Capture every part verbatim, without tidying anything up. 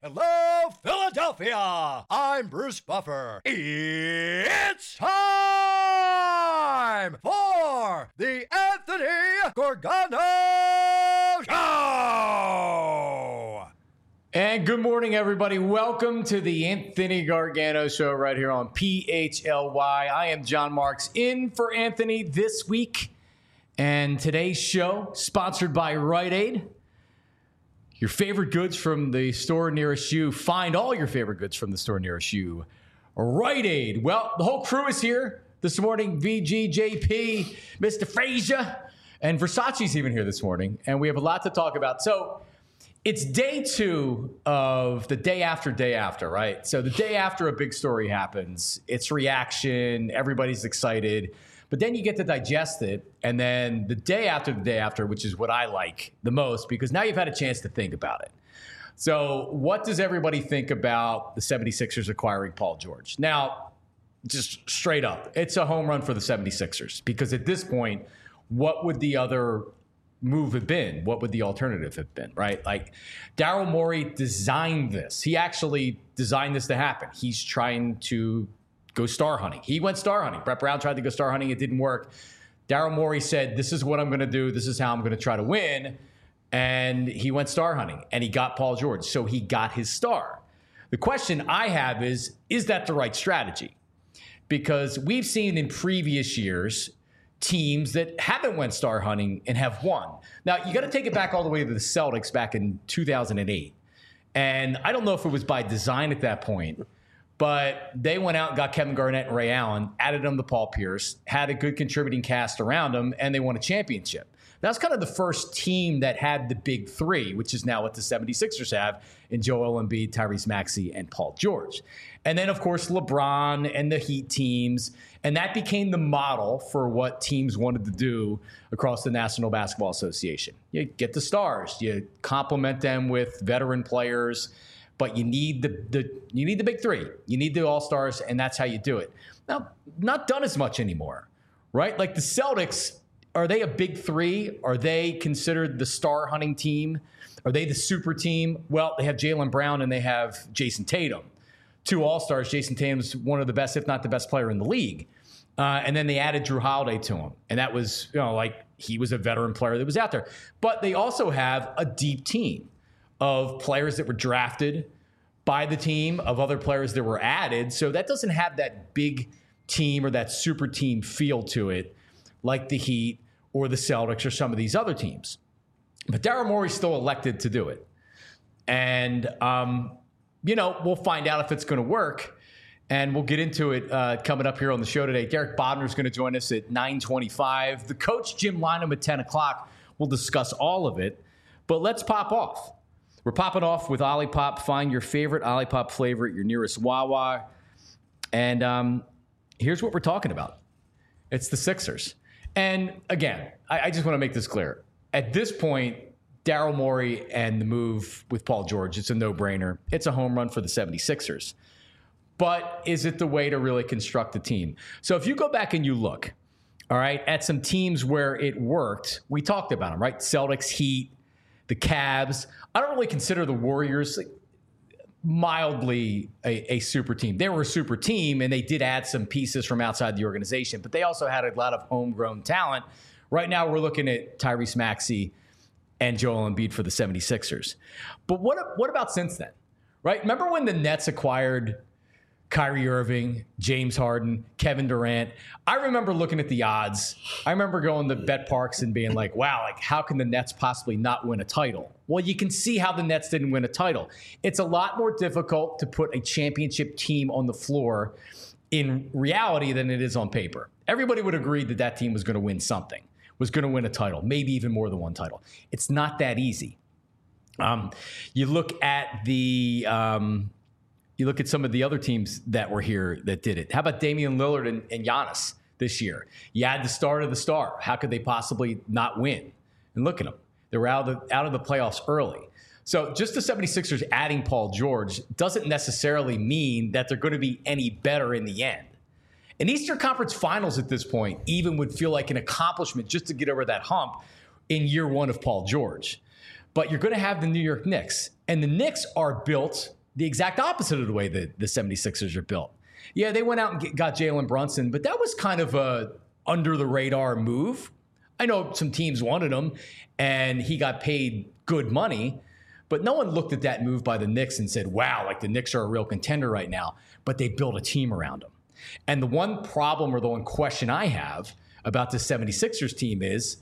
Hello, Philadelphia! I'm Bruce Buffer. It's time for the Anthony Gargano Show! And good morning, everybody. Welcome to the Anthony Gargano Show right here on P H L Y. I am John Marks in for Anthony this week. And today's show, sponsored by Rite Aid. Your favorite goods from the store nearest you. Find all your favorite goods from the store nearest you. Rite Aid. Well, the whole crew is here this morning. V G, J P, Mister Frazier, and Versace's even here this morning. And we have a lot to talk about. So it's day two of the day after day after, right? So the day after a big story happens, it's reaction, everybody's excited. But then you get to digest it, and then the day after the day after, which is what I like the most, because now you've had a chance to think about it. So what does everybody think about the seventy-sixers acquiring Paul George? Now, just straight up, it's a home run for the seventy-sixers, because at this point, what would the other move have been? What would the alternative have been, right? Like, Daryl Morey designed this. He actually designed this to happen. He's trying to go star hunting. He went star hunting. Brett Brown tried to go star hunting. It didn't work. Daryl Morey said, this is what I'm going to do. This is how I'm going to try to win. And he went star hunting, and he got Paul George. So he got his star. The question I have is, is that the right strategy? Because we've seen in previous years teams that haven't went star hunting and have won. Now, you got to take it back all the way to the Celtics back in two thousand eight. And I don't know if it was by design at that point, but they went out and got Kevin Garnett and Ray Allen, added them to Paul Pierce, had a good contributing cast around them, and they won a championship. That's kind of the first team that had the big three, which is now what the seventy-sixers have in Joel Embiid, Tyrese Maxey, and Paul George. And then, of course, LeBron and the Heat teams. And that became the model for what teams wanted to do across the National Basketball Association. You get the stars. You complement them with veteran players. But you need the, the you need the big three. You need the all-stars, and that's how you do it. Now, not done as much anymore, right? Like the Celtics, are they a big three? Are they considered the star hunting team? Are they the super team? Well, they have Jaylen Brown and they have Jason Tatum. Two all-stars. Jason Tatum's one of the best, if not the best player in the league. Uh, and then they added Drew Holiday to him. And that was, you know, like he was a veteran player that was out there. But they also have a deep team of players that were drafted by the team, of other players that were added. So that doesn't have that big team or that super team feel to it like the Heat or the Celtics or some of these other teams. But Daryl Morey still elected to do it. And, um, you know, we'll find out if it's going to work. And we'll get into it uh, coming up here on the show today. Derek Bodner is going to join us at nine twenty-five. The coach, Jim Lynam, at ten o'clock. We'll discuss all of it. But let's pop off. We're popping off with Olipop. Find your favorite Olipop flavor at your nearest Wawa. And um, here's what we're talking about. It's the Sixers. And again, I, I just want to make this clear. At this point, Daryl Morey and the move with Paul George, it's a no-brainer. It's a home run for the seventy-sixers. But is it the way to really construct a team? So if you go back and you look, all right, at some teams where it worked, we talked about them, right? Celtics, Heat, the Cavs. I don't really consider the Warriors mildly a, a super team. They were a super team, and they did add some pieces from outside the organization, but they also had a lot of homegrown talent. Right now, we're looking at Tyrese Maxey and Joel Embiid for the seventy-sixers. But what, what about since then, right? Remember when the Nets acquired Kyrie Irving, James Harden, Kevin Durant? I remember looking at the odds. I remember going to Bet Parks and being like, wow, like how can the Nets possibly not win a title? Well, you can see how the Nets didn't win a title. It's a lot more difficult to put a championship team on the floor in reality than it is on paper. Everybody would agree that that team was going to win something, was going to win a title, maybe even more than one title. It's not that easy. Um, you look at the... Um, You look at some of the other teams that were here that did it. How about Damian Lillard and, and Giannis this year? You had the star of the star. How could they possibly not win? And look at them. They were out of the, out of the playoffs early. So just the seventy-sixers adding Paul George doesn't necessarily mean that they're going to be any better in the end. An Eastern Conference Finals at this point even would feel like an accomplishment just to get over that hump in year one of Paul George. but you're going to have the New York Knicks. And the Knicks are built the exact opposite of the way that the seventy-sixers are built. Yeah, they went out and get, got Jalen Brunson, but that was kind of a under-the-radar move. I know some teams wanted him, and he got paid good money, but no one looked at that move by the Knicks and said, wow, like the Knicks are a real contender right now. But they built a team around him. And the one problem or the one question I have about the seventy-sixers team is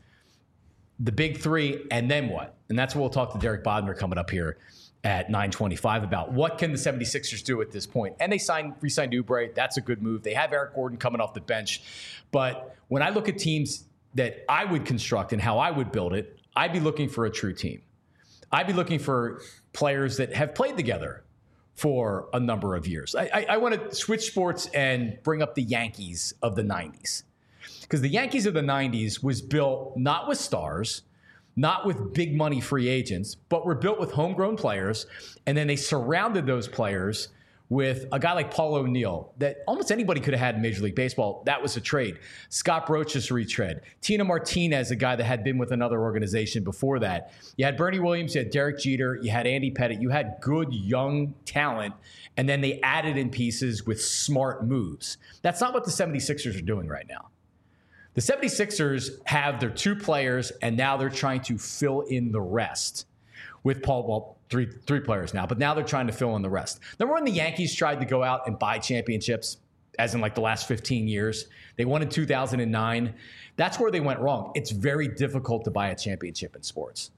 the big three, and then what? And that's what we'll talk to Derek Bodner coming up here at nine twenty-five about. What can the seventy-sixers do at this point? And they signed, re-signed Oubre. That's a good move. They have Eric Gordon coming off the bench. But when I look at teams that I would construct and how I would build it, I'd be looking for a true team. I'd be looking for players that have played together for a number of years. I, I, I want to switch sports and bring up the Yankees of the nineties. Because the Yankees of the nineties was built not with stars, not with big money free agents, but were built with homegrown players. And then they surrounded those players with a guy like Paul O'Neill that almost anybody could have had in Major League Baseball. That was a trade. Scott Brocious retread. Tina Martinez, a guy that had been with another organization before that. You had Bernie Williams, you had Derek Jeter, you had Andy Pettitte. You had good young talent, and then they added in pieces with smart moves. That's not what the seventy-sixers are doing right now. The seventy-sixers have their two players, and now they're trying to fill in the rest with Paul, well, three three players now, but now they're trying to fill in the rest. Remember when the Yankees tried to go out and buy championships, as in like the last fifteen years? They won in two thousand nine. That's where they went wrong. It's very difficult to buy a championship in sports.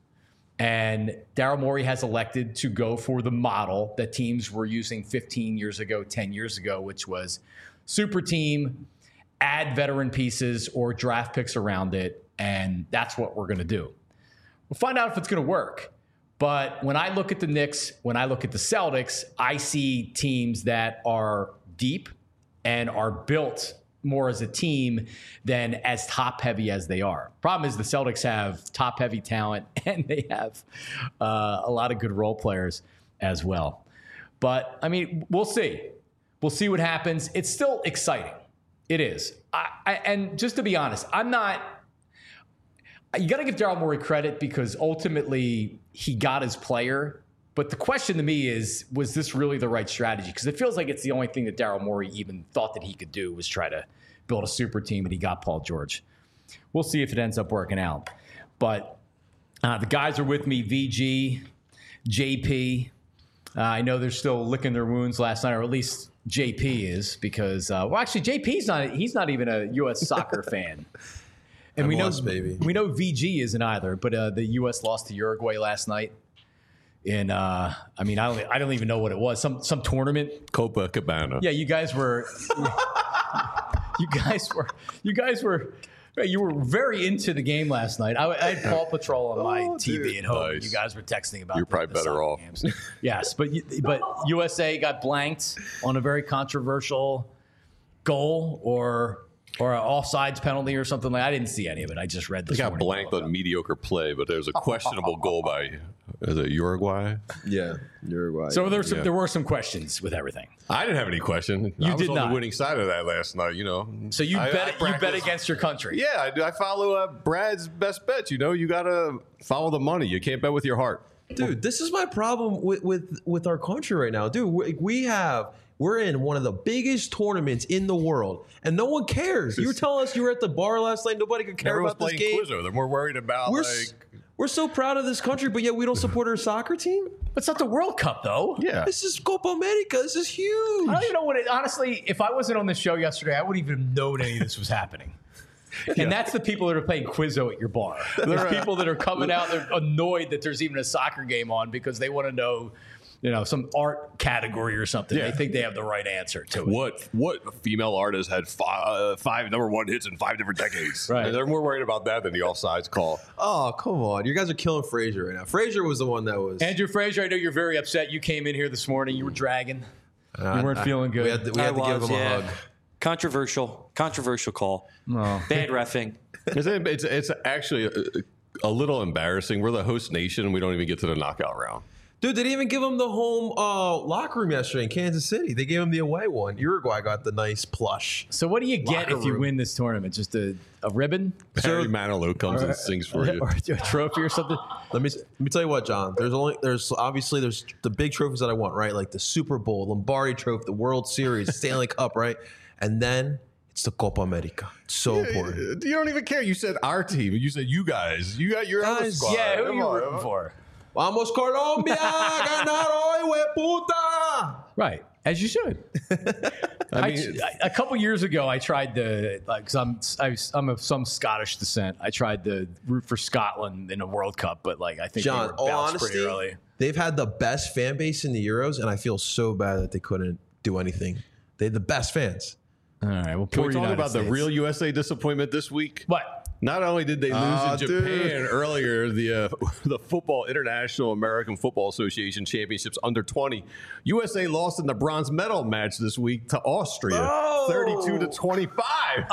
And Daryl Morey has elected to go for the model that teams were using fifteen years ago, ten years ago, which was super team, add veteran pieces or draft picks around it, and that's what we're going to do. We'll find out if it's going to work. But when I look at the Knicks, when I look at the Celtics, I see teams that are deep and are built more as a team than as top-heavy as they are. Problem is the Celtics have top-heavy talent, and they have uh, a lot of good role players as well. But, I mean, we'll see. We'll see what happens. It's still exciting. It is. I, I, and just to be honest, I'm not – you got to give Daryl Morey credit because ultimately he got his player. But the question to me is, was this really the right strategy? Because it feels like it's the only thing that Daryl Morey even thought that he could do was try to build a super team, and he got Paul George. We'll see if it ends up working out. But uh, the guys are with me, V G, J P. Uh, I know they're still licking their wounds last night, or at least J P is, because, uh, well, actually, J P's not, he's not even a U S soccer fan. And we know, baby. we know V G isn't either, but uh, the U S lost to Uruguay last night. In, uh, I mean, I don't, I don't even know what it was. Some, some tournament. Copacabana. Yeah, you guys were, you guys were, you guys were, you were very into the game last night. I, I had Paw Patrol on my oh, T V dude. at home. Nice. You guys were texting about. You're the, probably the better off. Games. Yes, but but U S A got blanked on a very controversial goal or. Or an offsides penalty or something like that. I didn't see any of it. I just read this They got morning. blanked on mediocre play, but there's a questionable goal by is it Uruguay? Yeah, Uruguay. So there were some, Yeah. there were some questions with everything. I didn't have any question. You I was did on not. the winning side of that last night, you know. So you I- bet I you bet practice- against your country. Yeah, I, do. I follow uh, Brad's best bets. You know, you got to follow the money. You can't bet with your heart. Dude, this is my problem with with, with our country right now. Dude, we, we have we're in one of the biggest tournaments in the world, and no one cares. You were telling us you were at the bar last night. Nobody could care Everyone's about this playing game. Quizzo. They're more worried about We're like. s- we're so proud of this country, but yet we don't support our soccer team. But it's not the World Cup, though. Yeah. This is Copa America. This is huge. I don't even know what it, honestly, if I wasn't on the show yesterday, I wouldn't even have known any of this was happening. And that's the people that are playing Quizzo at your bar. There's people that are coming out, they're annoyed that there's even a soccer game on because they want to know, you know, some art category or something. Yeah. They think they have the right answer to it. What what female artist had five, uh, five number one hits in five different decades? Right. They're more worried about that than the offsides call. Oh, come on. You guys are killing Frazier right now. Frazier was the one that was. Andrew Frazier, I know you're very upset. You came in here this morning. You were dragging. Uh, you weren't I- feeling good. We had to, we I had to give was, him a yeah. hug. Controversial, controversial call. Oh. Bad reffing. It's, it's, it's actually a, a little embarrassing. We're the host nation, and we don't even get to the knockout round. Dude, they didn't even give him the home uh, locker room yesterday in Kansas City. They gave him the away one. Uruguay got the nice plush. So what do you get Locker if you room. win this tournament? Just a, a ribbon? Barry Manilow comes and sings for you. Or a trophy or something? Let me let me tell you what, John. There's only there's obviously there's the big trophies that I want, right? Like the Super Bowl, Lombardi Trophy, the World Series, Stanley Cup, right? And then it's the Copa America. It's so important. You don't even care. You said our team. You said you guys. You got your other Guys, squad. Yeah, who are Come you on. rooting for? Vamos Colombia, ganar hoy, hueputa. Right, as you should. I I, mean, I- a couple years ago, I tried to, like, cause I'm I, was- I'm of some Scottish descent. I tried to root for Scotland in a World Cup, but like I think John, they were all bounced honesty, pretty early. they've had the best fan base in the Euros, and I feel so bad that they couldn't do anything. They had the best fans. All right, well, can poor we talk United about States. the real U S A disappointment this week? What? Not only did they lose Ah, in dude. Japan earlier, the uh, the Football International American Football Association Championships under twenty, U S A lost in the bronze medal match this week to Austria, Oh. thirty-two to twenty-five.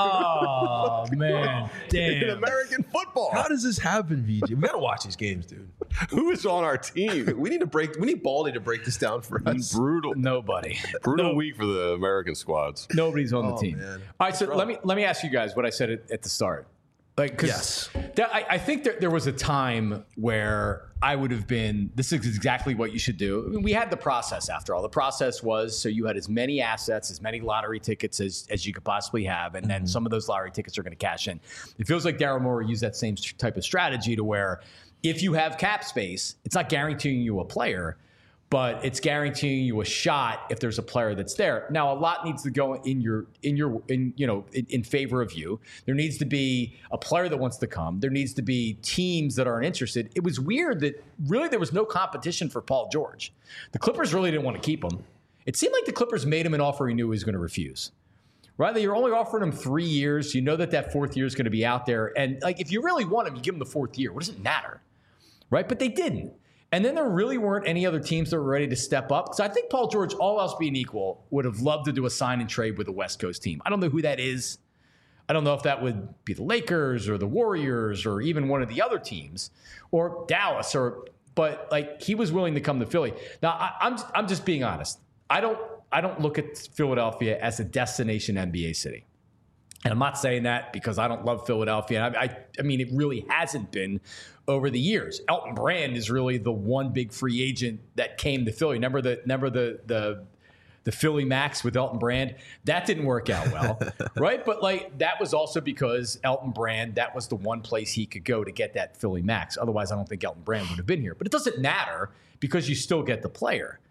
Oh man, in damn. American football. How does this happen, V J? We gotta watch these games, dude. Who is on our team? We need to break. We need Baldy to break this down for us. Brutal, Nobody. brutal No- week for the American squads. Nobody's on the Oh, team. man. All right, so let me let me ask you guys what I said at, at the start. Like, 'cause Yes. that, I, I think there, there was a time where I would have been. This is exactly what you should do. I mean, we had the process. After all, the process was so you had as many assets, as many lottery tickets as, as you could possibly have, and then some of those lottery tickets are going to cash in. It feels like Daryl Morey used that same type of strategy to where if you have cap space, it's not guaranteeing you a player, but it's guaranteeing you a shot if there's a player that's there. Now, a lot needs to go in your in your in you know in, in favor of you. There needs to be a player that wants to come. There needs to be teams that aren't interested. It was weird that really there was no competition for Paul George. The Clippers really didn't want to keep him. It seemed like the Clippers made him an offer he knew he was going to refuse. Right? You're only offering him three years. You know that that fourth year is going to be out there. And like, if you really want him, you give him the fourth year. What does it matter? Right? But they didn't. And then there really weren't any other teams that were ready to step up. So I think Paul George, all else being equal, would have loved to do a sign and trade with a West Coast team. I don't know who that is. I don't know if that would be the Lakers or the Warriors or even one of the other teams or Dallas or, but like he was willing to come to Philly. Now I, I'm I'm just being honest. I don't I don't look at Philadelphia as a destination N B A city. And I'm not saying that because I don't love Philadelphia. I, I, I mean, it really hasn't been over the years. Elton Brand is really the one big free agent that came to Philly. Remember the remember the the the Philly Max with Elton Brand? That didn't work out well, right? But like that was also because Elton Brand, that was the one place he could go to get that Philly Max. Otherwise, I don't think Elton Brand would have been here. But it doesn't matter because you still get the player.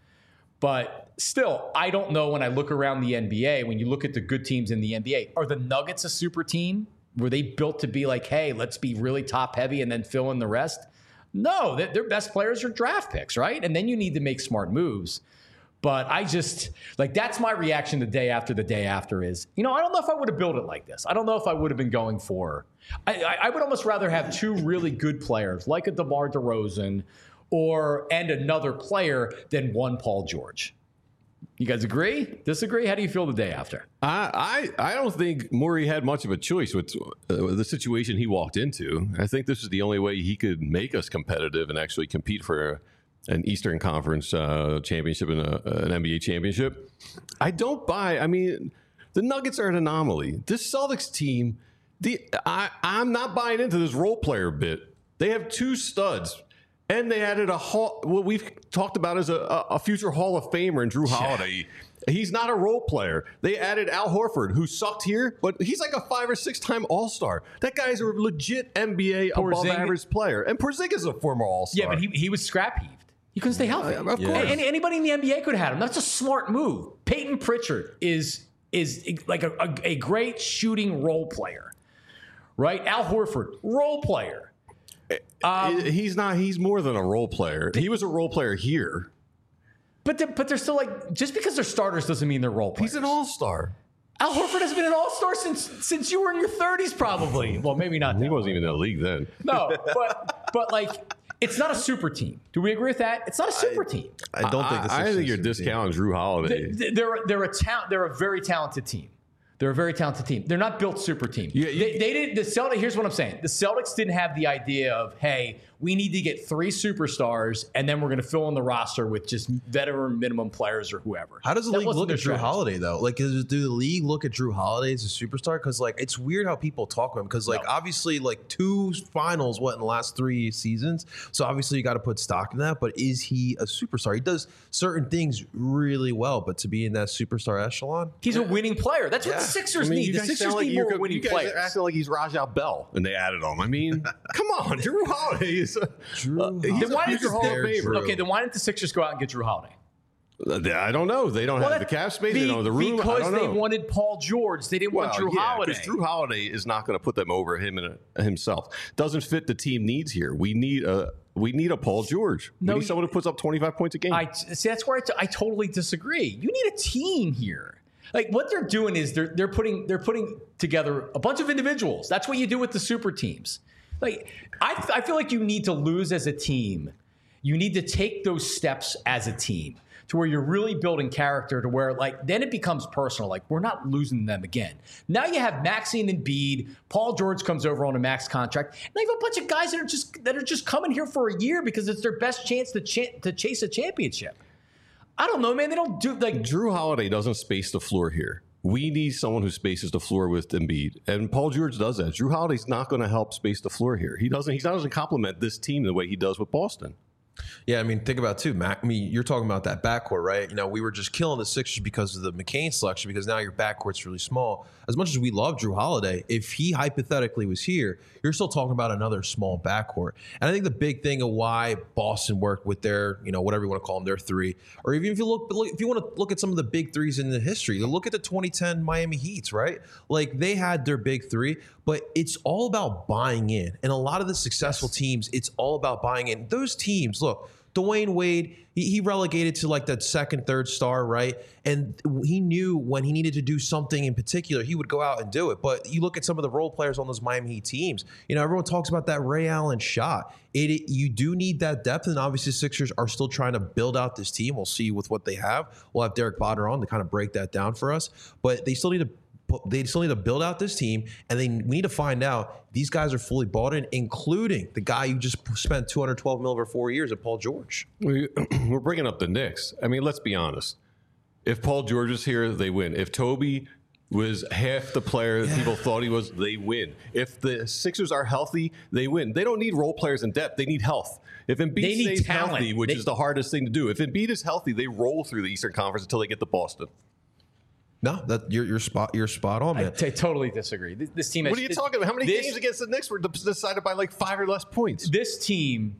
But still, I don't know when I look around the N B A, when you look at the good teams in the N B A, are the Nuggets a super team? Were they built to be like, hey, let's be really top heavy and then fill in the rest? No, their their best players are draft picks, right? And then you need to make smart moves. But I just, like, that's my reaction the day after the day after is, you know, I don't know if I would have built it like this. I don't know if I would have been going for, I, I, I would almost rather have two really good players like a DeMar DeRozan or and another player than one Paul George. You guys agree? Disagree? How do you feel the day after? I, I I don't think Morey had much of a choice with uh, the situation he walked into. I think this is the only way he could make us competitive and actually compete for an Eastern Conference uh, championship and a, an N B A championship. I don't buy. I mean, the Nuggets are an anomaly. This Celtics team, the I, I'm not buying into this role player bit. They have two studs. And they added a hall, what we've talked about as a, a future Hall of Famer in Drew Holiday. Yeah. He's not a role player. They added Al Horford, who sucked here, but he's like a five or six time All Star. That guy's a legit N B A above average player. And Porzingis is a former All Star. Yeah, but he, he was scrap heaved. He couldn't stay healthy. Uh, of Yeah. course. Any, anybody in the N B A could have had him. That's a smart move. Peyton Pritchard is is like a, a, a great shooting role player, right? Al Horford, role player. Um, he's not. He's more than a role player. He was a role player here. But they're, but they're still like, just because they're starters doesn't mean they're role players. He's an all-star. Al Horford has been an all-star since since you were in your thirties, probably. Well, maybe not. He that wasn't long. even in the league then. No, but but like, it's not a super team. Do we agree with that? It's not a super I, team. I don't think this I, is I think you're team. discounting Drew Holiday. They- They're they're a ta- They're a very talented team. They're a very talented team. They're not built super team. Yeah, you- they, they didn't. The Celtics. Here's what I'm saying. The Celtics didn't have the idea of, hey, we need to get three superstars, and then we're going to fill in the roster with just veteran minimum players or whoever. How does the That league wasn't look their at Drew strategy. Holiday though? Like, is, do the league look at Drew Holiday as a superstar? Because like, it's weird how people talk about him. Because like, No. obviously, like two finals, what in the last three seasons. So obviously, you got to put stock in that. But is he a superstar? He does certain things really well, but to be in that superstar echelon, He's a winning player. That's what the Sixers I mean, need. you The guys Sixers sound like need you're, more winning you guys players. are acting like he's Rajah Bell, and they added him. I mean, come on, Drew Holiday is a, Drew uh, he's Then a why didn't future the Hall of Drew- Famer. Okay, then why didn't the Sixers go out and get Drew Holiday? Uh, I don't know. They don't Well, have the that- cap space. be- they don't have the room. I Because don't they know. wanted Paul George. They didn't want Drew yeah, Holiday. because Drew Holiday is not going to put them over him and uh, himself. Doesn't fit the team needs here. We need a we need a Paul George. No, we need you- someone who puts up twenty-five points a game. I see. That's where I, t- I totally disagree. You need a team here. Like what they're doing is they're they're putting they're putting together a bunch of individuals. That's what you do with the super teams. Like I I feel like you need to lose as a team. You need to take those steps as a team to where you're really building character to where like then it becomes personal. Like we're not losing them again. Now you have Maxine and Embiid. Paul George comes over on a max contract. And they have a bunch of guys that are just that are just coming here for a year because it's their best chance to ch- to chase a championship. I don't know, man. They don't do like Drew Holiday doesn't space the floor here. We need someone who spaces the floor with Embiid, and Paul George does that. Drew Holiday's not going to help space the floor here. He doesn't. He doesn't complement this team the way he does with Boston. yeah, I mean, think about it too, Mac. I mean, you're talking about that backcourt, right? You know, we were just killing the Sixers because of the McCain selection, because now your backcourt's really small. As much as we love Drew Holiday, if he hypothetically was here, you're still talking about another small backcourt. And I think the big thing of why Boston worked with their, you know, whatever you want to call them, their three, or even if you look, look if you want to look at some of the big threes in the history, look at the twenty ten Miami Heats, right? Like they had their big three, but it's all about buying in. And a lot of the successful teams, it's all about buying in. Those teams, look, Dwayne Wade, he, he relegated to like that second, third star, right? And he knew when he needed to do something in particular, he would go out and do it. But you look at some of the role players on those Miami Heat teams, you know, everyone talks about that Ray Allen shot. It, it you do need that depth, and obviously Sixers are still trying to build out this team. We'll see with what they have. We'll have Derek Botter on to kind of break that down for us. But they still need to They still need to build out this team, and they we need to find out these guys are fully bought in, including the guy you just spent two hundred twelve mil over four years at Paul George. We, we're bringing up the Knicks. I mean, let's be honest. If Paul George is here, they win. If Toby was half the player that people thought he was, they win. If the Sixers are healthy, they win. They don't need role players in depth. They need health. If Embiid They need stays talent. healthy, which They- is the hardest thing to do, if Embiid is healthy, they roll through the Eastern Conference until they get to Boston. No, that you're you're spot you're spot on, I man. t- totally disagree. This, this team. What has, are you talking about? How many this, games against the Knicks were decided by like five or less points? This team,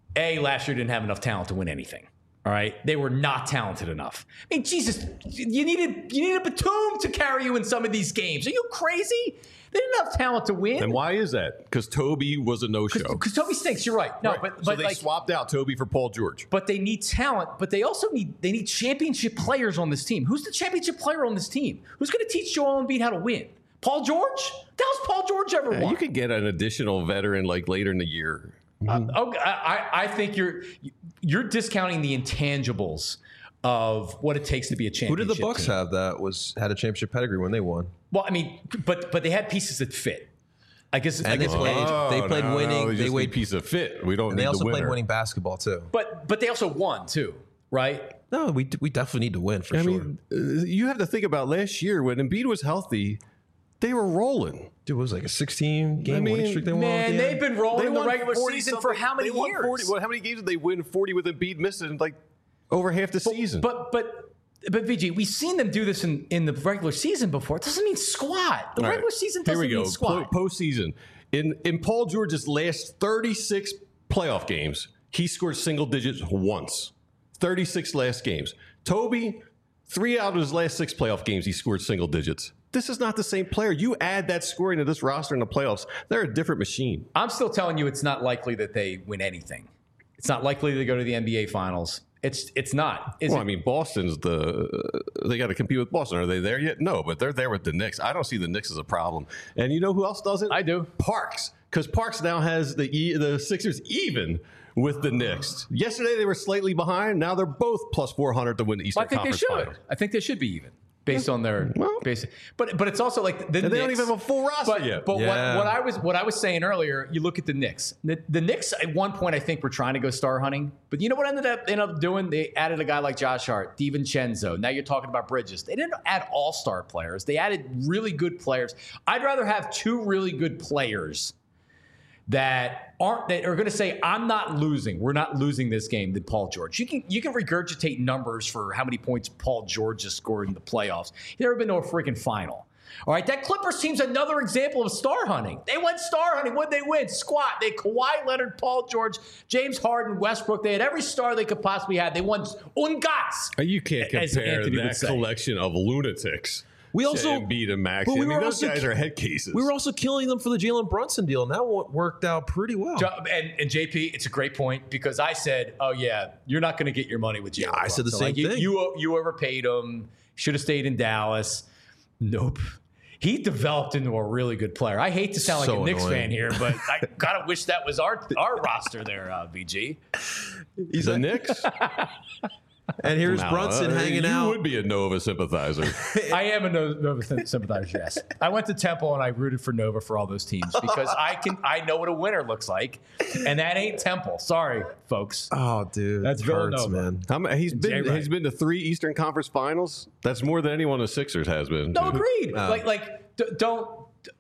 a last year didn't have enough talent to win anything. All right, they were not talented enough. I mean, Jesus, you needed you needed Batum to carry you in some of these games. Are you crazy? They didn't have talent to win. And why is that? Because Toby was a no-show. Because Toby stinks. You're right. No, Right. but so but they like, swapped out Toby for Paul George. but they need talent. But they also need they need championship players on this team. Who's the championship player on this team? Who's going to teach Joel Embiid how to win? Paul George? That was Paul George ever Yeah, won? you could get an additional veteran like later in the year. Uh, okay, I, I think you're you're discounting the intangibles of what it takes to be a Who championship. did the Bucks team. have that was had a championship pedigree when they won? Well, I mean, but but they had pieces that fit. I guess. I And they guess played- they played no, winning, No, we they just wait- need piece of fit. We don't And need they also the played winner. winning basketball too. but but they also won too, right? No, we we definitely need to win for I sure. mean, uh, you have to think about last year when Embiid was healthy, they were rolling. Dude, it was like a sixteen game I mean, winning streak they won. at Man, the they've end. been rolling in the won regular forty season for something- how many they won years? forty, well, how many games did they win forty with Embiid missing like over half the season? But but but V G, we've seen them do this in, in the regular season before. It doesn't mean squat. The All right, regular season here doesn't we go. mean squat. Po- postseason. In in Paul George's last thirty-six playoff games, he scored single digits once. thirty-six last games. Toby, three out of his last six playoff games, he scored single digits. This is not the same player. You add that scoring to this roster in the playoffs, they're a different machine. I'm still telling you, it's not likely that they win anything. It's not likely they go to the N B A Finals. It's it's not. Is Well, it? I mean, Boston's the they got to compete with Boston. Are they there yet? No, but they're there with the Knicks. I don't see the Knicks as a problem. And you know who else doesn't? I do. Parks, because Parks now has the e, the Sixers even with the Knicks. Yesterday they were slightly behind. Now they're both plus four hundred to win the Eastern I think they Conference should. Finals. I think they should be even. based on their Well, basic. But but it's also like the and they don't Knicks- even have a full roster But, yet. but Yeah. what, what I was what I was saying earlier, you look at the Knicks. The, the Knicks at one point I think were trying to go star hunting, but you know what ended up ended up doing? They added a guy like Josh Hart, DiVincenzo. Now you're talking about Bridges. They didn't add all star players. They added really good players. I'd rather have two really good players that aren't that are going to say, I'm not losing. We're not losing this game than Paul George. You can you can regurgitate numbers for how many points Paul George has scored in the playoffs. He's never been to a freaking final. All right, that Clippers team's another example of star hunting. They went star hunting. What'd they win? Squat. They had Kawhi Leonard, Paul George, James Harden, Westbrook. They had every star they could possibly have. They won un gats. You can't as compare Anthony would that say. collection of lunatics. We to also- Embiid and Maxey. but we I mean, were those also- guys are head cases. We were also killing them for the Jalen Brunson deal, and that one worked out pretty well. And, and J P, it's a great point because I said, "Oh yeah, you're not going to get your money with Jalen." Yeah, I said the Brunson. same Like, you, thing. You you overpaid him. Should have stayed in Dallas. Nope. He developed into a really good player. I hate to sound like So a Knicks annoying. fan here, but I gotta wish that was our our roster there, uh, V G. He's the like- Knicks. and here's No, Brunson uh, hanging you out. would be a Nova sympathizer. I am a No- Nova sympathizer. Yes, I went to Temple and I rooted for Nova for all those teams because I can I know what a winner looks like, and that ain't Temple. Sorry, folks. Oh, dude, That's it hurts, Villanova. man. How many, he's been Jay Wright. he's been to three Eastern Conference Finals. That's more than anyone the Sixers has been. No, agreed. Uh, like, like, d- don't,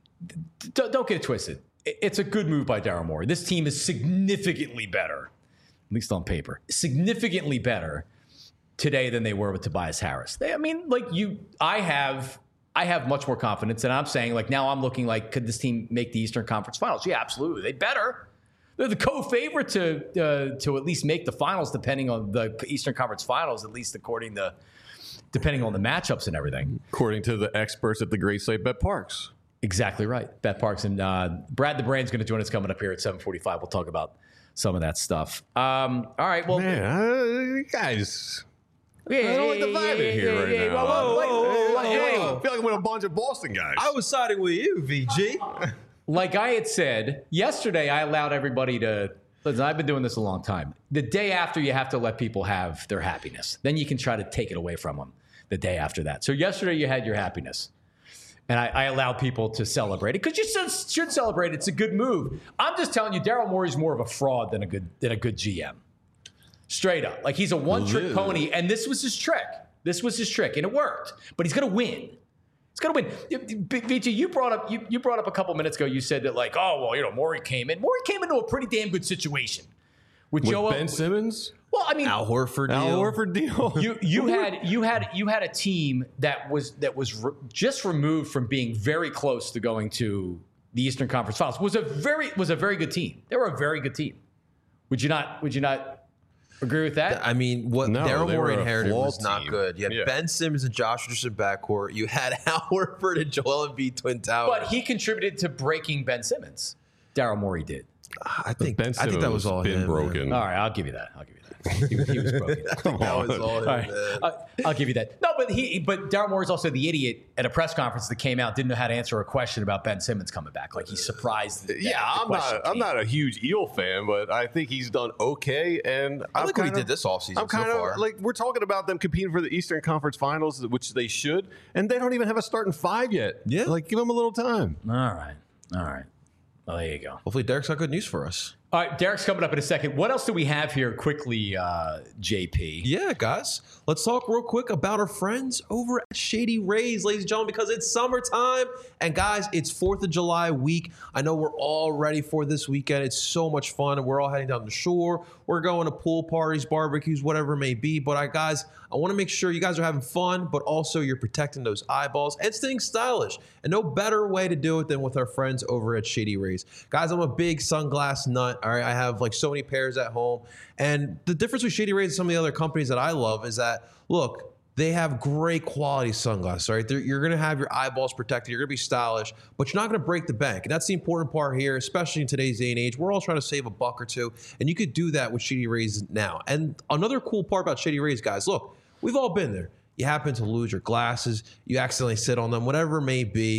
d- d- don't get it twisted. I- It's a good move by Daryl Morey. This team is significantly better, at least on paper, significantly better today than they were with Tobias Harris. They, I mean, like you, I have, I have much more confidence, and I'm saying, like, now I'm looking like, could this team make the Eastern Conference Finals? Yeah, absolutely. They better. They're the co-favorite to uh, to at least make the finals, depending on the Eastern Conference Finals, at least according to. Depending on the matchups and everything. According to the experts at the great site Bet Parks. Exactly right. Bet Parks and uh, Brad the Brain's going to join us coming up here at seven forty-five. We'll talk about some of that stuff. Um, all right. Well, Man, uh, you guys. yeah, I don't like the yeah, vibe yeah, in here yeah, right yeah, now. well, well, like- Whoa, whoa, like, whoa, hey, I feel like I'm with a bunch of Boston guys. I was siding with you, V G. like I had said yesterday, I allowed everybody to. Listen, I've been doing this a long time. The day after, you have to let people have their happiness. Then you can try to take it away from them the day after that. So yesterday, you had your happiness. And I, I allowed people to celebrate it because you should, should celebrate it. It's a good move. I'm just telling you, Daryl Morey's more of a fraud than a good than a good G M. Straight up. Like, he's a one-trick Yeah. pony, and this was his trick. This was his trick, and it worked. But he's going to win. He's going to win. V G, you brought up you, you brought up a couple minutes ago, you said that, like, oh, well, you know, Morey came in. Morey came into a pretty damn good situation. With, with Joel. Ben Simmons, Well, I mean, Al Horford Al deal. Horford deal. you you had you had you had a team that was that was re- just removed from being very close to going to the Eastern Conference Finals. Was a very was a very good team. They were a very good team. Would you not? Would you not agree with that? I mean, what No, Daryl they Morey were a inherited flawed was not team. good. You had Yeah. Ben Simmons and Josh Richardson backcourt. You had Al Horford and Joel Embiid twin towers. But he contributed to breaking Ben Simmons. Daryl Morey did. I think Ben I Simmons think that was all been him, broken. All right, I'll give you that. I'll give you that. He, he was broken. Man. That was all him. All right, man. I- I'll give you that. No, but he, but Daryl Morey's also the idiot at a press conference that came out, didn't know how to answer a question about Ben Simmons coming back. Like, he's surprised. That Yeah, the I'm question not. I'm came. not a huge Eel fan, but I think he's done okay. And I I'm like what he kinda- did this offseason I'm kind so of far. like we're talking about them competing for the Eastern Conference Finals, which they should, and they don't even have a starting five yet. Yeah. like give them a little time. All right, all right. Well, there you go. Hopefully, Derek's got good news for us. All right, Derek's coming up in a second. What else do we have here quickly, uh, J P? Yeah, guys, let's talk real quick about our friends over at Shady Rays, ladies and gentlemen, because it's summertime. And guys, it's fourth of July week. I know we're all ready for this weekend. It's so much fun, and we're all heading down the shore. We're going to pool parties, barbecues, whatever it may be. But I, guys, I want to make sure you guys are having fun, but also you're protecting those eyeballs and staying stylish. And no better way to do it than with our friends over at Shady Rays. Guys, I'm a big sunglass nut. All right, I have like so many pairs at home. And the difference with Shady Rays and some of the other companies that I love is that, look, they have great quality sunglasses, right? They're, you're going to have your eyeballs protected. You're going to be stylish, but you're not going to break the bank. And that's the important part here, especially in today's day and age. We're all trying to save a buck or two, and you could do that with Shady Rays now. And another cool part about Shady Rays, guys, look, we've all been there. You happen to lose your glasses. You accidentally sit on them, whatever it may be.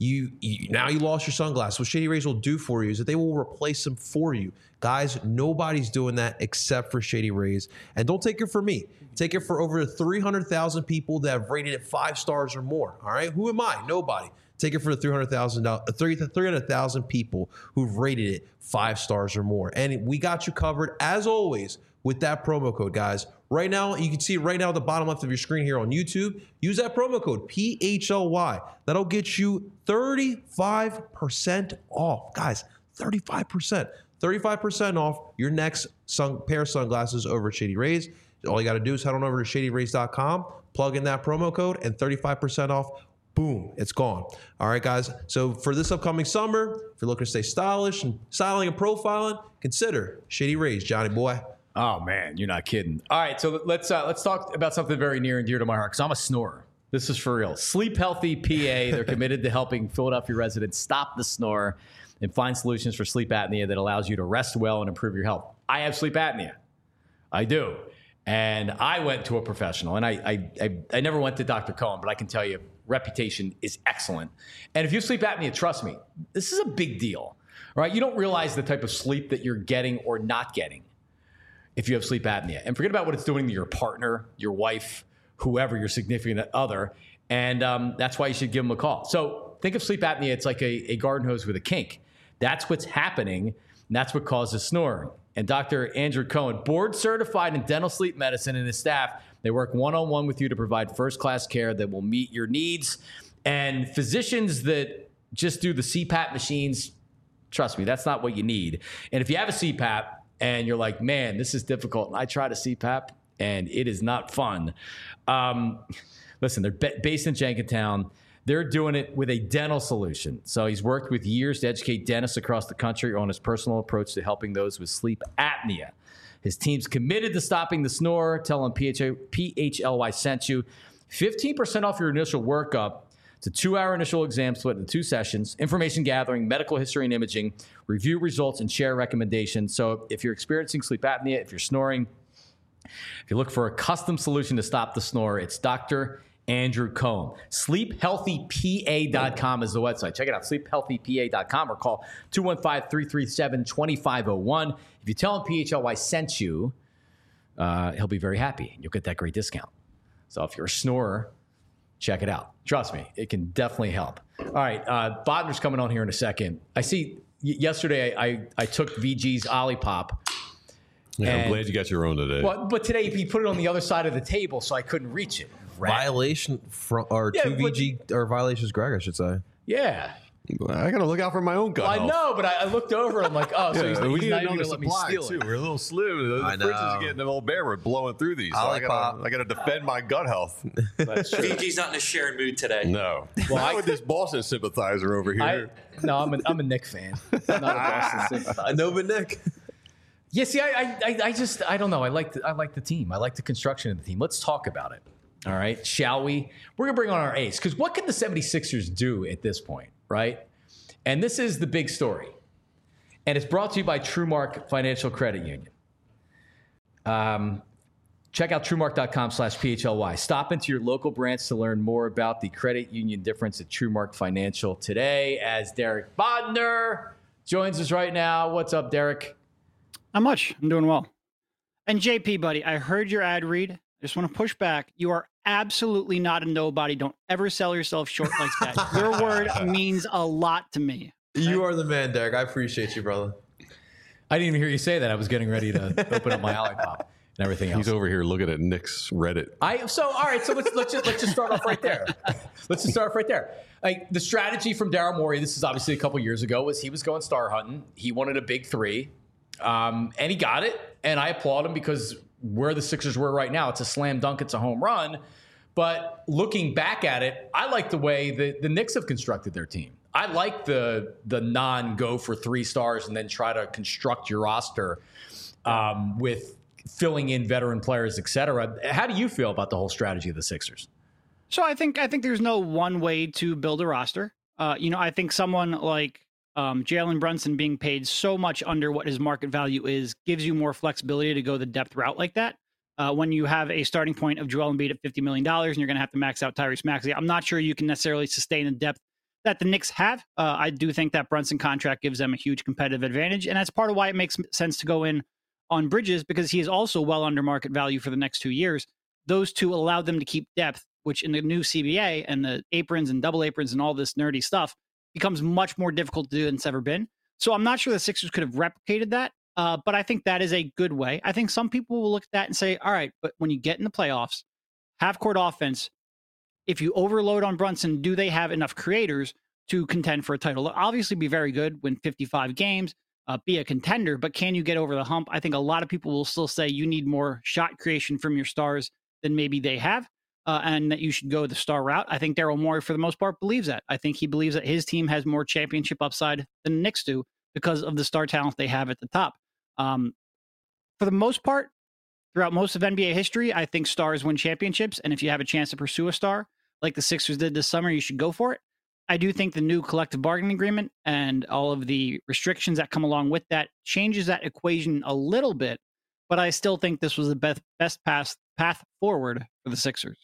You, you now you lost your sunglasses. What Shady Rays will do for you is that they will replace them for you. Guys, nobody's doing that except for Shady Rays. And don't take it for me. Take it for over three hundred thousand people that have rated it five stars or more. All right? Who am I? Nobody. Take it for the three hundred thousand three hundred thousand people who've rated it five stars or more. And we got you covered, as always, with that promo code, guys. Right now, you can see it right now at the bottom left of your screen here on YouTube. Use that promo code, P H L Y. That'll get you thirty-five percent off. Guys, thirty-five percent. thirty-five percent off your next sun, pair of sunglasses over at Shady Rays. All you got to do is head on over to shady rays dot com, plug in that promo code, and thirty-five percent off. Boom, it's gone. All right, guys. So for this upcoming summer, if you're looking to stay stylish and styling and profiling, consider Shady Rays, Johnny boy. Oh man, you're not kidding. All right, so let's uh, let's talk about something very near and dear to my heart because I'm a snorer. This is for real. Sleep Healthy P A. They're committed to helping Philadelphia residents stop the snore and find solutions for sleep apnea that allows you to rest well and improve your health. I have sleep apnea. I do. And I went to a professional, and I I, I, I never went to Doctor Cohen, but I can tell you, reputation is excellent. And if you have sleep apnea, trust me, this is a big deal, right? You don't realize the type of sleep that you're getting or not getting if you have sleep apnea. And forget about what it's doing to your partner, your wife, whoever, your significant other. And um, that's why you should give them a call. So think of sleep apnea. It's like a, a garden hose with a kink. That's what's happening, and that's what causes snoring. And Doctor Andrew Cohen, board certified in dental sleep medicine, and his staff, they work one-on-one with you to provide first-class care that will meet your needs. And physicians that just do the C PAP machines, trust me, that's not what you need. And if you have a C PAP and you're like, man, this is difficult, and I tried a C PAP, and it is not fun. Um, listen, they're b- based in Jenkintown. They're doing it with a dental solution. So he's worked with years to educate dentists across the country on his personal approach to helping those with sleep apnea. His team's committed to stopping the snore. Tell him P H L Y sent you. fifteen percent off your initial workup. It's a two-hour initial exam split into two sessions, information gathering, medical history and imaging, review results, and share recommendations. So if you're experiencing sleep apnea, if you're snoring, if you look for a custom solution to stop the snore, it's Doctor Andrew Cohen. sleep healthy P A dot com is the website. Check it out, sleep healthy P A dot com, or call two one five, three three seven, two five zero one. If you tell him P H L Y sent you, uh, he'll be very happy. You'll get that great discount. So if you're a snorer, check it out. Trust me, it can definitely help. All right, uh, Bodner's coming on here in a second. I see y- yesterday I, I, I took V G's Olipop. Yeah, and, I'm glad you got your own today. Well, but today he put it on the other side of the table, so I couldn't reach it. Rat. Violation from or Yeah, two V G or violations, Greg, I should say. Yeah. I got to look out for my own gut I health. know, but I, I looked over and I'm like, oh, so Yeah, he's, we he's need not even another going to let me supply steal too. it. We're a little slim. The I fridge know. is getting a little bare. We're blowing through these. So I Olipop. gotta, I got to defend my gut health. That's true. V G's not in a sharing mood today. No. Well, Not I- with this Boston sympathizer over I, here. no, I'm a, I'm a Nick fan. I'm not a Boston sympathizer. Nova Nick. Yeah, see, I, I, I just, I don't know. I like, the, I like the team. I like the construction of the team. Let's talk about it. All right, shall we? We're gonna bring on our ace because what can the seventy-sixers do at this point, right? And this is the big story, and it's brought to you by TrueMark Financial Credit Union. Um, check out truemark dot com slash P H L Y. Stop into your local branch to learn more about the credit union difference at TrueMark Financial today. As Derek Bodner joins us right now. What's up, Derek? Not much. I'm doing well. And J P, buddy, I heard your ad read. I just want to push back. You are absolutely not a nobody. Don't ever sell yourself short like that. Your word means a lot to me. You are the man, Derek. I appreciate you, brother. I didn't even hear you say that. I was getting ready to open up my Olipop and everything else. He's over here looking at Nick's Reddit. I so all right. So let's let's just let's just start off right there. Let's just start off right there. Like the strategy from Daryl Morey. This is obviously a couple years ago. Was he was going star hunting. He wanted a big three, um, and he got it. And I applaud him because where the Sixers were right now, it's a slam dunk. It's a home run. But looking back at it, I like the way the, the Knicks have constructed their team. I like the the non-go for three stars and then try to construct your roster um, with filling in veteran players, et cetera. How do you feel about the whole strategy of the Sixers? So I think I think there's no one way to build a roster. Uh, you know, I think someone like um, Jalen Brunson being paid so much under what his market value is gives you more flexibility to go the depth route like that. Uh, when you have a starting point of Joel Embiid at fifty million dollars and you're going to have to max out Tyrese Maxey, I'm not sure you can necessarily sustain the depth that the Knicks have. Uh, I do think that Brunson contract gives them a huge competitive advantage, and that's part of why it makes sense to go in on Bridges, because he is also well under market value for the next two years. Those two allow them to keep depth, which in the new C B A and the aprons and double aprons and all this nerdy stuff becomes much more difficult to do than it's ever been. So I'm not sure the Sixers could have replicated that, uh, but I think that is a good way. I think some people will look at that and say, all right, but when you get in the playoffs, half-court offense, if you overload on Brunson, do they have enough creators to contend for a title? They'll obviously be very good, win fifty-five games, uh, be a contender, but can you get over the hump? I think a lot of people will still say you need more shot creation from your stars than maybe they have, uh, and that you should go the star route. I think Daryl Morey, for the most part, believes that. I think he believes that his team has more championship upside than the Knicks do because of the star talent they have at the top. Um, for the most part, throughout most of N B A history, I think stars win championships, and if you have a chance to pursue a star like the Sixers did this summer, you should go for it. I do think the new collective bargaining agreement and all of the restrictions that come along with that changes that equation a little bit, but I still think this was the best best path path forward for the Sixers.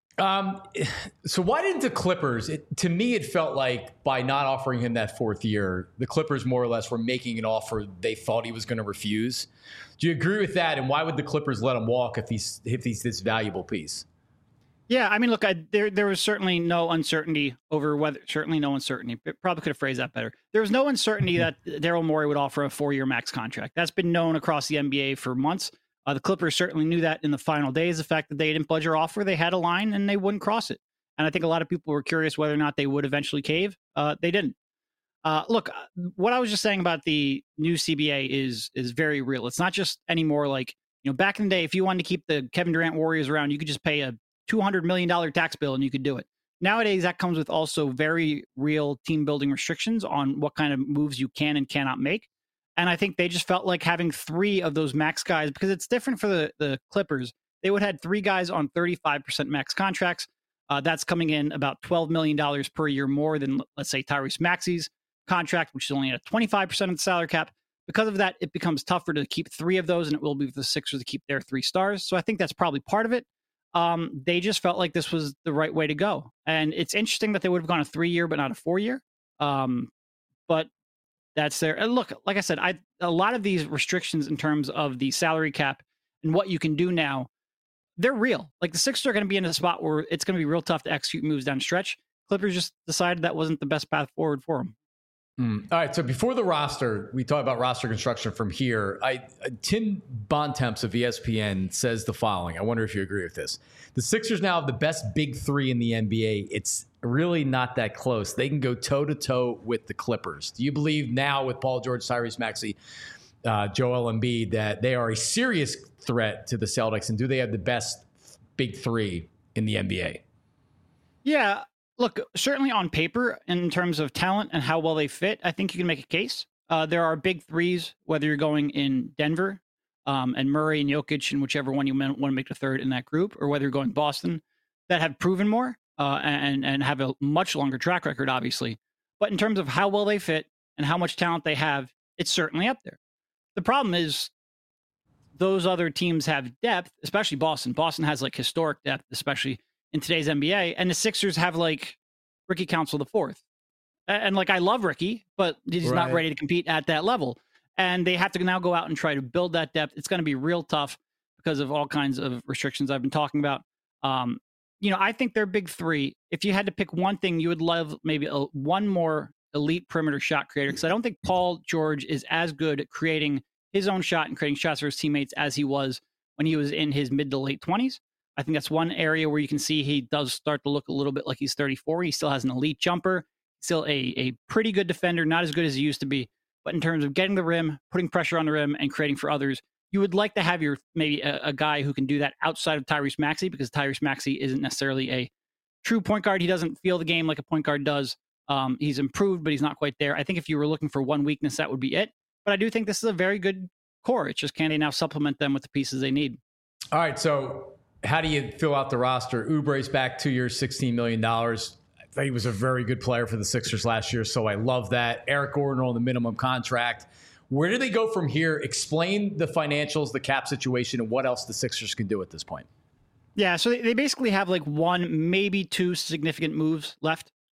Um, so why didn't the Clippers? It, to me, it felt like by not offering him that fourth year, the Clippers more or less were making an offer they thought he was going to refuse. Do you agree with that? And why would the Clippers let him walk if he's if he's this valuable piece? Yeah, I mean, look, I, there there was certainly no uncertainty over whether, certainly no uncertainty, but probably could have phrased that better. There was no uncertainty that Daryl Morey would offer a four-year max contract. That's been known across the N B A for months. Uh, the Clippers certainly knew that in the final days. The fact that they didn't budge or offer, they had a line and they wouldn't cross it. And I think a lot of people were curious whether or not they would eventually cave. Uh, they didn't. Uh, look, what I was just saying about the new C B A is is very real. It's not just anymore like, you know, back in the day, if you wanted to keep the Kevin Durant Warriors around, you could just pay a two hundred million dollars tax bill and you could do it. Nowadays, that comes with also very real team building restrictions on what kind of moves you can and cannot make. And I think they just felt like having three of those max guys, because it's different for the, the Clippers. They would have had three guys on thirty-five percent max contracts. Uh, that's coming in about twelve million dollars per year more than, let's say, Tyrese Maxey's contract, which is only at twenty-five percent of the salary cap. Because of that, it becomes tougher to keep three of those, and it will be for the Sixers to keep their three stars. So I think that's probably part of it. Um, they just felt like this was the right way to go. And it's interesting that they would have gone a three-year but not a four-year. Um, but that's there. And look, like I said, I a lot of these restrictions in terms of the salary cap and what you can do now, they're real. Like the Sixers are going to be in a spot where it's going to be real tough to execute moves down the stretch. Clippers just decided that wasn't the best path forward for them. Mm. All right. So before the roster, we talk about roster construction from here. I uh, Tim Bontemps of E S P N says the following. I wonder if you agree with this. The Sixers now have the best big three in the N B A. It's really not that close. They can go toe to toe with the Clippers. Do you believe now with Paul George, Tyrese Maxey, uh, Joel Embiid that they are a serious threat to the Celtics? And do they have the best big three in the N B A? Yeah. Look, certainly on paper, in terms of talent and how well they fit, I think you can make a case. Uh, there are big threes, whether you're going in Denver um, and Murray and Jokic and whichever one you want to make the third in that group, or whether you're going Boston, that have proven more uh, and, and have a much longer track record, obviously. But in terms of how well they fit and how much talent they have, it's certainly up there. The problem is those other teams have depth, especially Boston. Boston has like historic depth, especially in today's N B A, and the Sixers have like Ricky Council the fourth. And like, I love Ricky, but he's right. not ready to compete at that level. And they have to now go out and try to build that depth. It's going to be real tough because of all kinds of restrictions I've been talking about. Um, you know, I think they're big three. If you had to pick one thing, you would love maybe a, one more elite perimeter shot creator. Because I don't think Paul George is as good at creating his own shot and creating shots for his teammates as he was when he was in his mid to late twenties. I think that's one area where you can see he does start to look a little bit like he's thirty-four. He still has an elite jumper, still a, a pretty good defender, not as good as he used to be. But in terms of getting the rim, putting pressure on the rim, and creating for others, you would like to have your maybe a, a guy who can do that outside of Tyrese Maxey, because Tyrese Maxey isn't necessarily a true point guard. He doesn't feel the game like a point guard does. Um, he's improved, but he's not quite there. I think if you were looking for one weakness, that would be it. But I do think this is a very good core. It's just, can they now supplement them with the pieces they need? All right, so how do you fill out the roster? Oubre's back two years, sixteen million dollars. I thought he was a very good player for the Sixers last year, so I love that. Eric Gordon on the minimum contract. Where do they go from here? Explain the financials, the cap situation, and what else the Sixers can do at this point. Yeah, so they, they basically have like one, maybe two significant moves left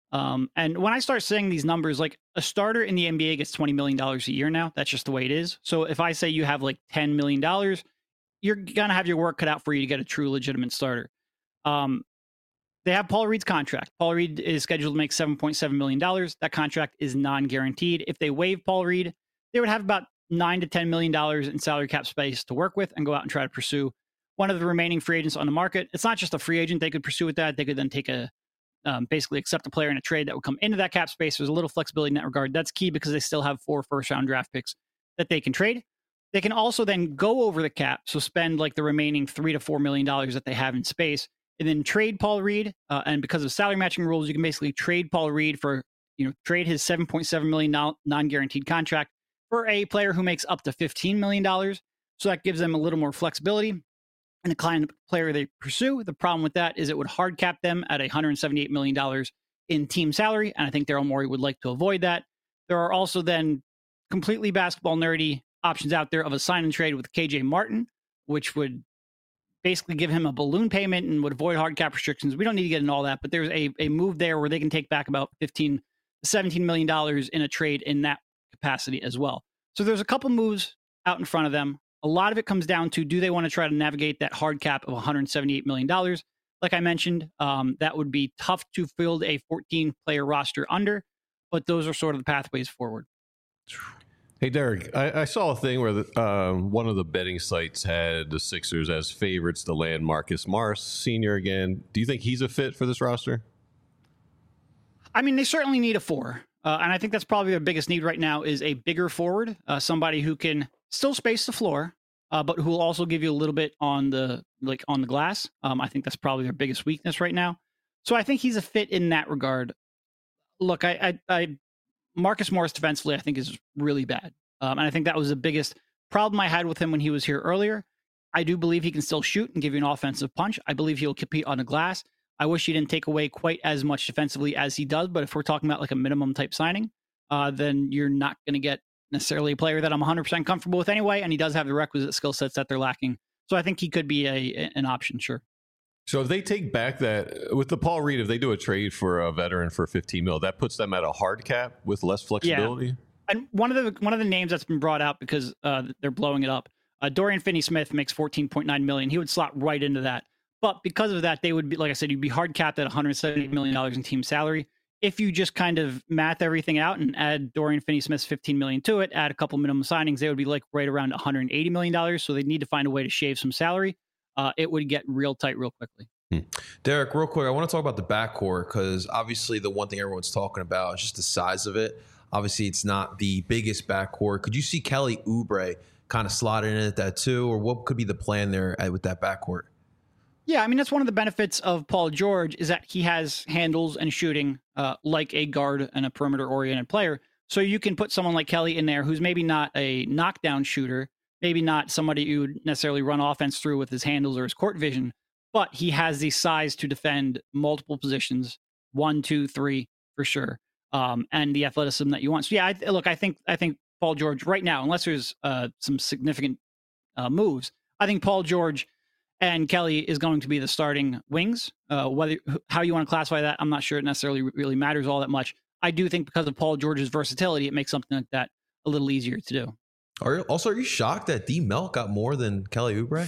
Um, and when I start saying these numbers, like a starter in the N B A gets twenty million dollars a year now. That's just the way it is. So if I say you have like ten million dollars, you're going to have your work cut out for you to get a true legitimate starter. Um, they have Paul Reed's contract. Paul Reed is scheduled to make seven point seven million dollars. That contract is non-guaranteed. If they waive Paul Reed, they would have about nine to ten million dollars in salary cap space to work with and go out and try to pursue one of the remaining free agents on the market. It's not just a free agent they could pursue with that. They could then take a um, basically accept a player in a trade that would come into that cap space. There's a little flexibility in that regard. That's key because they still have four first round draft picks that they can trade. They can also then go over the cap, so spend like the remaining three to four million dollars that they have in space, and then trade Paul Reed. Uh, and because of salary matching rules, you can basically trade Paul Reed for, you know, trade his seven point seven million dollars non-guaranteed contract for a player who makes up to fifteen million dollars. So that gives them a little more flexibility and the kind of player they pursue. The problem with that is it would hard cap them at one hundred seventy-eight million dollars in team salary. And I think Daryl Morey would like to avoid that. There are also then completely basketball nerdy options out there of a sign and trade with K J Martin, which would basically give him a balloon payment and would avoid hard cap restrictions. We don't need to get into all that, but there's a, a move there where they can take back about fifteen to seventeen million dollars in a trade in that capacity as well. So there's a couple moves out in front of them. A lot of it comes down to, do they want to try to navigate that hard cap of one hundred seventy-eight million dollars? Like I mentioned, um, that would be tough to field a fourteen player roster under, but those are sort of the pathways forward. Hey, Derek, I, I saw a thing where the, um, one of the betting sites had the Sixers as favorites to land Marcus Morris Senior again. Do you think he's a fit for this roster? I mean, they certainly need a four. Uh, and I think that's probably their biggest need right now is a bigger forward, uh, somebody who can still space the floor, uh, but who will also give you a little bit on the like on the glass. Um, I think that's probably their biggest weakness right now. So I think he's a fit in that regard. Look, I, I, I Marcus Morris defensively, I think, is really bad. Um, and I think that was the biggest problem I had with him when he was here earlier. I do believe he can still shoot and give you an offensive punch. I believe he'll compete on the glass. I wish he didn't take away quite as much defensively as he does. But if we're talking about like a minimum type signing, uh, then you're not going to get necessarily a player that I'm one hundred percent comfortable with anyway. And he does have the requisite skill sets that they're lacking. So I think he could be a an option, sure. So if they take back that with the Paul Reed, if they do a trade for a veteran for fifteen mil, that puts them at a hard cap with less flexibility. Yeah. And one of the one of the names that's been brought out because uh, they're blowing it up, uh, Dorian Finney-Smith makes fourteen point nine million dollars. He would slot right into that. But because of that, they would be, like I said, you'd be hard capped at one hundred seventy million dollars in team salary. If you just kind of math everything out and add Dorian Finney-Smith's fifteen million dollars to it, add a couple minimum signings, they would be like right around one hundred eighty million dollars. So they need to find a way to shave some salary. Uh, it would get real tight real quickly. Hmm. Derek, real quick, I want to talk about the backcourt because obviously the one thing everyone's talking about is just the size of it. Obviously, it's not the biggest backcourt. Could you see Kelly Oubre kind of slotting in at that too, or what could be the plan there with that backcourt? Yeah, I mean, that's one of the benefits of Paul George is that he has handles and shooting uh, like a guard and a perimeter-oriented player. So you can put someone like Kelly in there who's maybe not a knockdown shooter, maybe not somebody you would necessarily run offense through with his handles or his court vision, but he has the size to defend multiple positions, one, two, three, for sure, um, and the athleticism that you want. So yeah, I, look, I think I think Paul George right now, unless there's uh, some significant uh, moves, I think Paul George and Kelly is going to be the starting wings. Uh, whether how you want to classify that, I'm not sure it necessarily really matters all that much. I do think because of Paul George's versatility, it makes something like that a little easier to do. Are you, also, are you shocked that D Melt got more than Kelly Oubre?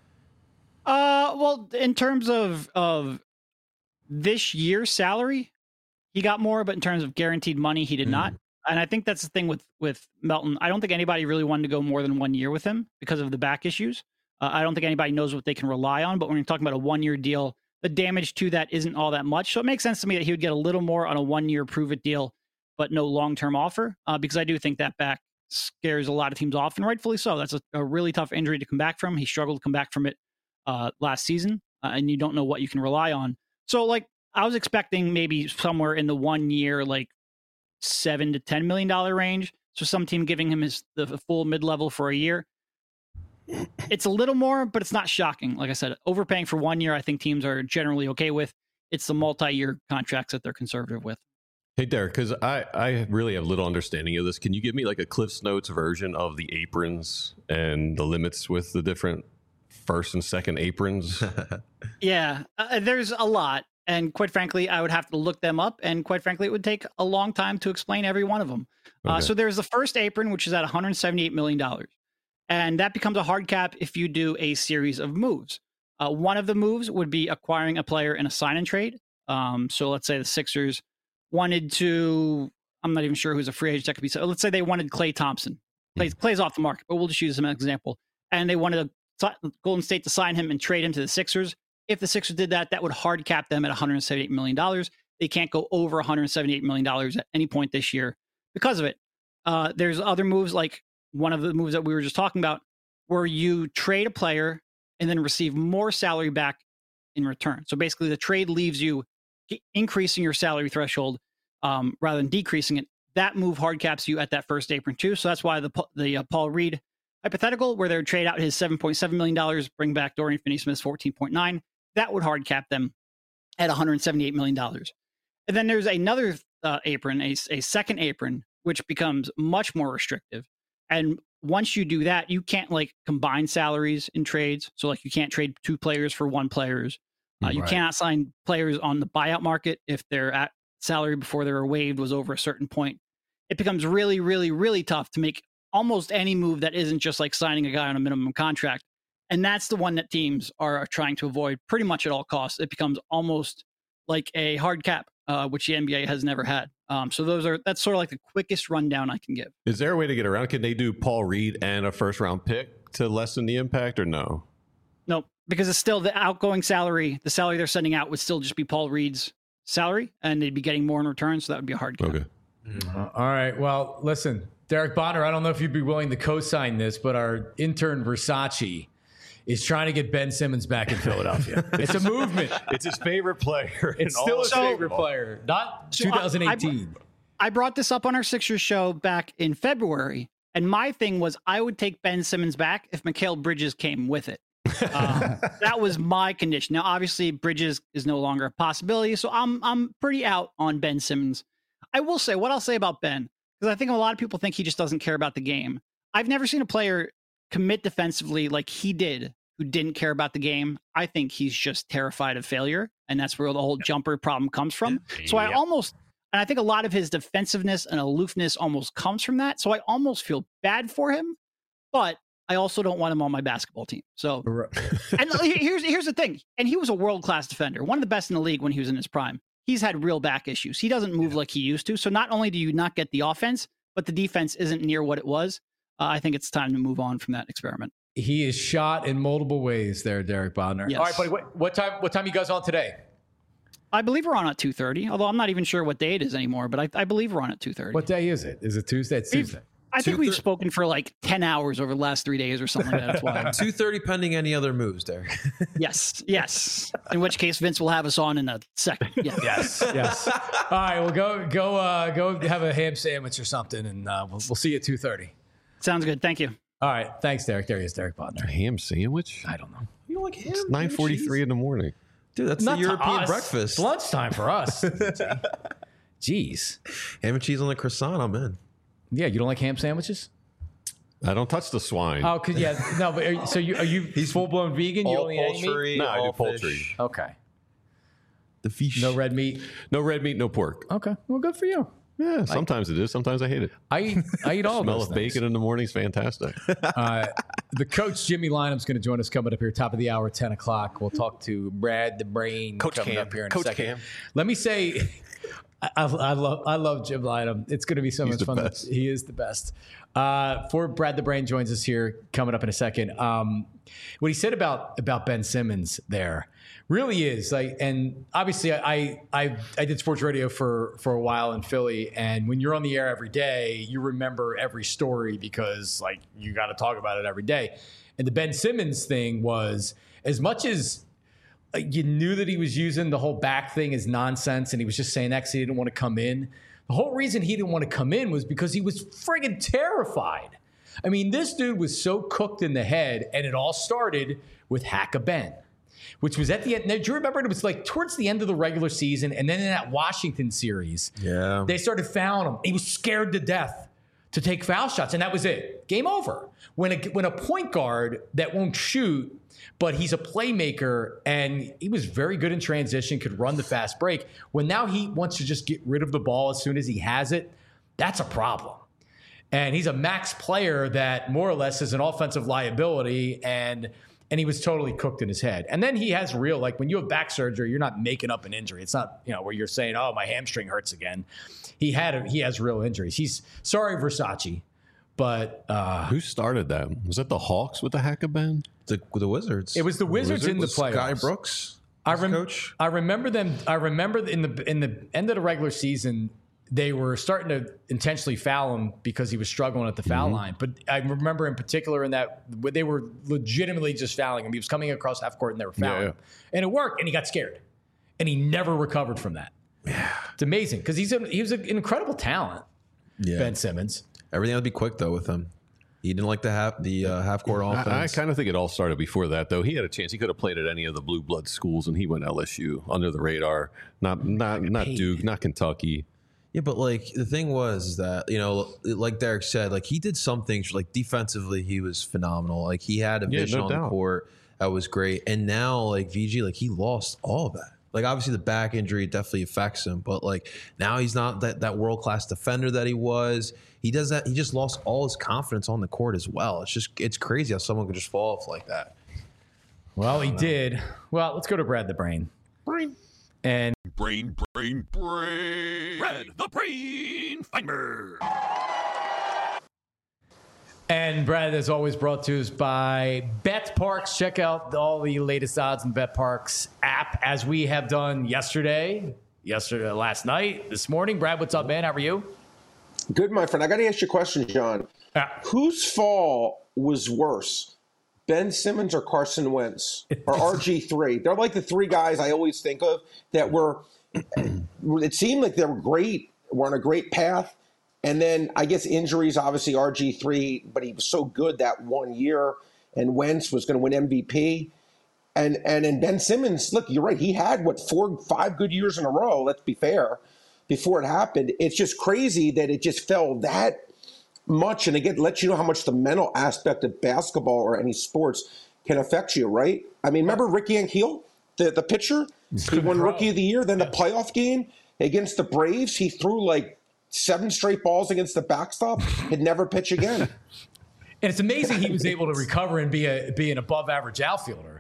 Uh, well, in terms of of this year's salary, he got more, but in terms of guaranteed money, he did mm. not. And I think that's the thing with with Melton. I don't think anybody really wanted to go more than one year with him because of the back issues. Uh, I don't think anybody knows what they can rely on, but when you're talking about a one-year deal, the damage to that isn't all that much. So it makes sense to me that he would get a little more on a one-year prove-it deal, but no long-term offer, uh, because I do think that back scares a lot of teams off, and rightfully so. That's a, a really tough injury to come back from. He struggled to come back from it uh, last season, uh, and you don't know what you can rely on. So, like, I was expecting maybe somewhere in the one-year, like, seven to ten million dollar range. So some team giving him his the full mid-level for a year. It's a little more, but it's not shocking. Like I said, overpaying for one year, I think teams are generally okay with. It's the multi-year contracts that they're conservative with. Hey, Derek, because I, I really have little understanding of this. Can you give me like a Cliff's Notes version of the aprons and the limits with the different first and second aprons? Yeah, uh, there's a lot. And quite frankly, I would have to look them up. And quite frankly, it would take a long time to explain every one of them. Okay. Uh, so there's the first apron, which is at one hundred seventy-eight million dollars. And that becomes a hard cap if you do a series of moves. Uh, one of the moves would be acquiring a player in a sign and trade. Um, so let's say the Sixers wanted to, I'm not even sure who's a free agent that could be. So let's say they wanted Klay Thompson. Klay, Klay's off the market, but we'll just use him as an example. And they wanted a, Golden State to sign him and trade him to the Sixers. If the Sixers did that, that would hard cap them at one hundred seventy-eight million dollars. They can't go over one hundred seventy-eight million dollars at any point this year because of it. Uh, there's other moves, like one of the moves that we were just talking about, where you trade a player and then receive more salary back in return. So basically the trade leaves you increasing your salary threshold um, rather than decreasing it. That move hard caps you at that first apron too. So that's why the the uh, Paul Reed hypothetical, where they would trade out his seven point seven million dollars, bring back Dorian Finney-Smith's fourteen point nine, that would hard cap them at one hundred seventy-eight million dollars. And then there's another uh, apron, a, a second apron, which becomes much more restrictive. And once you do that, you can't like combine salaries in trades. So like you can't trade two players for one players. Uh, you right. cannot sign players on the buyout market if their at salary before they were waived was over a certain point. It becomes really, really, really tough to make almost any move that isn't just like signing a guy on a minimum contract. And that's the one that teams are trying to avoid pretty much at all costs. It becomes almost like a hard cap, uh, which the N B A has never had. Um, so those are that's sort of like the quickest rundown I can give. Is there a way to get around? Can they do Paul Reed and a first round pick to lessen the impact, or no? No, because it's still the outgoing salary. The salary they're sending out would still just be Paul Reed's salary, and they'd be getting more in return. So that would be a hard cap. Okay. Mm-hmm. Uh, all right. Well, listen, Derek Bonner, I don't know if you'd be willing to co-sign this, but our intern Versace is trying to get Ben Simmons back in Philadelphia. It's a movement. It's his favorite player. It's still his favorite player, not so twenty eighteen. I, I brought this up on our Sixers show back in February, and my thing was I would take Ben Simmons back if Mikal Bridges came with it. um, that was my condition. Now, obviously, Bridges is no longer a possibility, so I'm I'm pretty out on Ben Simmons. I will say what I'll say about Ben, because I think a lot of people think he just doesn't care about the game. I've never seen a player commit defensively like he did who didn't care about the game. I think he's just terrified of failure, and that's where the whole jumper problem comes from. So I almost, and I think a lot of his defensiveness and aloofness almost comes from that. So I almost feel bad for him, but I also don't want him on my basketball team. So, and here's here's the thing. And he was a world-class defender, one of the best in the league when he was in his prime. He's had real back issues. He doesn't move yeah. like he used to. So not only do you not get the offense, but the defense isn't near what it was. Uh, I think it's time to move on from that experiment. He is shot in multiple ways there, Derek Bodner. Yes. All right, buddy. What, what time? What time you guys on today? I believe we're on at two thirty. Although I'm not even sure what day it is anymore. But I, I believe we're on at two thirty. What day is it? Is it Tuesday? It's Tuesday. I think we've spoken for like ten hours over the last three days or something like that. That's why. two thirty pending any other moves there. Yes. Yes. In which case Vince will have us on in a second. Yeah. Yes. Yes. All right. Well, go go uh, go have a ham sandwich or something, and uh, we'll, we'll see you at two thirty. Sounds good. Thank you. All right. Thanks, Derek. There he is, Derek Bodner. A ham sandwich? I don't know. You don't like ham? It's nine forty-three in the morning. Dude, that's Not the European us. breakfast. It's lunchtime for us. Jeez. Ham and cheese on the croissant, I'm in. Yeah, you don't like ham sandwiches? I don't touch the swine. Oh, cause yeah, no. But are you, so you are you He's full blown vegan? You all only eat meat? poultry, No, I all do poultry. fish. Okay. The fish. No red meat. No red meat, no pork. Okay. Well, good for you. Yeah, sometimes it is. Sometimes I hate it. I eat. I eat all Smell those of things. bacon in the morning is fantastic. Uh, the coach Jimmy Lynam's going to join us coming up here, top of the hour, ten o'clock. We'll talk to Brad the Brain Coach coming Cam. up here in Coach a second. Cam. Let me say, I, I, I love I love Jim Lynam. It's going to be so He's much the fun. best. He is the best. Uh, for Brad the Brain joins us here coming up in a second. Um, what he said about about Ben Simmons there really is like, and obviously I I I did sports radio for for a while in Philly, and when you're on the air every day, you remember every story because like you got to talk about it every day. And the Ben Simmons thing was, as much as like, you knew that he was using the whole back thing as nonsense, and he was just saying that 'cause he didn't want to come in. The whole reason he didn't want to come in was because he was friggin' terrified. I mean, this dude was so cooked in the head, and it all started with Hack-a-Ben, which was at the end. Now, do you remember it was like towards the end of the regular season, and then in that Washington series, Yeah. they started fouling him. He was scared to death to take foul shots, and that was it. Game over. When a, when a point guard that won't shoot, but he's a playmaker, and he was very good in transition, could run the fast break. When now he wants to just get rid of the ball as soon as he has it, that's a problem. And he's a max player that more or less is an offensive liability, and and he was totally cooked in his head. And then he has real, like when you have back surgery, you're not making up an injury. It's not, you know, where you're saying, oh, my hamstring hurts again. He had a, he has real injuries. He's sorry, Versace, but uh, who started that? Was that the Hawks with the Hackaband? The, the Wizards. It was the Wizards, Wizards in the playoffs. Guy Brooks, I rem- coach. I remember them. I remember in the in the end of the regular season, they were starting to intentionally foul him because he was struggling at the foul mm-hmm. line. But I remember in particular in that they were legitimately just fouling him. He was coming across half court and they were fouling yeah, yeah. him. And it worked, and he got scared. And he never recovered from that. Yeah. It's amazing because he's a, he was an incredible talent, yeah. Ben Simmons. Everything would be quick, though, with him. He didn't like the half the uh, half court offense. I, I kind of think it all started before that, though. He had a chance. He could have played at any of the blue blood schools, and he went L S U under the radar. Not not not Duke, not Kentucky. Yeah, but like the thing was that, you know, like Derek said, like he did some things like defensively, he was phenomenal. Like he had a vision yeah, no on doubt. the court that was great. And now like V G, like he lost all of that. Like obviously the back injury definitely affects him, but like now he's not that, that world-class defender that he was. He does that. He just lost all his confidence on the court as well. It's just, it's crazy how someone could just fall off like that. Well, he know. did. Well, let's go to Brad the Brain. Brain. And brain, brain, brain. Brad the Brain Feinberg. And Brad is always brought to us by BetParx. Check out all the latest odds in BetParx app, as we have done yesterday, yesterday, last night, this morning. Brad, what's up, man? How are you? Good, my friend. I got to ask you a question, John. Yeah. Whose fall was worse, Ben Simmons or Carson Wentz or R G three? They're like the three guys I always think of that were. It seemed like they were great, were on a great path. And then I guess injuries, obviously R G three, but he was so good that one year, and Wentz was going to win M V P. And and then Ben Simmons, look, you're right. He had, what, four, five good years in a row, let's be fair, before it happened. It's just crazy that it just fell that much. And again, let you know how much the mental aspect of basketball or any sports can affect you, right? I mean, remember Rick Ankiel, the, the pitcher? He won Rookie of the Year. Then the playoff game against the Braves, he threw like seven straight balls against the backstop, he'd never pitch again. And it's amazing he was able to recover and be a be an above average outfielder.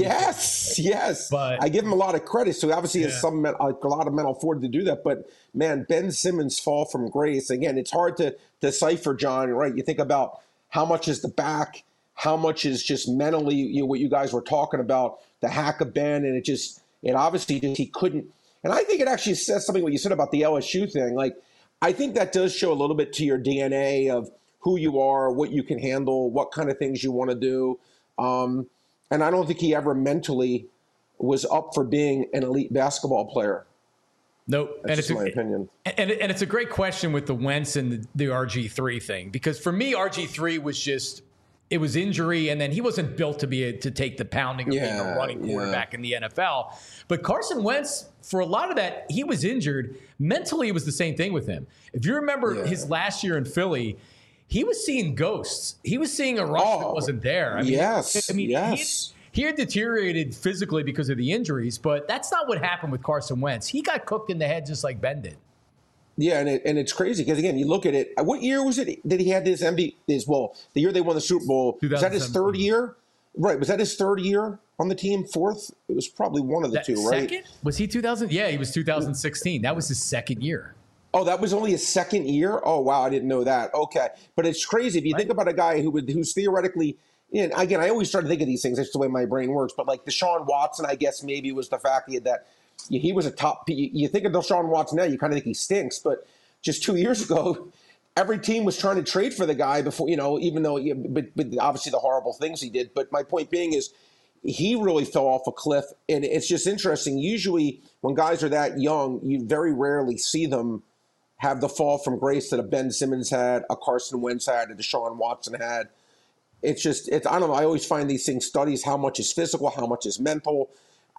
Yes, yes. But I give him a lot of credit. So obviously he has yeah. some a lot of mental fortitude to do that. But man, Ben Simmons' fall from grace, again, it's hard to decipher, John, right? You think about how much is the back, how much is just mentally, you know, what you guys were talking about, the hack of Ben, and it just it obviously just he couldn't. And I think it actually says something what you said about the L S U thing. Like, I think that does show a little bit to your D N A of who you are, what you can handle, what kind of things you want to do. Um, and I don't think he ever mentally was up for being an elite basketball player. Nope. That's and it's just a, my opinion. And, and it's a great question with the Wentz and the, the R G three thing, because for me, R G three was just, it was injury, and then he wasn't built to be a, to take the pounding of yeah, being a running quarterback yeah. in the N F L. But Carson Wentz, for a lot of that, he was injured. Mentally, it was the same thing with him. If you remember yeah. his last year in Philly, he was seeing ghosts. He was seeing a rush oh, that wasn't there. I mean, yes, I mean, yes. He, he had deteriorated physically because of the injuries, but that's not what happened with Carson Wentz. He got cooked in the head just like Ben did. Yeah, and it, and it's crazy because, again, you look at it. What year was it that he had this M V P? His, well, the year they won the Super Bowl. Was that his third year? Right. Was that his third year on the team? Fourth? It was probably one of the that two, right? Second? Was he two thousand? Yeah, he was two thousand sixteen. That was his second year. Oh, that was only his second year? Oh, wow, I didn't know that. Okay. But it's crazy. If you right. think about a guy who would, who's theoretically – and again, I always try to think of these things. That's the way my brain works. But like Deshaun Watson, I guess maybe was the fact that that he was a top – you think of Deshaun Watson now, you kind of think he stinks. But just two years ago, every team was trying to trade for the guy before, you know, even though – but, but obviously the horrible things he did. But my point being is he really fell off a cliff. And it's just interesting. Usually when guys are that young, you very rarely see them have the fall from grace that a Ben Simmons had, a Carson Wentz had, a Deshaun Watson had. It's just, it's, I don't know, I always find these things, studies, how much is physical, how much is mental.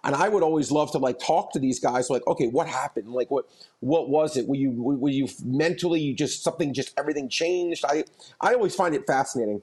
and I would always love to like talk to these guys. Like, okay, what happened? Like, what what was it? Were you were you mentally? You just something just everything changed. I I always find it fascinating.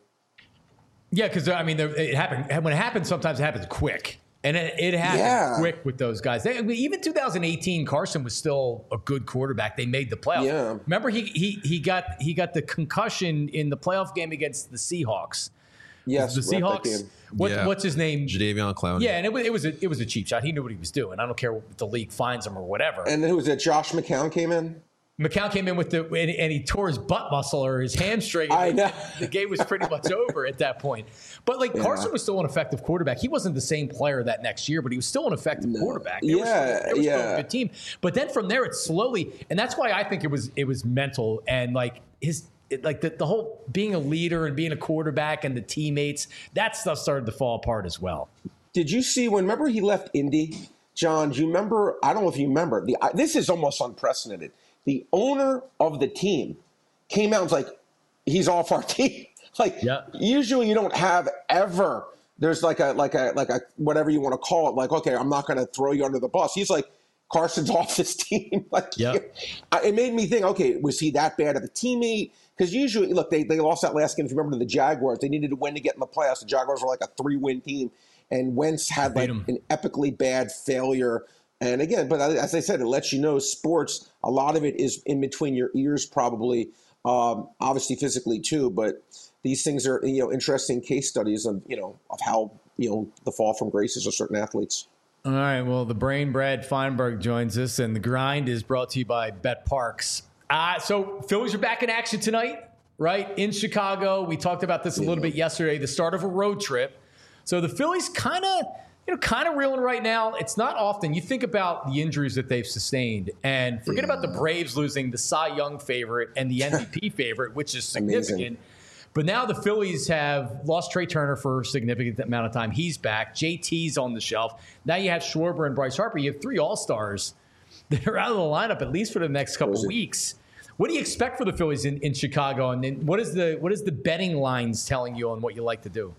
Yeah, because I mean, it happened when it happens. Sometimes it happens quick. And it, it happened yeah. quick with those guys. They, I mean, even two thousand eighteen, Carson was still a good quarterback. They made the playoffs. Yeah. Remember, he he he got he got the concussion in the playoff game against the Seahawks. Yes, the Seahawks. What, yeah. What's his name? Jadeveon Clowney. Yeah, and it was it was a, it was a cheap shot. He knew what he was doing. I don't care if the league finds him or whatever. And then who was it? Josh McCown came in. McCown came in with the and, and he tore his butt muscle or his hamstring. I know. The game was pretty much over at that point. But like yeah. Carson was still an effective quarterback. He wasn't the same player that next year, but he was still an effective no. quarterback. They yeah, were still, they were yeah. still a good team. But then from there, it slowly, and that's why I think it was it was mental and like his it, like the, the whole being a leader and being a quarterback and the teammates, that stuff started to fall apart as well. Did you see when? Remember he left Indy, John? Do you remember? I don't know if you remember. The I, this is almost unprecedented. The owner of the team came out and was like, he's off our team. Like, yeah. usually you don't have ever, there's like a, like a, like a, whatever you want to call it. Like, okay, I'm not going to throw you under the bus. He's like, Carson's off this team. Like, yeah. It made me think, okay, was he that bad of a teammate? Because usually, look, they, they lost that last game. If you remember the Jaguars, they needed to win to get in the playoffs. The Jaguars were like a three-win team. And Wentz had like an epically bad failure. And again, but as I said, it lets you know sports, a lot of it is in between your ears probably, um, obviously physically too, but these things are, you know, interesting case studies of, you know, of how, you know, the fall from graces of certain athletes. All right, well, the brain Brad Feinberg joins us, and the grind is brought to you by Bet Parks. Uh, so Phillies are back in action tonight, right, in Chicago. We talked about this a little bit yesterday, the start of a road trip. So the Phillies kind of... You know, kind of reeling right now. It's not often. You think about the injuries that they've sustained, and forget about the Braves losing the Cy Young favorite and the M V P favorite, which is significant. Amazing. But now the Phillies have lost Trey Turner for a significant amount of time. He's back. J T's on the shelf. Now you have Schwarber and Bryce Harper. You have three All-Stars that are out of the lineup at least for the next couple of weeks. What do you expect for the Phillies in, in Chicago? And then what is the what is the betting lines telling you on what you like to do?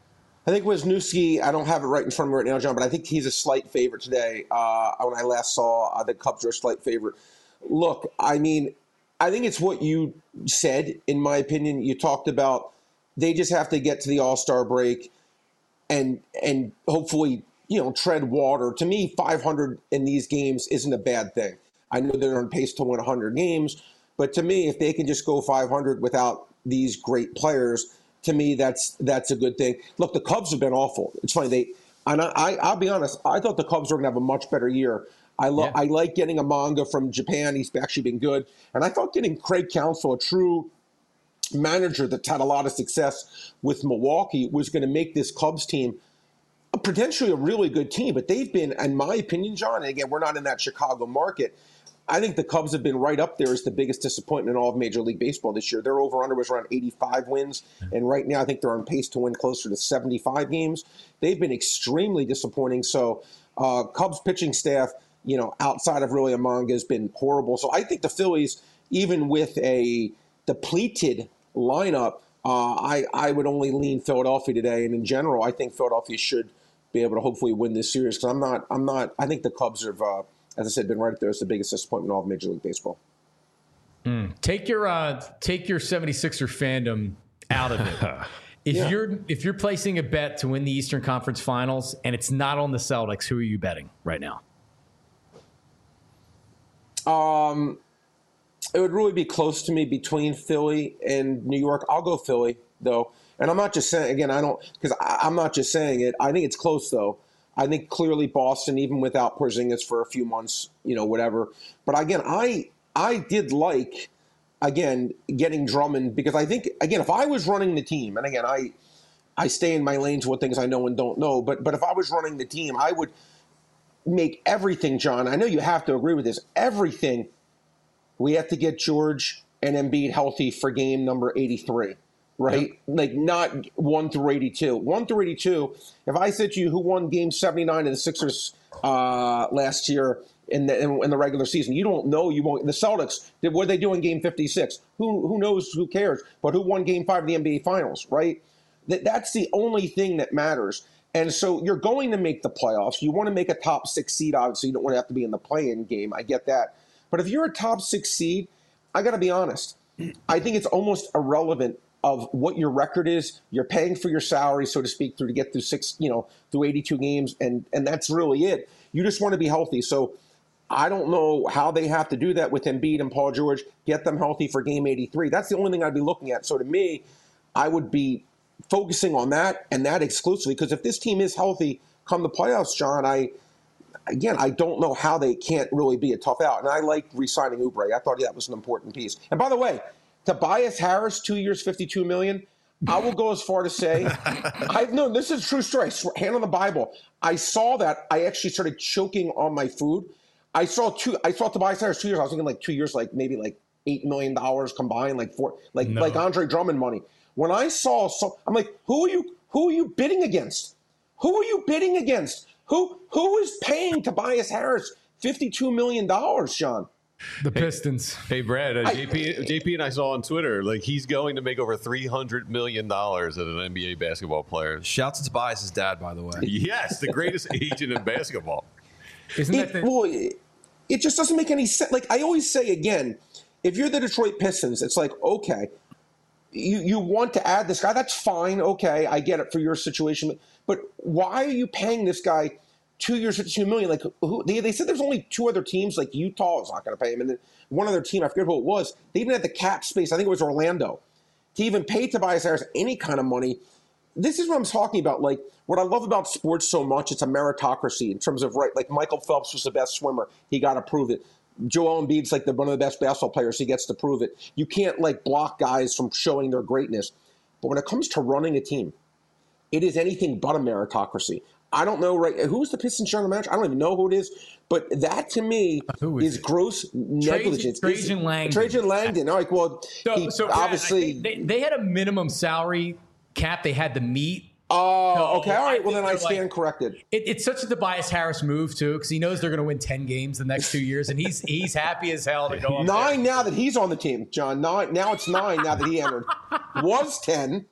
I think Wisniewski, I don't have it right in front of me right now, John, but I think he's a slight favorite today. Uh, when I last saw uh, the Cubs are a slight favorite. Look, I mean, I think it's what you said, in my opinion. You talked about they just have to get to the All-Star break and and hopefully, you know, tread water. To me, five hundred in these games isn't a bad thing. I know they're on pace to win one hundred games, but to me, if they can just go five hundred without these great players, to me, that's that's a good thing. Look, the Cubs have been awful. It's funny. They, and I, I, I'll be honest, I thought the Cubs were going to have a much better year. I, lo- yeah. I like getting a manga from Japan. He's actually been good. And I thought getting Craig Counsell, a true manager that's had a lot of success with Milwaukee, was going to make this Cubs team a, potentially a really good team. But they've been, in my opinion, John, and again, we're not in that Chicago market, I think the Cubs have been right up there as the biggest disappointment in all of Major League Baseball this year. Their over-under was around eighty-five wins, and right now I think they're on pace to win closer to seventy-five games. They've been extremely disappointing. So uh, Cubs pitching staff, you know, outside of really Amanga, has been horrible. So I think the Phillies, even with a depleted lineup, uh, I, I would only lean Philadelphia today. And in general, I think Philadelphia should be able to hopefully win this series because I'm not, I'm not, I think the Cubs have, uh, as I said, been right up there as the biggest disappointment in all of Major League Baseball. Mm. Take your uh, take your seventy-sixer fandom out of it. If yeah. you're if you're placing a bet to win the Eastern Conference Finals and it's not on the Celtics, who are you betting right now? Um, it would really be close to me between Philly and New York. I'll go Philly though, and I'm not just saying again. I don't because I'm not just saying it. I think it's close though. I think clearly Boston, even without Porzingis for a few months, you know, whatever. But again, I I did like, again, getting Drummond because I think, again, if I was running the team, and again, I I stay in my lane to what things I know and don't know, but but if I was running the team, I would make everything, John, I know you have to agree with this, everything, we have to get George and Embiid healthy for game number eighty-three. Right? Yep. Like not one through eighty-two. one through eighty-two, if I said to you who won game seventy-nine of the Sixers uh, last year in the in, in the regular season, you don't know. You won't. The Celtics, did, what did they do in game fifty-six? Who who knows? Who cares? But who won game five of the N B A Finals, right? That, that's the only thing that matters. And so you're going to make the playoffs. You want to make a top six seed, obviously. You don't want to have to be in the play-in game. I get that. But if you're a top six seed, I got to be honest. I think it's almost irrelevant of what your record is. You're paying for your salary, so to speak, through to get through six, you know, through eighty-two games, and and that's really it. You just want to be healthy. So I don't know how they have to do that with Embiid and Paul George. Get them healthy for game eighty-three. That's the only thing I'd be looking at. So to me, I would be focusing on that and that exclusively, because if this team is healthy come the playoffs, John, I again I don't know how they can't really be a tough out. And I like re-signing Oubre. I thought that was an important piece. And by the way, Tobias Harris, two years, fifty-two million dollars. I will go as far to say, I've known this is a true story. Hand on the Bible. I saw that. I actually started choking on my food. I saw two. I saw Tobias Harris two years. I was thinking like two years, like maybe like eight million dollars combined, like four, like No. like Andre Drummond money. When I saw, so I'm like, who are you? Who are you bidding against? Who are you bidding against? Who who is paying Tobias Harris fifty-two million dollars, Sean? The Pistons. Hey, Brad, uh, I- J P, J P and I saw on Twitter, like, he's going to make over three hundred million dollars as an N B A basketball player. Shouts to Tobias' dad, by the way. Yes, the greatest agent in basketball. Isn't that It, the, well, it, it just doesn't make any sense. Like I always say again, if you're the Detroit Pistons, it's like, okay, you, you want to add this guy, that's fine. Okay, I get it for your situation. But why are you paying this guy two years, fifty-two million dollars? Like who, they, they said there's only two other teams, like Utah was not going to pay him. And then one other team, I forget who it was, they even had the cap space, I think it was Orlando, to even pay Tobias Harris any kind of money. This is what I'm talking about. Like, what I love about sports so much, it's a meritocracy in terms of, right, like Michael Phelps was the best swimmer. He got to prove it. Joel Embiid's like the, one of the best basketball players. He gets to prove it. You can't, like, block guys from showing their greatness. But when it comes to running a team, it is anything but a meritocracy. I don't know, right, who's the Pistons general manager? I don't even know who it is. But that, to me, Who is is it? gross negligence. Trajan It's- Langdon. Trajan Langdon. All right, well, So, he so Brad, I obviously think they, they had a minimum salary cap they had to meet. Oh, So, okay. All right. I Well, then think I they're stand like- corrected. It, it's such a Tobias Harris move too, because he knows they're going to win ten games the next two years, and he's he's happy as hell to go up there. Nine now that he's on the team, John. Nine now it's nine now that he entered. Was ten,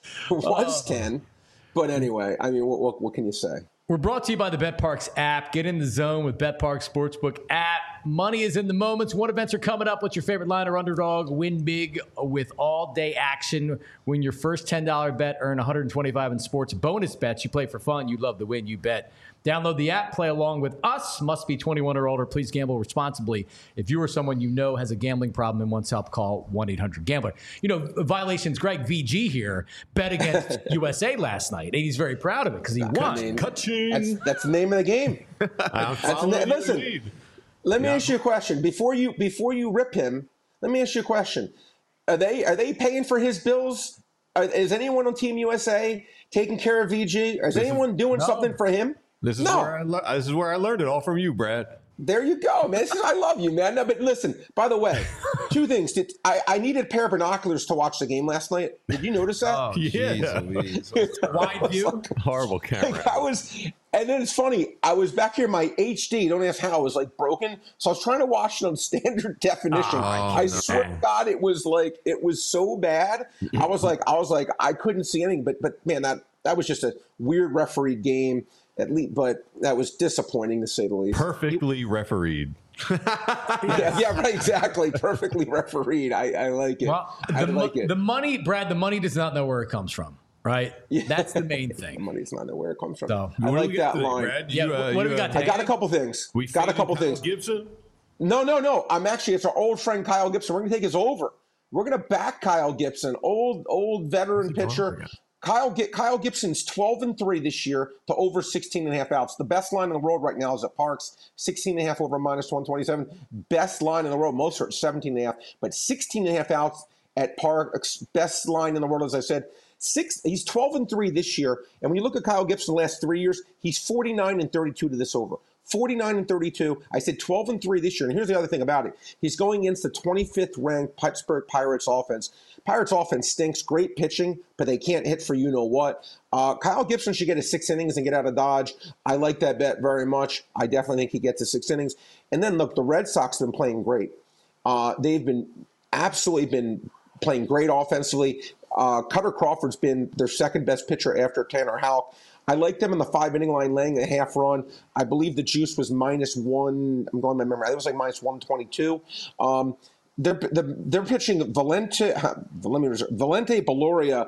was ten, but anyway, I mean, what, what what can you say? We're brought to you by the BetParks app. Get in the zone with BetParks Sportsbook app. Money is in the moments. What events are coming up? What's your favorite line or underdog? Win big with all-day action. Win your first ten dollars bet. Earn one hundred twenty-five dollars in sports bonus bets. You play for fun. You love the win. You bet. Download the app. Play along with us. Must be twenty-one or older. Please gamble responsibly. If you or someone you know has a gambling problem and wants help, call one eight hundred gambler. You know, violations. Greg V G here bet against U S A last night, and he's very proud of it because he won. mean, Ka-ching. That's that's the name of the game. I'm That's following the, your listen. lead. Let me ask you a question before you before you rip him. Let me ask you a question. Are they are they paying for his bills? Are, is anyone on Team U S A taking care of V G? Is anyone doing no. something for him? This is No. where I le- this is where I learned it all from you, Brad. There you go, man. This is, I love you, man. No, but listen, by the way, two things. Did, I, I needed a pair of binoculars to watch the game last night. Did you notice that? Oh, Yeah. jeez Louise. Wide view. Horrible camera. Like, I was, and then it's funny. I was back here. My H D, don't ask how, was like broken. So I was trying to watch it on standard definition. I swear to God, it was like it was so bad. I was like, I was like, I couldn't see anything. But but man, that that was just a weird refereed game. At least, but that was disappointing to say the least. Perfectly refereed. Yeah, yeah, right. Exactly. Perfectly refereed. I, I like it. Well, I the, mo- like it. the money, Brad, the money does not know where it comes from, right? Yeah. That's the main The thing. money's not know where it comes from. So, I What do like we got that today, line. Brad? Yeah, You, uh, what do we you, got uh, today? I got a couple things. We got a faded couple Kyle things. Gibson. No, no, no. I'm actually, it's our old friend Kyle Gibson. We're going to take his over. We're going to back Kyle Gibson, old old veteran pitcher. Kyle Kyle Gibson's twelve and three this year to over sixteen and a half outs. The best line in the world right now is at Parks, sixteen and a half over minus one twenty-seven. Best line in the world, most are at seventeen and a half, but sixteen and a half outs at Parks. Best line in the world, as I said. Six, he's twelve and three this year. And when you look at Kyle Gibson the last three years, he's forty-nine and thirty-two to this over. forty-nine and thirty-two. I said twelve and three this year. And here's the other thing about it. He's going against the twenty-fifth ranked Pittsburgh Pirates offense. Pirates offense stinks. Great pitching, but they can't hit for you know what. Uh, Kyle Gibson should get his six innings and get out of Dodge. I like that bet very much. I definitely think he gets his six innings. And then look, the Red Sox have been playing great. Uh, they've been absolutely been playing great offensively. Uh, Cutter Crawford's been their second best pitcher after Tanner Houck. I like them in the five inning line, laying a half run. I believe the juice was minus one. I'm going by memory. It was like minus one twenty-two. Um, they're, they're they're pitching Valente. Let me reserve, Valente Beloria,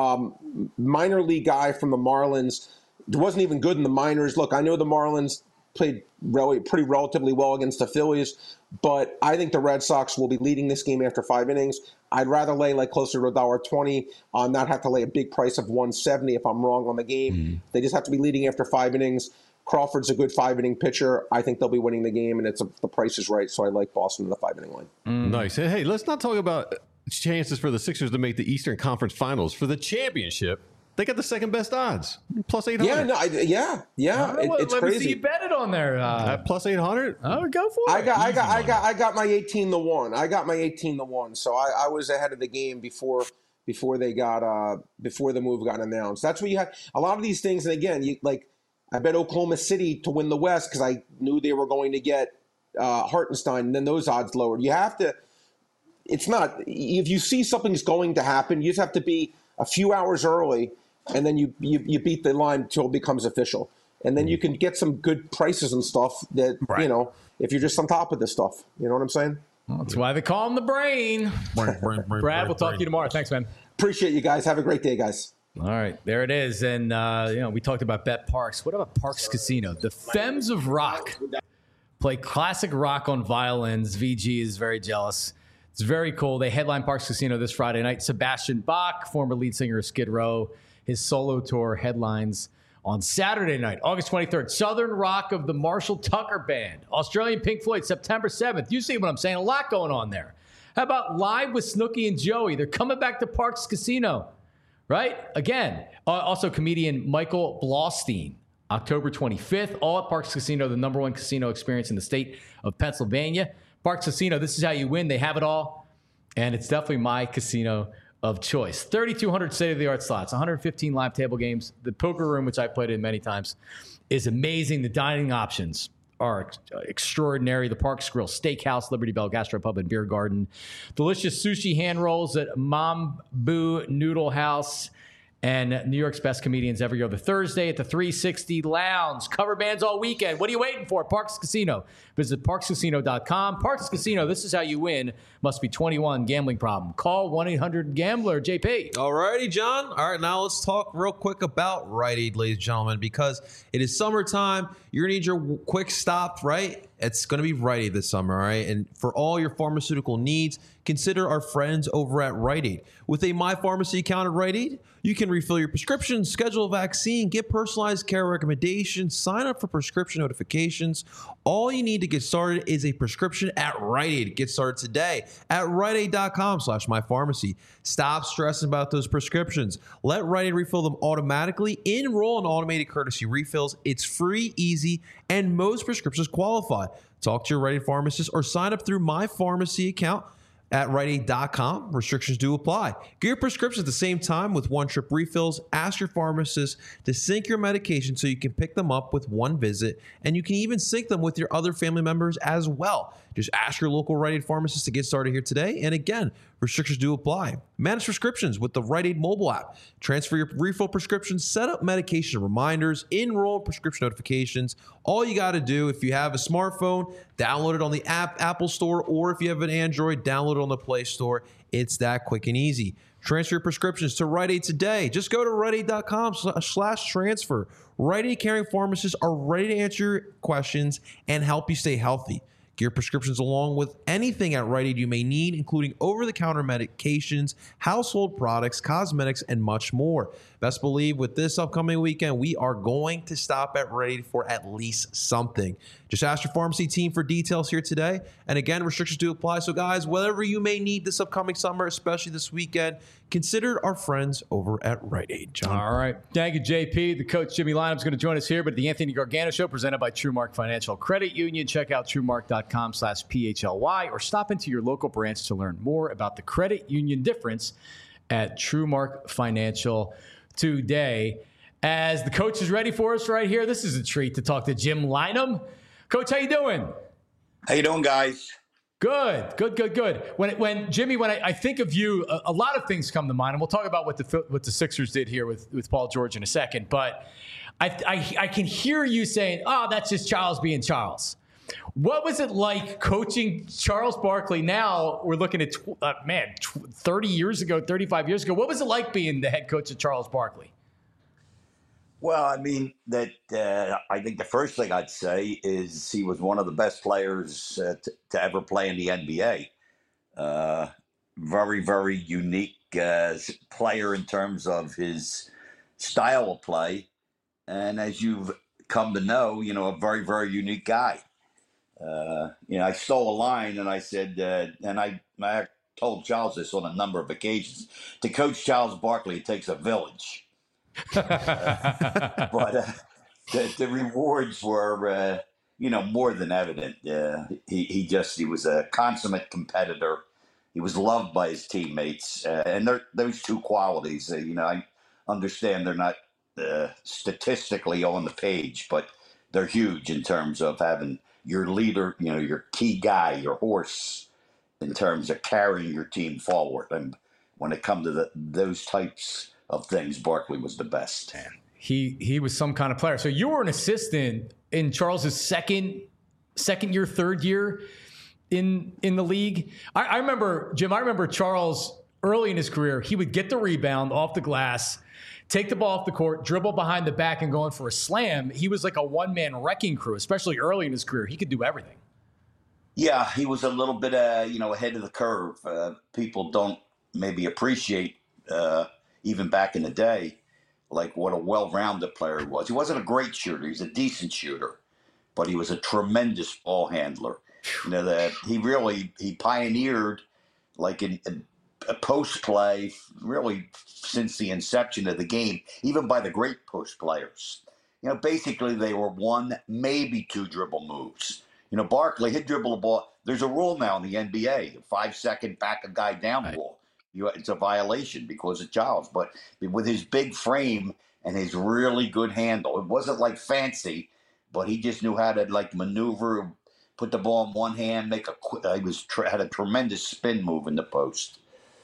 um, minor league guy from the Marlins. It wasn't even good in the minors. Look, I know the Marlins played really, pretty relatively well against the Phillies, but I think the Red Sox will be leading this game after five innings. I'd rather lay like closer to one dollar twenty, uh, not have to lay a big price of one seventy if I'm wrong on the game. Mm. They just have to be leading after five innings. Crawford's a good five-inning pitcher. I think they'll be winning the game, and it's a, the price is right, so I like Boston in the five-inning line. Mm. Nice. Hey, hey, let's not talk about chances for the Sixers to make the Eastern Conference Finals. For the championship, they got the second best odds, plus eight hundred. Yeah, no, I, yeah, yeah. It, well, it's let crazy. Me see you bet it on there. Uh, At plus eight hundred. Oh, go for it. I got, Easy I got, money. I got, I got my eighteen to one. I got my eighteen to one. So I, I was ahead of the game before, before they got, uh, before the move got announced. That's what you had. A lot of these things, and again, you like. I bet Oklahoma City to win the West because I knew they were going to get uh, Hartenstein, and then those odds lowered. You have to. It's not if you see something's going to happen, you just have to be a few hours early, and then you you, you beat the line until it becomes official, and then you can get some good prices and stuff. That right. you know, if you're just on top of this stuff, you know what I'm saying. Well, that's why they call him the brain. brain, brain, brain Brad, we'll talk brain. to you tomorrow. Thanks, man. Appreciate you guys. Have a great day, guys. All right, there it is. And, uh, you know, we talked about Bet Parks. What about Parks Casino? The Femmes of Rock play classic rock on violins. V G is very jealous. It's very cool. They headline Parks Casino this Friday night. Sebastian Bach, former lead singer of Skid Row, his solo tour headlines on Saturday night, August twenty-third. Southern Rock of the Marshall Tucker Band. Australian Pink Floyd, September seventh. You see what I'm saying? A lot going on there. How about Live with Snooki and Joey? They're coming back to Parks Casino. Right? Again, uh, also comedian Michael Blaustein, October twenty-fifth, all at Parks Casino, the number one casino experience in the state of Pennsylvania. Parks Casino, this is how you win. They have it all, and it's definitely my casino of choice. thirty-two hundred state-of-the-art slots, one hundred fifteen live table games. The poker room, which I played in many times, is amazing. The dining options are extraordinary. The Parks Grill, Steakhouse, Liberty Bell Gastropub and Beer Garden. Delicious sushi hand rolls at Mambu Noodle House. And New York's best comedians every other Thursday at the three sixty Lounge. Cover bands all weekend. What are you waiting for? Parks Casino. Visit parks casino dot com. Parks Casino, this is how you win. Must be twenty-one. Gambling problem. Call one eight hundred gambler. J P. All righty, John. All right, now let's talk real quick about Rite Aid, ladies and gentlemen, because it is summertime. You're going to need your quick stop, right? It's going to be Rite Aid this summer, all right? And for all your pharmaceutical needs, consider our friends over at Rite Aid. With a My Pharmacy account at Rite Aid, you can refill your prescriptions, schedule a vaccine, get personalized care recommendations, sign up for prescription notifications. All you need to get started is a prescription at Rite Aid. Get started today at rite aid dot com slash my pharmacy. Stop stressing about those prescriptions. Let Rite Aid refill them automatically. Enroll in automated courtesy refills. It's free, easy, and most prescriptions qualify. Talk to your Rite Aid pharmacist or sign up through My Pharmacy account at rite aid dot com. Restrictions do apply. Get your prescriptions at the same time with one-trip refills. Ask your pharmacist to sync your medication so you can pick them up with one visit, and you can even sync them with your other family members as well. Just ask your local Rite Aid pharmacist to get started here today. And again, restrictions do apply. Manage prescriptions with the Rite Aid mobile app. Transfer your refill prescriptions, set up medication reminders, enroll in prescription notifications. All you got to do, if you have a smartphone, download it on the app Apple Store, or if you have an Android, download it on the Play Store. It's that quick and easy. Transfer your prescriptions to Rite Aid today. Just go to rite aid dot com slash transfer. Rite Aid caring pharmacists are ready to answer your questions and help you stay healthy. Get your prescriptions along with anything at Rite Aid you may need, including over-the-counter medications, household products, cosmetics, and much more. Best believe with this upcoming weekend, we are going to stop at Rite Aid for at least something. Just ask your pharmacy team for details here today. And again, restrictions do apply. So guys, whatever you may need this upcoming summer, especially this weekend, consider our friends over at Rite Aid. John. All right. Thank you, J P. The coach, Jimmy Lynam, is going to join us here, but the Anthony Gargano Show presented by TrueMark Financial Credit Union. Check out truemark dot com slash P H L Y or stop into your local branch to learn more about the credit union difference at TrueMark Financial today. As the coach is ready for us right here, this is a treat to talk to Jim Lynam. Coach, how you doing? How you doing, guys? Good, good, good, good. When when Jimmy, when I, I think of you, a, a lot of things come to mind, and we'll talk about what the what the Sixers did here with, with Paul George in a second. But I, I, I can hear you saying, oh, that's just Charles being Charles. What was it like coaching Charles Barkley? Now we're looking at, uh, man, thirty years ago, thirty-five years ago. What was it like being the head coach of Charles Barkley? Well, I mean, that uh, I think the first thing I'd say is he was one of the best players uh, t- to ever play in the N B A. Uh, very, very unique uh, player in terms of his style of play. And as you've come to know, you know, a very, very unique guy. Uh, you know, I stole a line and I said, uh, and I, I told Charles this on a number of occasions, to coach Charles Barkley, it takes a village. uh, but uh, the, the rewards were, uh, you know, more than evident. Uh, he, he just, he was a consummate competitor. He was loved by his teammates. Uh, and those two qualities, uh, you know, I understand they're not uh, statistically on the page, but they're huge in terms of having your leader, you know, your key guy, your horse, in terms of carrying your team forward. And when it comes to the, those types of things, Barkley was the best. Man, he he was some kind of player. So you were an assistant in Charles's second second year, third year in in the league. I, I remember, Jim, I remember Charles early in his career, he would get the rebound off the glass, take the ball off the court, dribble behind the back and going for a slam. He was like a one-man wrecking crew, especially early in his career. He could do everything. Yeah, he was a little bit, uh, you know, ahead of the curve. Uh, people don't maybe appreciate, uh, even back in the day, like what a well-rounded player he was. He wasn't a great shooter. He was a decent shooter, but he was a tremendous ball handler. You know, that he really, he pioneered like in, in a post play really since the inception of the game, even by the great post players. You know, basically they were one, maybe two dribble moves. You know, Barkley, he'd dribble the ball. There's a rule now in the N B A, five second back a guy down right. rule. You, it's a violation because of Charles. But with his big frame and his really good handle, it wasn't like fancy, but he just knew how to like maneuver, put the ball in one hand, make a. Uh, he was had a tremendous spin move in the post.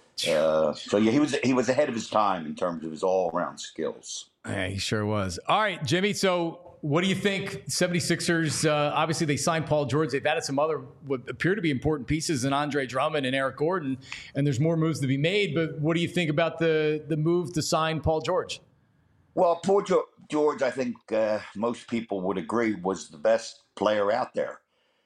Uh, so yeah, he was he was ahead of his time in terms of his all around skills. Yeah, he sure was. All right, Jimmy. So what do you think? seventy-sixers, uh, obviously they signed Paul George. They've added some other what appear to be important pieces in Andre Drummond and Eric Gordon, and there's more moves to be made. But what do you think about the the move to sign Paul George? Well, Paul George, I think uh, most people would agree, was the best player out there.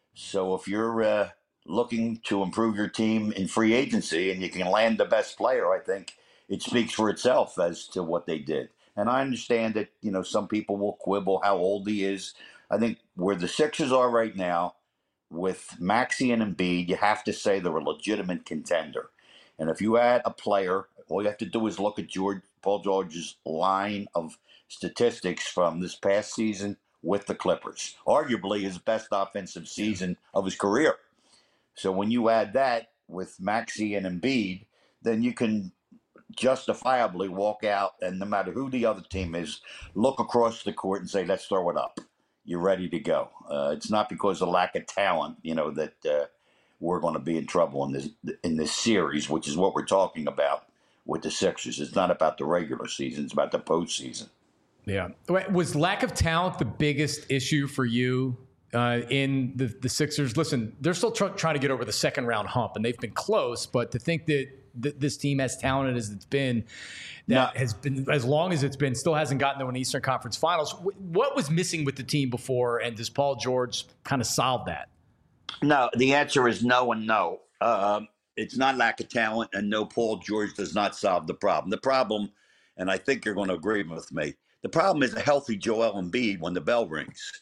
So if you're uh, looking to improve your team in free agency and you can land the best player, I think it speaks for itself as to what they did. And I understand that, you know, some people will quibble how old he is. I think where the Sixers are right now with Maxey and Embiid, you have to say they're a legitimate contender. And if you add a player, all you have to do is look at George, Paul George's line of statistics from this past season with the Clippers, arguably his best offensive season of his career. So when you add that with Maxey and Embiid, then you can justifiably walk out and no matter who the other team is, look across the court and say, let's throw it up. You're ready to go. Uh, it's not because of lack of talent, you know, that uh, we're going to be in trouble in this in this series, which is what we're talking about with the Sixers. It's not about the regular season. It's about the postseason. Yeah. Was lack of talent the biggest issue for you uh, in the, the Sixers? Listen, they're still tr- trying to get over the second round hump, and they've been close. But to think that th- this team, as talented as it's been, that no. has been as long as it's been, still hasn't gotten to an Eastern Conference Finals. W- what was missing with the team before, and does Paul George kind of solve that? No, the answer is no and no. Um, it's not lack of talent, and no, Paul George does not solve the problem. The problem, and I think you're going to agree with me, the problem is a healthy Joel Embiid when the bell rings.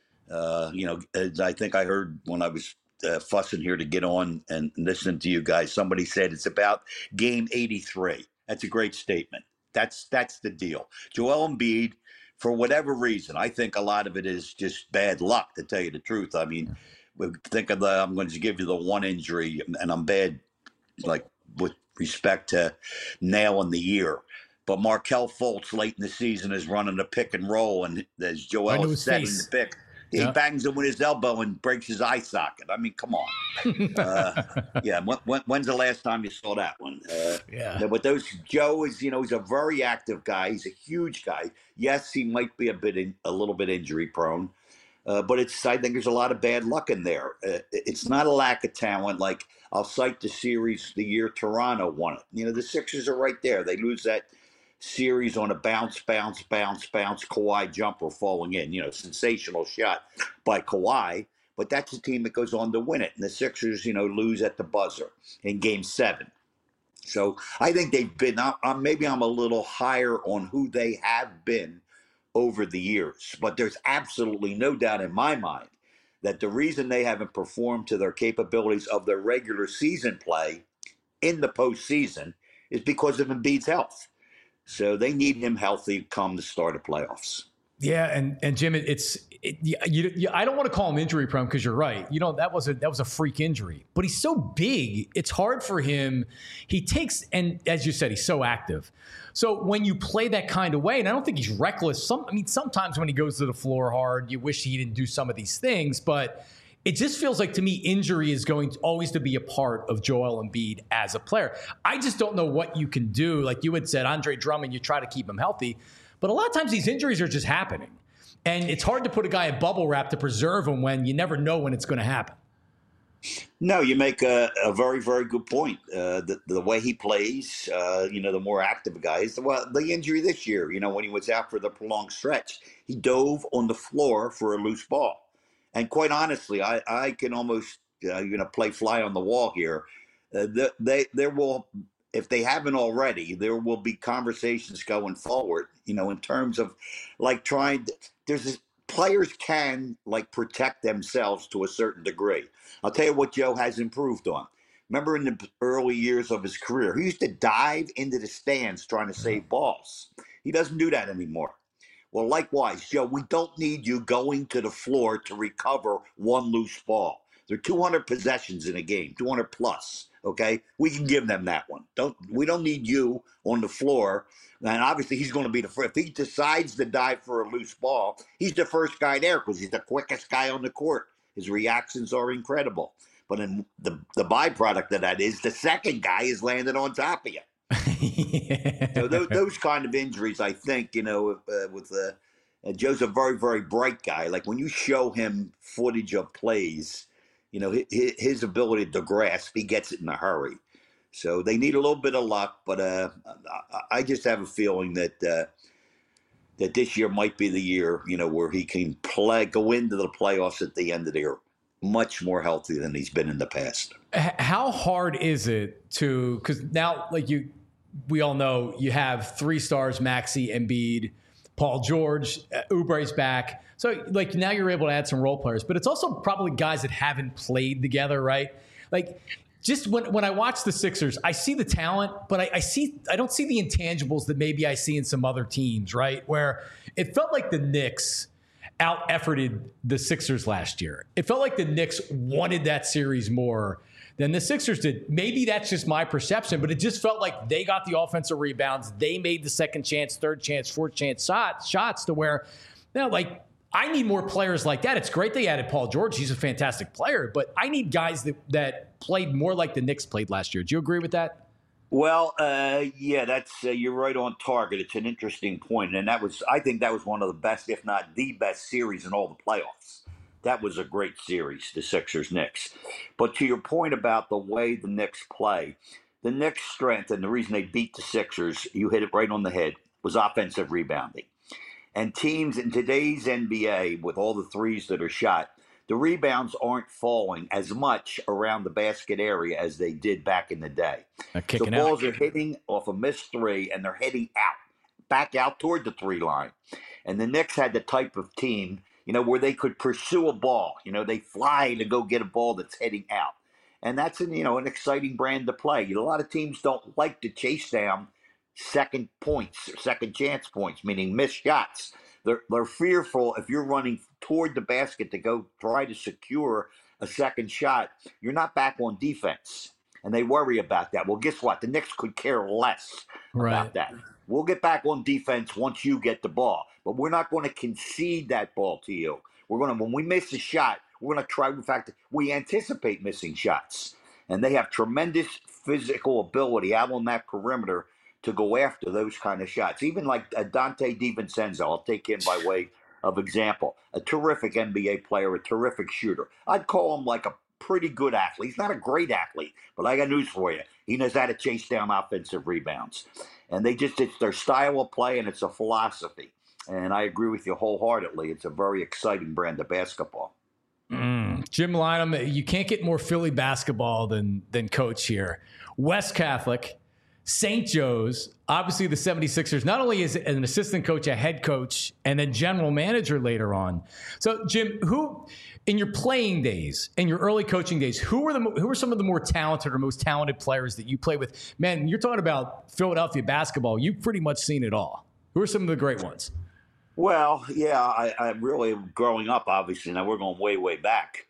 Uh, you know, as I think I heard when I was uh, fussing here to get on and listening to you guys, somebody said it's about game eighty-three. That's a great statement. That's that's the deal. Joel Embiid, for whatever reason, I think a lot of it is just bad luck, to tell you the truth. I mean, think of the, I'm going to give you the one injury, and I'm bad, like with respect to nailing the year. But Markelle Fultz late in the season is running a pick and roll, and as Joel is setting the pick, He Yeah. bangs him with his elbow and breaks his eye socket. I mean, come on. uh, yeah, when, when, when's the last time you saw that one? Uh, Yeah. But those Joe is, you know, he's a very active guy. He's a huge guy. Yes, he might be a bit, in, a little bit injury prone, uh, but it's. I think there's a lot of bad luck in there. Uh, it's not a lack of talent. Like I'll cite the series the year Toronto won it. You know, the Sixers are right there. They lose that series on a bounce, bounce, bounce, bounce, Kawhi jumper falling in. You know, sensational shot by Kawhi. But that's a team that goes on to win it. And the Sixers, you know, lose at the buzzer in game seven. So I think they've been, I'm, maybe I'm a little higher on who they have been over the years. But there's absolutely no doubt in my mind that the reason they haven't performed to their capabilities of their regular season play in the postseason is because of Embiid's health. So they need him healthy come the start of playoffs. Yeah, and and Jim, it, it's it, you, you, I don't want to call him injury prone because you're right. You know that was a that was a freak injury, but he's so big, it's hard for him. He takes and as you said, he's so active. So when you play that kind of way, and I don't think he's reckless. Some I mean, sometimes when he goes to the floor hard, you wish he didn't do some of these things, but it just feels like to me injury is going to always to be a part of Joel Embiid as a player. I just don't know what you can do. Like you had said, Andre Drummond, you try to keep him healthy. But a lot of times these injuries are just happening. And it's hard to put a guy in bubble wrap to preserve him when you never know when it's going to happen. No, you make a, a very, very good point. Uh, the, the way he plays, uh, you know, the more active guy is. Well, the injury this year, you know, when he was out for the prolonged stretch, he dove on the floor for a loose ball. And quite honestly, I, I can almost, uh, you know, play fly on the wall here. Uh, the, they, there will, if they haven't already, there will be conversations going forward, you know, in terms of like trying to, there's this, players can like protect themselves to a certain degree. I'll tell you what Joe has improved on. Remember in the early years of his career, he used to dive into the stands trying to save balls. He doesn't do that anymore. Well, likewise, Joe, we don't need you going to the floor to recover one loose ball. There are two hundred possessions in a game, two hundred plus. Okay, we can give them that one. Don't we don't need you on the floor. And obviously, he's going to be the first. If he decides to dive for a loose ball, he's the first guy there because he's the quickest guy on the court. His reactions are incredible. But in the the byproduct of that is the second guy is landing on top of you. Yeah. So those, those kind of injuries, I think, you know, uh, with uh, uh, Joe's a very, very bright guy. Like when you show him footage of plays, you know, his, his ability to grasp, he gets it in a hurry. So they need a little bit of luck, but uh, I just have a feeling that uh, that this year might be the year, you know, where he can play, go into the playoffs at the end of the year much more healthy than he's been in the past. How hard is it to, because now, like you, we all know you have three stars, Maxey, Embiid, Paul George, uh, Oubre's back. So, like, now you're able to add some role players, but it's also probably guys that haven't played together, right? Like, just when, when I watch the Sixers, I see the talent, but I, I see I don't see the intangibles that maybe I see in some other teams, right? Where it felt like the Knicks out-efforted the Sixers last year. It felt like the Knicks wanted that series more than the Sixers did. Maybe that's just my perception, but it just felt like they got the offensive rebounds. They made the second chance, third chance, fourth chance shots, shots to where, you know, like, I need more players like that. It's great they added Paul George. He's a fantastic player, but I need guys that, that played more like the Knicks played last year. Do you agree with that? Well, uh, yeah, that's uh, you're right on target. It's an interesting point, and that was I think that was one of the best, if not the best, series in all the playoffs. That was a great series, the Sixers-Knicks. But to your point about the way the Knicks play, the Knicks' strength and the reason they beat the Sixers, you hit it right on the head, was offensive rebounding. And teams in today's N B A, with all the threes that are shot, the rebounds aren't falling as much around the basket area as they did back in the day. So balls are hitting off a missed three, and they're heading out, back out toward the three line. And the Knicks had the type of team, you know, where they could pursue a ball. You know, they fly to go get a ball that's heading out. And that's, an, you know, an exciting brand to play. You know, a lot of teams don't like to chase down second points, second chance points, meaning missed shots. They're, they're fearful if you're running toward the basket to go try to secure a second shot, you're not back on defense. And they worry about that. Well, guess what? The Knicks could care less right. about that. We'll get back on defense once you get the ball. But we're not going to concede that ball to you. We're going to, when we miss a shot, we're going to try. In fact, we anticipate missing shots. And they have tremendous physical ability out on that perimeter to go after those kind of shots. Even like uh, Dante DiVincenzo, I'll take him by way of example. A terrific N B A player, a terrific shooter. I'd call him like a pretty good athlete. He's not a great athlete, but I got news for you. He knows how to chase down offensive rebounds. And they just, it's their style of play and it's a philosophy. And I agree with you wholeheartedly. It's a very exciting brand of basketball. Mm. Jim Lynam, you can't get more Philly basketball than than coach here. West Catholic, Saint Joe's, obviously the seventy-sixers, not only is an assistant coach, a head coach, and then general manager later on. So, Jim, who in your playing days, in your early coaching days, who were the who were some of the more talented or most talented players that you played with? Man, you're talking about Philadelphia basketball. You've pretty much seen it all. Who are some of the great ones? Well, yeah, I, I really growing up, obviously. Now we're going way, way back.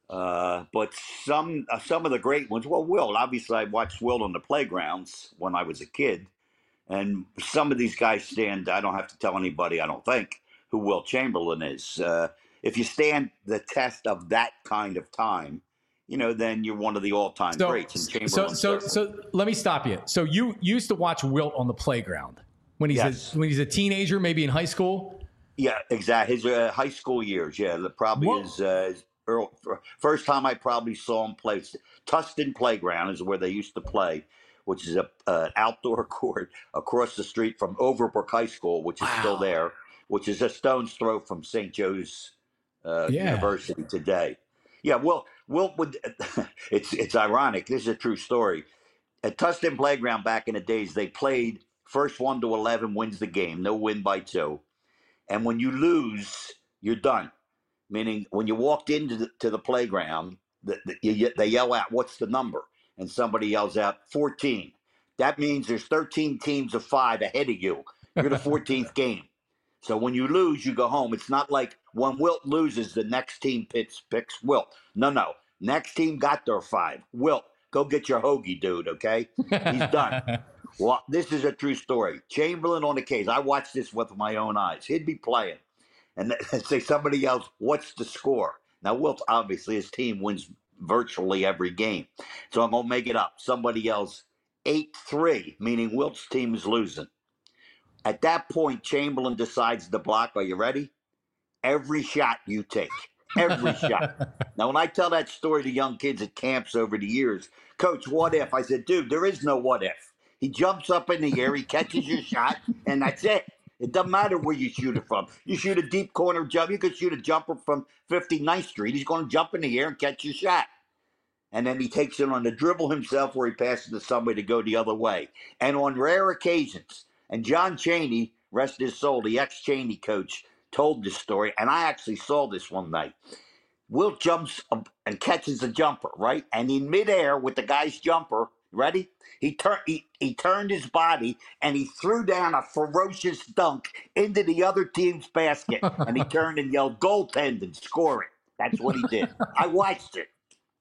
Uh, but some uh, some of the great ones. Well, Wilt. Obviously, I watched Wilt on the playgrounds when I was a kid, and some of these guys stand. I don't have to tell anybody, I don't think, who Wilt Chamberlain is. Uh, if you stand the test of that kind of time, you know, then you're one of the all-time so, greats. And so, Chamberlain. so, so let me stop you. So you used to watch Wilt on the playground when he's Yes. a, when he's a teenager, maybe in high school. Yeah, exactly. His uh, high school years. Yeah, the, probably What? his, uh, his early, first time I probably saw him play. Tustin Playground is where they used to play, which is a uh, outdoor court across the street from Overbrook High School, which is Wow. still there, which is a stone's throw from Saint Joe's uh, Yeah. University today. Yeah, well, Wilt would. it's it's ironic. This is a true story. At Tustin Playground back in the days, they played first one to eleven wins the game. No win by two. And when you lose, you're done. Meaning, when you walked into the, to the playground, the, the, you, they yell out, "What's the number?" And somebody yells out, fourteen. That means there's thirteen teams of five ahead of you. You're the fourteenth game. So when you lose, you go home. It's not like when Wilt loses, the next team picks, picks Wilt. No, no. Next team got their five. Wilt, go get your hoagie, dude, okay? He's done. Well, this is a true story. Chamberlain on the case. I watched this with my own eyes. He'd be playing. And th- say somebody else, "What's the score?" Now, Wilt, obviously, his team wins virtually every game. So I'm going to make it up. Somebody else, eight three, meaning Wilt's team is losing. At that point, Chamberlain decides to block. Are you ready? Every shot you take. Every shot. Now, when I tell that story to young kids at camps over the years, "Coach, what if?" I said, "Dude, there is no what if. He jumps up in the air, he catches your shot, and that's it. It doesn't matter where you shoot it from. You shoot a deep corner jump. You could shoot a jumper from fifty-ninth Street. He's going to jump in the air and catch your shot. And then he takes it on the dribble himself where he passes to somebody to go the other way. And on rare occasions, and John Chaney, rest his soul, the ex-Chaney coach, told this story, and I actually saw this one night. Wilt jumps up and catches a jumper, right? And in midair with the guy's jumper, ready? He, tur- he, he turned his body and he threw down a ferocious dunk into the other team's basket. And he turned and yelled, "Goaltending, score it." That's what he did. I watched it.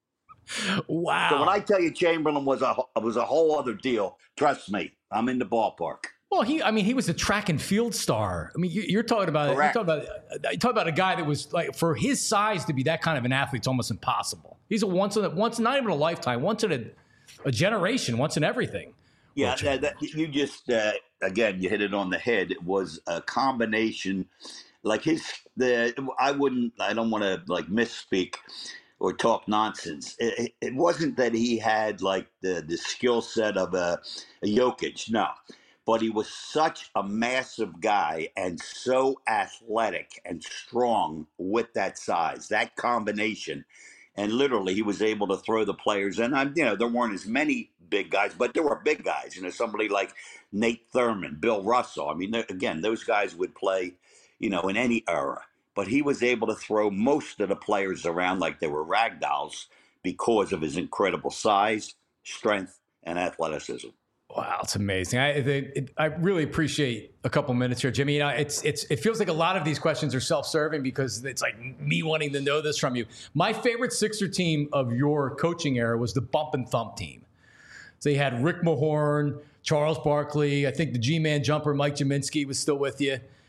Wow. So when I tell you Chamberlain was a was a whole other deal, trust me, I'm in the ballpark. Well, he, I mean, he was a track and field star. I mean, you, you're talking about, you're Correct. talking about, you're talking about a guy that was like, for his size to be that kind of an athlete, it's almost impossible. He's a once in a, once, not even a lifetime, once in a, a generation, once in everything. Yeah, that, that, you just uh, again, you hit it on the head. It was a combination, like his. The I wouldn't. I don't want to like misspeak or talk nonsense. It, it wasn't that he had like the the skill set of a, a Jokic, no, but he was such a massive guy and so athletic and strong with that size, that combination. And literally, he was able to throw the players. And, I'm, you know, there weren't as many big guys, but there were big guys. You know, somebody like Nate Thurman, Bill Russell. I mean, again, those guys would play, you know, in any era. But he was able to throw most of the players around like they were rag dolls because of his incredible size, strength, and athleticism. Wow, it's amazing. I it, it, I really appreciate a couple minutes here, Jimmy. You know, it's it's it feels like a lot of these questions are self-serving because it's like me wanting to know this from you. My favorite Sixer team of your coaching era was the Bump and Thump team. So you had Rick Mahorn, Charles Barkley. I think the G-Man jumper Mike Jaminski was still with you.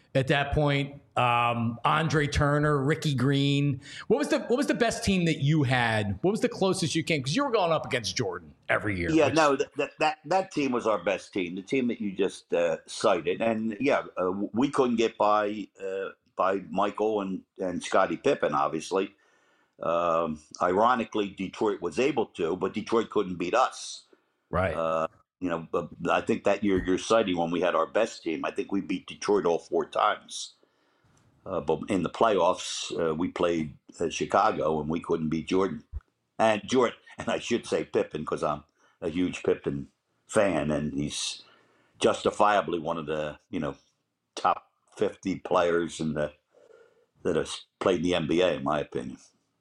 at that point. Um, Andre Turner, Ricky Green. What was the what was the best team that you had? What was the closest you came? Because you were going up against Jordan every year. Yeah, which, no, that, that that team was our best team, the team that you just uh, cited, and yeah, uh, we couldn't get by uh, by Michael and and Scottie Pippen, obviously. Um, ironically, Detroit was able to, but Detroit couldn't beat us. Right. Uh, you know, but I think that year you're citing when we had our best team, I think we beat Detroit all four times. Uh, but in the playoffs, uh, we played uh, Chicago, and we couldn't beat Jordan. And Jordan, and I should say Pippen, because I'm a huge Pippen fan, and he's justifiably one of the you know top fifty players in the that have played in the N B A, in my opinion.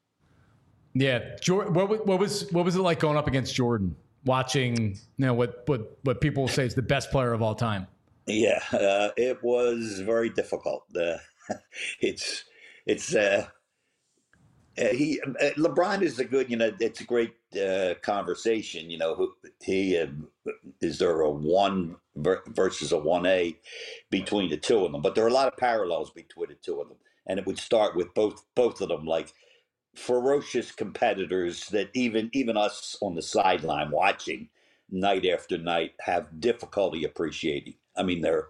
Yeah, Jordan. What, what was what was it like going up against Jordan? Watching, you know, what what what people say is the best player of all time. Yeah, uh, it was very difficult. Uh, it's it's uh, uh, he uh, LeBron is a good, you know, it's a great uh, conversation. You know, who he uh, is there a one ver- versus a one A between the two of them, but there are a lot of parallels between the two of them, and it would start with both both of them like ferocious competitors that even even us on the sideline watching night after night have difficulty appreciating. I mean, they're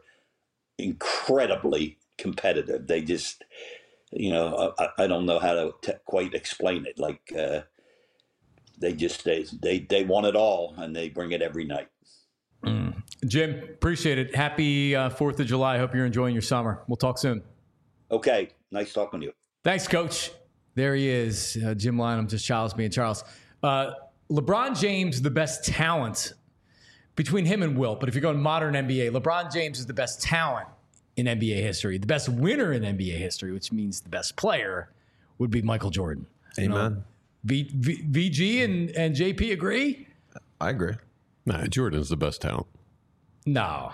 incredibly competitive. They just, you know, I, I don't know how to t- quite explain it. Like uh, they just they, they they want it all, and they bring it every night. Mm. Jim, appreciate it. Happy uh, Fourth of July. Hope you're enjoying your summer. We'll talk soon. Okay, nice talking to you. Thanks, Coach. There he is, uh, Jim Lynam, just Charles, me and Charles. Uh, LeBron James, the best talent between him and Wilt. But if you're going modern N B A, LeBron James is the best talent in N B A history. The best winner in N B A history, which means the best player, would be Michael Jordan. Amen. You know, v, v, V G and, and J P agree? I agree. Nah, Jordan's the best talent. No.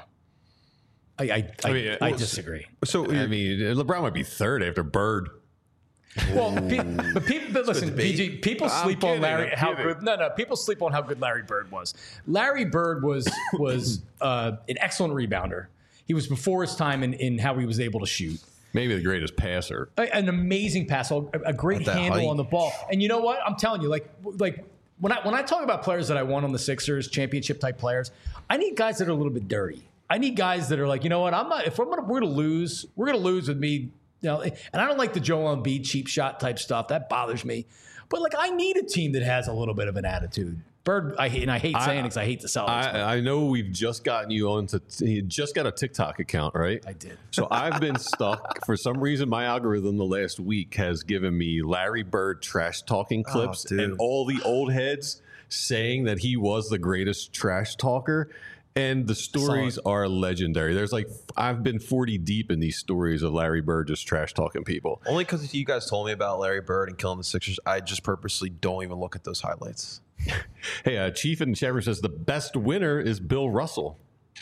I I, I, I mean, I well, disagree. So I mean, LeBron might be third after Bird. Well, pe- but people, but listen, P G, people I'm sleep kidding, on Larry. I'm How kidding. good? No, no. People sleep on how good Larry Bird was. Larry Bird was was uh, an excellent rebounder. He was before his time in, in how he was able to shoot. Maybe the greatest passer. A- An amazing passer, a, a great At that handle height. on the ball. And you know what? I'm telling you, like like when I when I talk about players that I want on the Sixers, championship type players, I need guys that are a little bit dirty. I need guys that are like, you know what? I'm not. If I'm gonna, we're gonna lose, we're gonna lose with me. You know, and I don't like the Joel Embiid cheap shot type stuff. That bothers me. But like, I need a team that has a little bit of an attitude. Bird, I hate, and I hate saying it because I hate the Celtics. but I, I know we've just gotten you onto. You just got a TikTok account, right? I did. So I've been stuck for some reason. My algorithm the last week has given me Larry Bird trash talking clips dude. and all the old heads saying that he was the greatest trash talker. And the stories are legendary. There's like, I've been forty deep in these stories of Larry Bird just trash talking people. Only because you guys told me about Larry Bird and killing the Sixers, I just purposely don't even look at those highlights. Hey, uh, Chief in the chat room says the best winner is Bill Russell.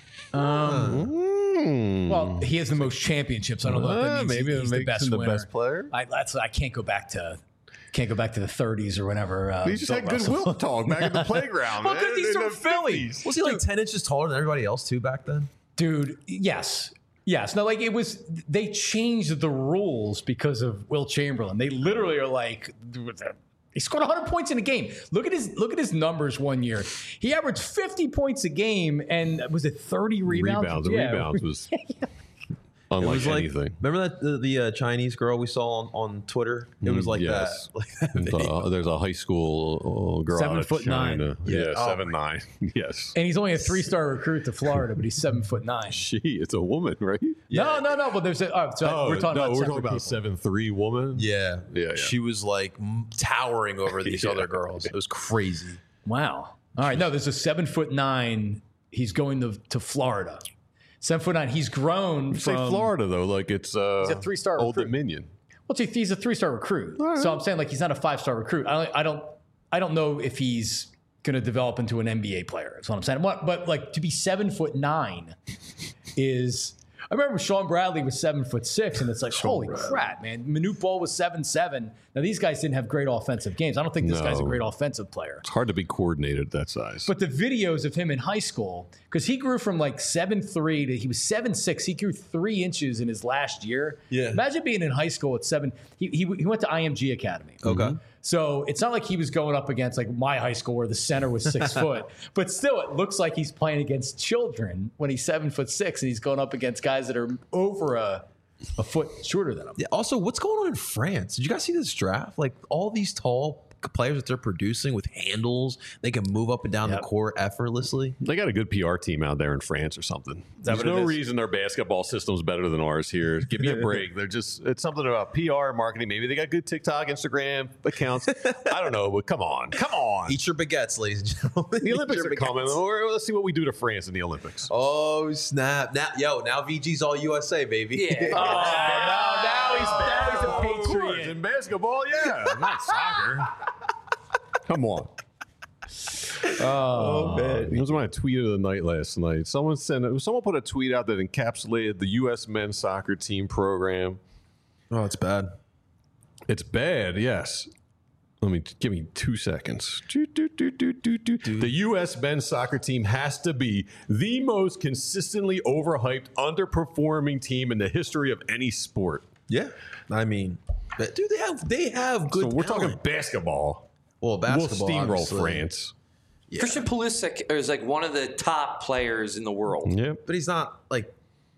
Um, Mm. well, he has the most championships. I don't know if that Uh, means maybe he- it he's the makes best him the winner. best player. I, that's, I can't go back to can't go back to the thirties or whenever. Uh, We just Bill had good Russell- Wilt talk back at the playground. Well, man. 'cause he's In from the Philly. fifties. Was he like ten inches taller than everybody else too back then? Dude, yes. Yes. No, like it was, they changed the rules because of Will Chamberlain. They literally are like, he scored one hundred points in a game. Look at his look at his numbers one year. He averaged fifty points a game and was it thirty rebounds? Rebounds. The Yeah. rebounds was It unlike was like, anything. remember that the, the uh, Chinese girl we saw on, on Twitter? It was Mm, like yes. that. Like that And, video. uh, there's a high school uh, girl Seven out of foot nine. China. Yeah. Yeah, Oh seven nine. Yes. And he's only a three star recruit to Florida, but he's seven foot nine. She, it's a woman, right? No, no, no. But there's a, oh, so Oh, we're talking no, about we're separate talking about people. seven three woman. Yeah. Yeah, yeah. She was like m- towering over these Yeah. other girls. It was crazy. Wow. All right. No, there's a seven foot nine. He's going to, to Florida. Seven foot nine. He's grown You say from Florida though, like it's uh, He's a three-star Old recruit. Dominion. Well, see, he's a three star recruit. So I'm saying like he's not a five star recruit. I don't, I don't, I don't know if he's going to develop into an N B A player. That's what I'm saying. What, but like to be seven foot nine is. I remember Sean Bradley was seven foot six, and it's like, holy crap, man. Manute Bol was seven seven. Now these guys didn't have great offensive games. I don't think this No. guy's a great offensive player. It's hard to be coordinated at that size. But the videos of him in high school, because he grew from like seven three to he was seven six. He grew three inches in his last year. Yeah. Imagine being in high school at seven. He he, he went to I M G Academy. Okay. So it's not like he was going up against like my high school where the center was six foot, but still it looks like he's playing against children when he's seven foot six and he's going up against guys that are over a, a foot shorter than him. Yeah, also, what's going on in France? Did you guys see this draft? Like all these tall players that they're producing with handles, they can move up and down Yep. the court effortlessly. They got a good P R team out there in France or something. that There's what it no is? reason their basketball system's better than ours here. Give me a break. They're just, it's something about P R marketing. Maybe they got good TikTok, Instagram accounts. I don't know, but come on. Come on. Eat your baguettes, ladies and gentlemen. The Eat Olympics your are coming. baguettes. Or let's see what we do to France in the Olympics. Oh, snap. Now, yo, now V G's all U S A, baby. Yeah. Oh, now, now he's, now he's a Of course, patriot. in basketball, yeah, not soccer. Come on. Oh, It was my tweet of the night last night. Someone sent, someone put a tweet out that encapsulated the U S men's soccer team program. Oh, it's bad. It's bad, yes. Let me give me two seconds. Do, do, do, do, do, do. The U S men's soccer team has to be the most consistently overhyped, underperforming team in the history of any sport. Yeah. I mean, but, dude, they have they have good So we're talent. talking basketball. Well, basketball, we'll steamroll obviously. France. Christian Pulisic is like one of the top players in the world. Yep. But he's not like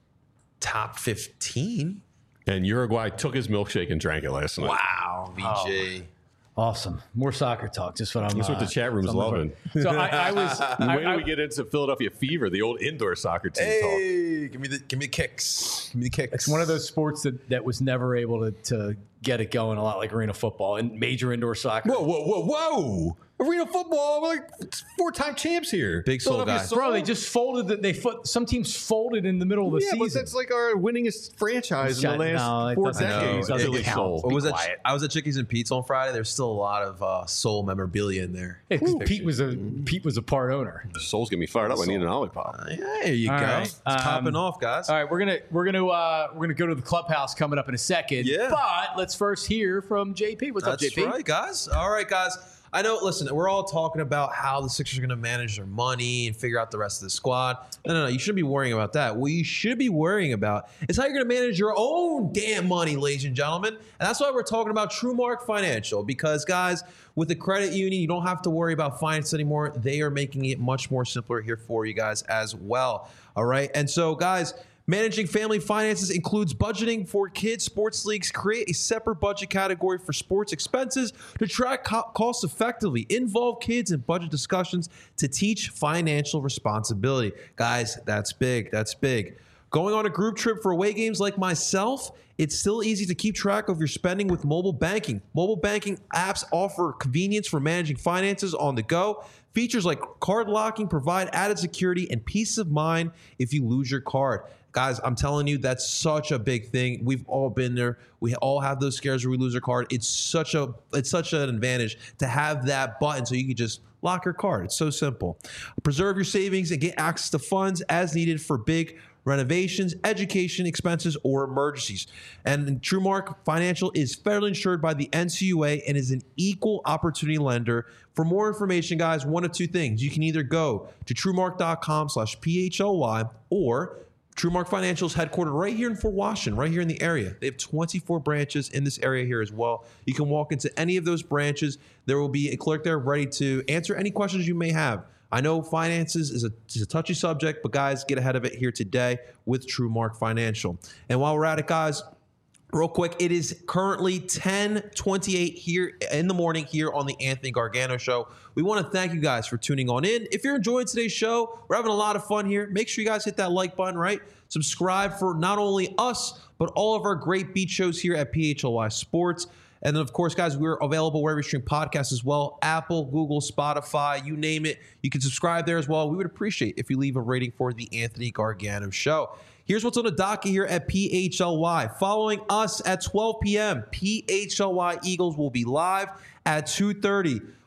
top fifteen. And Uruguay took his milkshake and drank it last night. Wow, V J. awesome. More soccer talk. Just what I'm. That's what the uh, chat room's so I'm loving. looking- So I, I was. I, When do I- we get into Philadelphia Fever, the old indoor soccer team talk? Hey, give me the give me the kicks. Give me the kicks. It's one of those sports that, that was never able to, to get it going a lot like arena football and major indoor soccer. Whoa, whoa, whoa, whoa! Arena football, we're like four-time champs here. Big soul Philadelphia guy. Soul. Bro, they just folded. The, they foot, some teams folded in the middle of the yeah, season. but that's like our winningest franchise in the Shut- last no, it four doesn't count. decades. It doesn't Philly count. Soul. What was that? quiet. I was at Chickies and Pete's on Friday. There's still a lot of uh, soul memorabilia in there. Yeah, 'cause Pete was a Pete was a part owner. The Soul's getting me fired up. I need an Olipop. Yeah, there you All go. right. It's Um, popping off, guys. All right, we're gonna we're gonna uh, we're gonna go to the clubhouse coming up in a second. Yeah. But let's first hear from J P. What's up, That's J P? right, guys. All right, guys. I know, listen, we're all talking about how the Sixers are going to manage their money and figure out the rest of the squad. No, no, no. You shouldn't be worrying about that. What you should be worrying about is how you're going to manage your own damn money, ladies and gentlemen. And that's why we're talking about TrueMark Financial. Because, guys, with the credit union, you don't have to worry about finance anymore. They are making it much more simpler here for you guys as well. All right. And so, guys, managing family finances includes budgeting for kids' sports leagues. Create a separate budget category for sports expenses to track co- costs effectively. Involve kids in budget discussions to teach financial responsibility. Guys, that's big. That's big. Going on a group trip for away games like myself, it's still easy to keep track of your spending with mobile banking. Mobile banking apps offer convenience for managing finances on the go. Features like card locking provide added security and peace of mind if you lose your card. Guys, I'm telling you, that's such a big thing. We've all been there. We all have those scares where we lose our card. It's such a it's such an advantage to have that button so you can just lock your card. It's so simple. Preserve your savings and get access to funds as needed for big renovations, education expenses, or emergencies. And TrueMark Financial is federally insured by the N C U A and is an equal opportunity lender. For more information, guys, one of two things. You can either go to truemark.com slash PHLY or TrueMark Financial is headquartered right here in Fort Washington, right here in the area. They have twenty-four branches in this area here as well. You can walk into any of those branches. There will be a clerk there ready to answer any questions you may have. I know finances is a, is a touchy subject, but guys, get ahead of it here today with TrueMark Financial. And while we're at it, guys, real quick, it is currently ten twenty-eight here in the morning here on the Anthony Gargano Show. We want to thank you guys for tuning on in. If you're enjoying today's show, we're having a lot of fun here. Make sure you guys hit that like button, right? Subscribe for not only us, but all of our great beat shows here at P H L Y Sports. And then, of course, guys, we're available wherever you stream podcasts as well. Apple, Google, Spotify, you name it. You can subscribe there as well. We would appreciate if you leave a rating for the Anthony Gargano Show. Here's what's on the docket here at P H L Y. Following us at twelve p.m., P H L Y Eagles will be live at two thirty.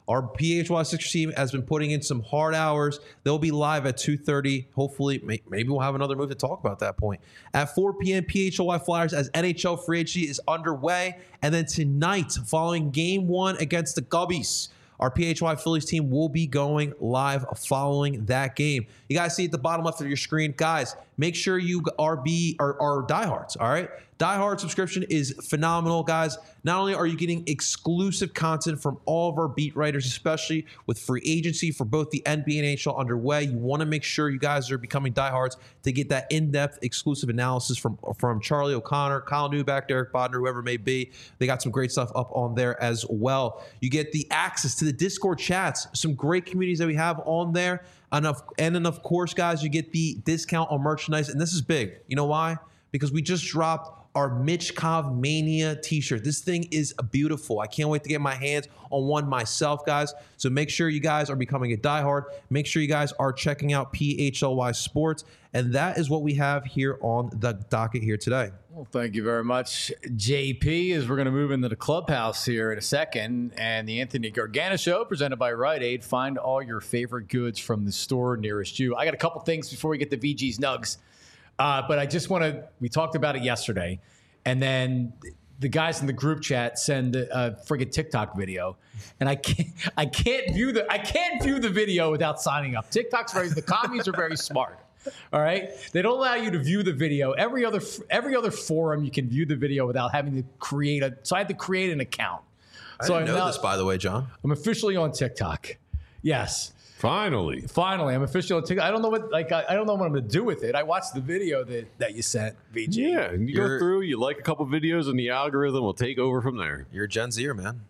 Our P H Y Sixers team has been putting in some hard hours. They'll be live at two thirty. Hopefully, may, maybe we'll have another move to talk about at that point. At four p.m., P H L Y Flyers as N H L free agency is underway. And then tonight, following game one against the Gubbies, our P H Y Phillies team will be going live following that game. You guys see at the bottom left of your screen, guys, make sure you are be are, are diehards, all right? Diehard subscription is phenomenal, guys. Not only are you getting exclusive content from all of our beat writers, especially with free agency for both the N B A and N H L underway, you want to make sure you guys are becoming diehards to get that in-depth exclusive analysis from, from Charlie O'Connor, Kyle Newback, Derek Bodner, whoever it may be. They got some great stuff up on there as well. You get the access to the Discord chats, some great communities that we have on there. And of, and then, of course, guys, you get the discount on merchandise. And this is big. You know why? Because we just dropped our Mitchkov Mania t-shirt. This thing is beautiful. I can't wait to get my hands on one myself, guys. So make sure you guys are becoming a diehard. Make sure you guys are checking out P H L Y Sports. And that is what we have here on the docket here today. Well, thank you very much, J P, as we're going to move into the clubhouse here in a second. And the Anthony Gargano Show, presented by Rite Aid. Find all your favorite goods from the store nearest you. I got a couple things before we get to V G's Nugs. Uh, but I just want to, we talked about it yesterday, and then the guys in the group chat send a, a friggin' TikTok video, and I can't, I can't view the, I can't view the video without signing up. TikTok's very, the commies are very smart. All right, they don't allow you to view the video. Every other, every other forum you can view the video without having to create a. So I had to create an account. I so didn't I'm know now, this, by the way, John. I'm officially on TikTok. Yes. Finally. Finally, I'm officially on TikTok. I don't know what like I, I don't know what I'm going to do with it. I watched the video that, that you sent, V G. Yeah, and you You're- go through, you like a couple videos, and the algorithm will take over from there. You're a Gen Zer, man.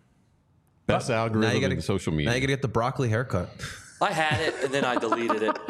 Best algorithm Now you gotta- in social media. Now you got to get the broccoli haircut. I had it and then I deleted it.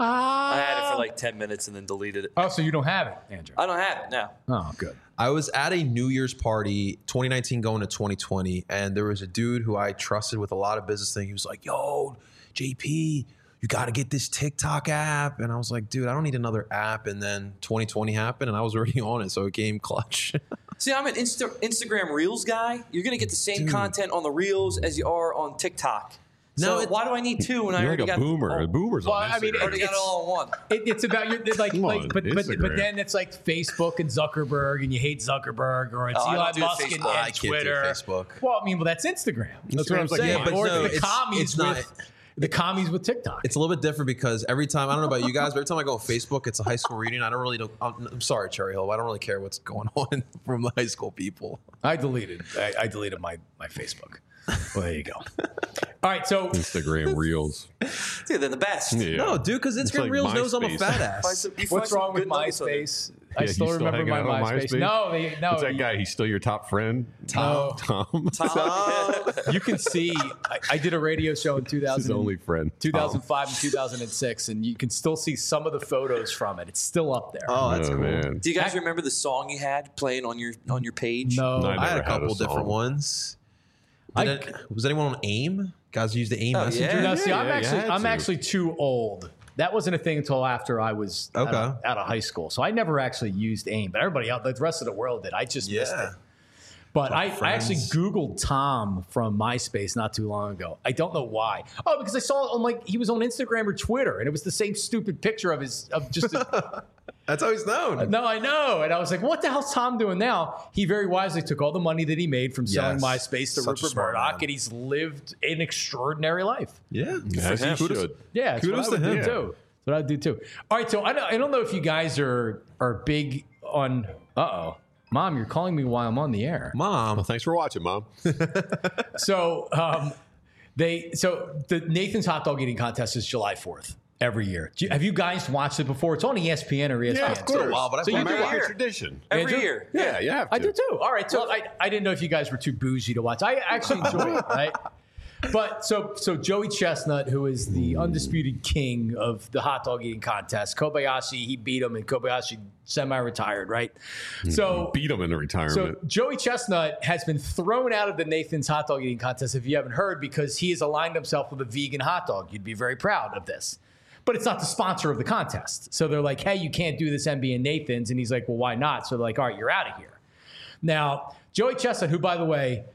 I had it for like ten minutes and then deleted it. Oh, so you don't have it, Andrew? I don't have it now. Oh, good. I was at a New Year's party, twenty nineteen going to twenty twenty, and there was a dude who I trusted with a lot of business thing. He was like, yo, J P, you got to get this TikTok app. And I was like, dude, I don't need another app. And then twenty twenty happened, and I was already on it, so it came clutch. See, I'm an Insta- Instagram Reels guy. You're going to get the same Dude. content on the Reels as you are on TikTok. So No, it- why do I need two when I You're already like a got boomer. Oh, A boomer's Well, on I mean, Instagram. already got it all in one. It, it's about your like, Come like on, but, but but Instagram. then it's like Facebook and Zuckerberg, and you hate Zuckerberg, or it's Oh, I don't Elon do Musk and, Facebook. I and can't do Twitter. Facebook. Well, I mean, well, that's Instagram. That's what I'm Instagram's like, saying. yeah, but or no, the it's- commies it's not- with the commies with TikTok. It's a little bit different because every time, I don't know about you guys, but every time I go on Facebook, it's a high school reunion. I don't really, don't, I'm, I'm sorry, Cherry Hill, I don't really care what's going on from the high school people. I deleted. I, I deleted my my Facebook. Well, there you go. All right, so Instagram Reels. Dude, they're the best. Yeah. No, dude, because It's Instagram like Reels knows I'm a MySpace. fat Find ass. some- you find what's some wrong with good nuggets on there. MySpace? I Yeah, still you still remember my hanging out on MySpace. MySpace? No, they, no. What's that you- guy? He's still your top friend? No. Tom. Tom. You can see. I, I did a radio show in two His thousand. only friend. two thousand five and two thousand six, and you can still see some of the photos from it. It's still up there. Oh, that's oh, cool. man. Do you guys remember the song you had playing on your on your page? No, No, I had never a had couple a song. different ones. I- Did it- was anyone on AIM? Guys use the AIM Oh, messenger? yeah. No, see, Yeah, I'm yeah, you actually had I'm to. actually too old. That wasn't a thing until after I was out, Okay. of, out of high school. So I never actually used AIM, but everybody else, the rest of the world did. I just missed Yeah. it. But I, I actually friends. Googled Tom from MySpace not too long ago. I don't know why. Oh, because I saw it on like he was on Instagram or Twitter, and it was the same stupid picture of his of just. A, That's how he's known. no, I know, and I was like, "What the hell's Tom doing now?" He very wisely took all the money that he made from selling Yes. MySpace to Such a Rupert smart Murdoch, man. and he's lived an extraordinary life. Yeah. As he Kudos- should. Yeah, that's Kudos what I to would him. do too. That's what I'd do too. All right, so I don't, I don't know if you guys are are big on. Uh oh, Mom, you're calling me while I'm on the air. Mom. Well, thanks for watching, Mom. So um, they so the Nathan's hot dog eating contest is July fourth every year. Do you, have you guys watched it before? It's on E S P N or E S P N. Yeah, of course. while, but I've So you watched do it. American watch. tradition. Every Andrew? year. Yeah, you have to. I do too. All right. So I, I didn't know if you guys were too bougie to watch. I actually enjoy it, right? But so so Joey Chestnut, who is the undisputed king of the hot dog eating contest, Kobayashi, he beat him, and Kobayashi semi-retired, right? So Beat him into So retirement. Joey Chestnut has been thrown out of the Nathan's hot dog eating contest, if you haven't heard, because he has aligned himself with a vegan hot dog. You'd be very proud of this. But it's not the sponsor of the contest. So they're like, hey, you can't do this N B A Nathan's. And he's like, well, why not? So they're like, all right, you're out of here. Now, Joey Chestnut, who, by the way,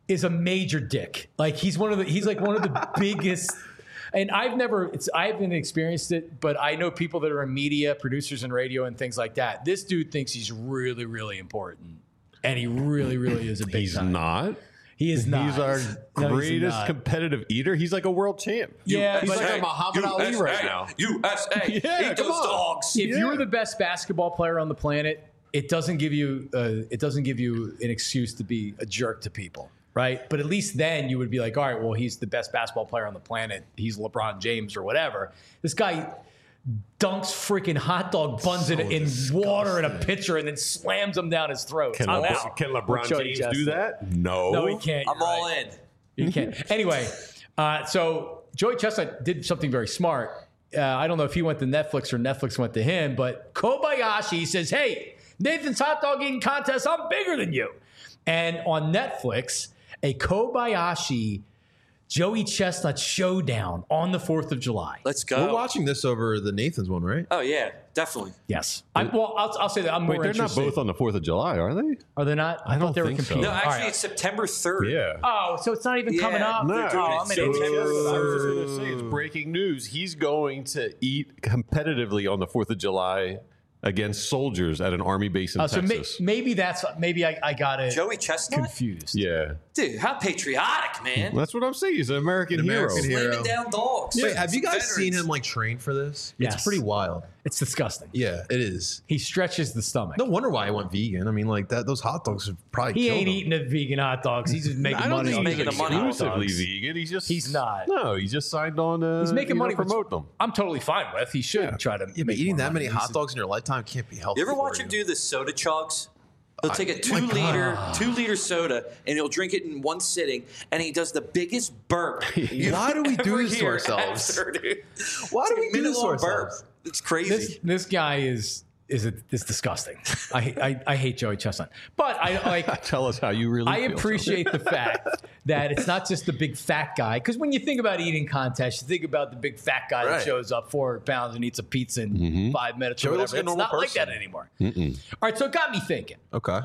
is a major dick. Like he's one of the he's like one of the biggest. And I've never it's I haven't experienced it, but I know people that are in media, producers in radio and things like that. This dude thinks he's really, really important. And he really, really is a big He's time. not. He is not. He's our No, he's greatest not. competitive eater. He's like a world champ. Yeah, he's but- like a Muhammad Ali right now. U S A. Yeah, Eat come those on. dogs. If you're the best basketball player on the planet, it doesn't give you uh, it doesn't give you an excuse to be a jerk to people, right? But at least then you would be like, all right, well, he's the best basketball player on the planet. He's LeBron James or whatever. This guy dunks freaking hot dog buns in, in water in a pitcher and then slams them down his throat. Can, I'm Le- out. can With LeBron Jody James Chestnut. do that? No. No, he can't. I'm You're all right. in. You can't. Anyway, uh, so Joey Chestnut did something very smart. Uh, I don't know if he went to Netflix or Netflix went to him, but Kobayashi says, hey, Nathan's hot dog eating contest, I'm bigger than you. And on Netflix, a Kobayashi Joey Chestnut showdown on the fourth of July. Let's go. We're watching this over the Nathan's one, right? Oh yeah, definitely. Yes. I'm, well, I'll, I'll say that I'm Wait, more they're not interested. both on the fourth of July, are they? Are they not? I, I thought don't they were think so. competing. No, All actually, right. it's September third. Yeah. Oh, so it's not even Yeah. coming up? No, They're doing Oh, it I'm an so idiot. September I was just third. going to say, it's breaking news. He's going to eat competitively on the fourth of July against soldiers at an army base in Uh, so may, Texas. maybe that's maybe I, I got it Joey Chestnut. confused. yeah. Dude, how patriotic, man. That's what I'm saying. He's an American, American hero. hero. Slamming down dogs. Wait, have you guys Veterans. seen him like train for this? Yes. It's pretty wild. It's disgusting. Yeah, it is. He stretches the stomach. No wonder why I went vegan. I mean, like that. Those hot dogs have probably he killed ain't him. eating the vegan hot dogs. He's just making I don't money. think on he's making the the money hot exclusively dogs. vegan. He's just He's not. No, he just signed on. Uh, He's making you know, money. which promote them. I'm totally fine with. He should Yeah. try to. Yeah, but make eating more that many money. hot dogs in your lifetime can't be healthy. You ever for watch him do the soda chugs? He'll take a two my liter, two liter soda and he'll drink it in one sitting, and he does the biggest burp. you've Why do we do ever this to hear ourselves? after, dude. Why It's do like we a do this to minute-long burp. ourselves? It's crazy. This this guy is is a, is disgusting. I, I I hate Joey Chestnut, but I like. Tell us how you really I feel. appreciate the fact that it's not just the big fat guy. Because when you think about eating contests, you think about the big fat guy that Right. shows up four hundred pounds and eats a pizza in Mm-hmm. five minutes Joey or looks whatever. like a It's normal not like person. that anymore. All right, so it got me thinking. Okay.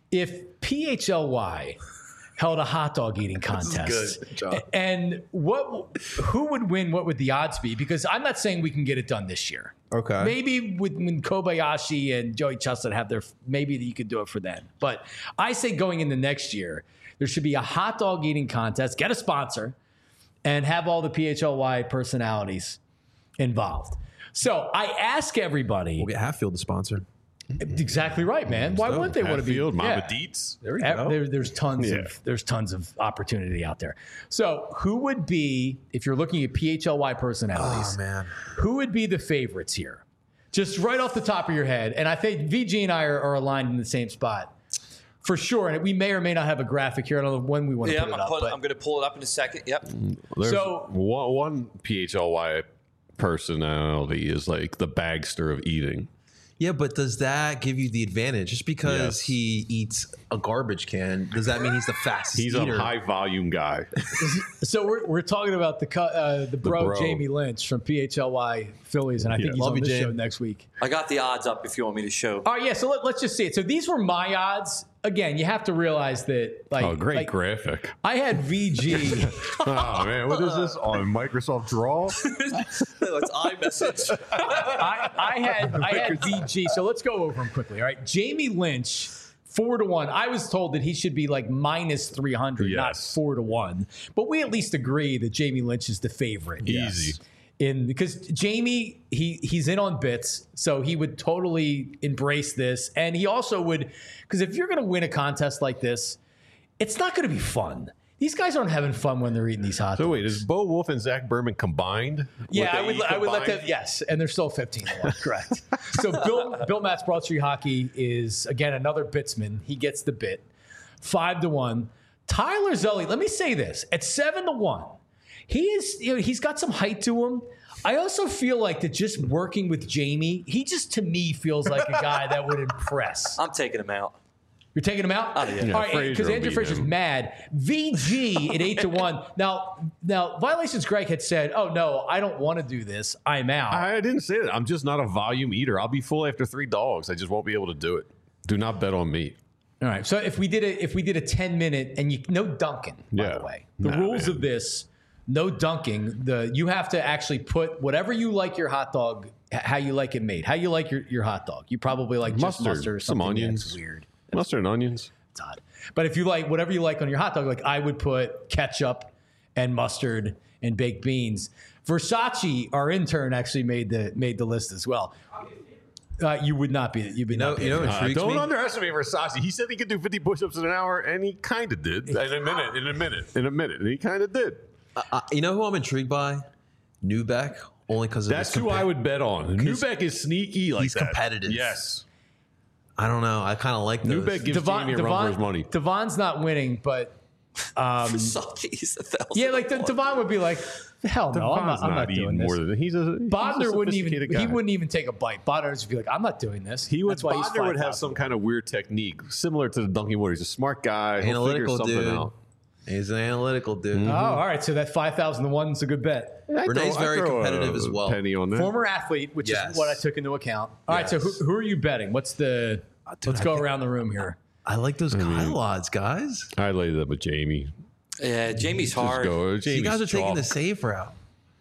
If P H L Y held a hot dog eating contest, good, John. and what, who would win? What would the odds be? Because I'm not saying we can get it done this year. Okay. Maybe with, when Kobayashi and Joey Chestnut have their, maybe you could do it for them. But I say going into next year, there should be a hot dog eating contest, get a sponsor, and have all the P H L Y personalities involved. So I ask everybody, We'll get Hatfield to sponsor. exactly right, man. Why wouldn't they want to be? Hatfield, Mama yeah. Dietz. There we Ev- go. There, there's tons Yeah. of there's tons of opportunity out there. So who would be, if you're looking at P H L Y personalities, Oh man. who would be the favorites here? Just right off the top of your head. And I think V G and I are, are aligned in the same spot for sure. And we may or may not have a graphic here. I don't know when we want to yeah, put I'm, it up. put, but I'm going to pull it up in a second. Yep. There's So- one, one P H L Y personality is like the bagster of eating. Yeah, but does that give you the advantage? Just because Yes. he eats a garbage can, does that mean he's the fastest He's eater? a high volume guy. so we're, we're talking about the cu- uh, the bro, bro. Jamie Lynch from P H L Y Phillies. And I think Yeah. he's Love on you, the Jam. show next week. I got the odds up if you want me to show. All right, yeah. So let, let's just see it. So these were my odds. Again, you have to realize that, like, Oh, great like, graphic. I had V G. Oh, man. What is this on Microsoft Draw? It's iMessage. I, I had I had V G. So let's go over them quickly. All right, Jamie Lynch, four to one. I was told that he should be like minus three hundred, not Yes. four to one. But we at least agree that Jamie Lynch is the favorite. Easy. In because Jamie he he's in on bits, so he would totally embrace this, and he also would because if you're going to win a contest like this, it's not going to be fun. These guys aren't having fun when they're eating these hot dogs. So wait, is Bo Wolf and Zach Berman combined? Yeah, What I they would. eat I would let them. combined? Yes, and they're still fifteen to one. Correct. So Bill Bill Matt's Broad Street Hockey is again another bitsman. He gets the bit, five to one. Tyler Zully. Let me say this: at seven to one, he is. You know, he's got some height to him. I also feel like that just working with Jamie, he just to me feels like a guy that would impress. I'm taking him out. You're taking him out? Oh, yeah. Yeah, All right, Frazier because will Andrew beat Frazier's him. mad. V G at eight to one. Now, now, Violations Greg had said, "Oh no, I don't want to do this. I'm out." I didn't say that. I'm just not a volume eater. I'll be full after three dogs. I just won't be able to do it. Do not bet on me. All right. So if we did a if we did a ten minute and you no dunking, by Yeah. the way, the Nah, rules man. of this, no dunking. The you have to actually put whatever you like your hot dog, h- how you like it made, how you like your, your hot dog. You probably like just Mustard, mustard or some something onions. that's weird. Mustard and onions. It's odd. But if you like whatever you like on your hot dog, like I would put ketchup and mustard and baked beans. Versace, our intern, actually made the made the list as well. Uh, you would not be. You'd be You know, not. you know, what Uh, intrigues don't me. underestimate Versace. He said he could do fifty push-ups in an hour, and he kind of did. In a minute, in a minute, in a minute. And he kind of did. Uh, you know who I'm intrigued by? Newbeck, only because of That's his who compa- I would bet on. Newbeck is sneaky like he's that. competitive. Yes. I don't know. I kind of like those. Newbeck gives Devon, Jamie a run for his Devon, money. Devon's not winning, but um, Versace's a thousand. yeah, like the, to one. Devon would be like, hell no, I'm Devon's not, I'm not eating doing this. more than he's a he's Bodner a wouldn't even sophisticated guy. he wouldn't even take a bite. Bodner would just be like, I'm not doing this. He would. That's why he's Bodner would have five some thousand. kind of weird technique similar to the dunking water. He's a smart guy. He'll Analytical figure something dude. out. He's an analytical dude. Oh, all right. So that five thousand to one is a good bet. I'd Renee's throw- I'd very throw competitive a as well. Penny on that. Former athlete, which Yes. is what I took into account. All right. So Yes. who, who are you betting? What's the? dude, let's I go can't- around the room here. I like those Kyle odds, guys. I laid it up with Jamie. Yeah, Jamie's Just hard. go. You Jamie's guys are taking chalk. the safe route.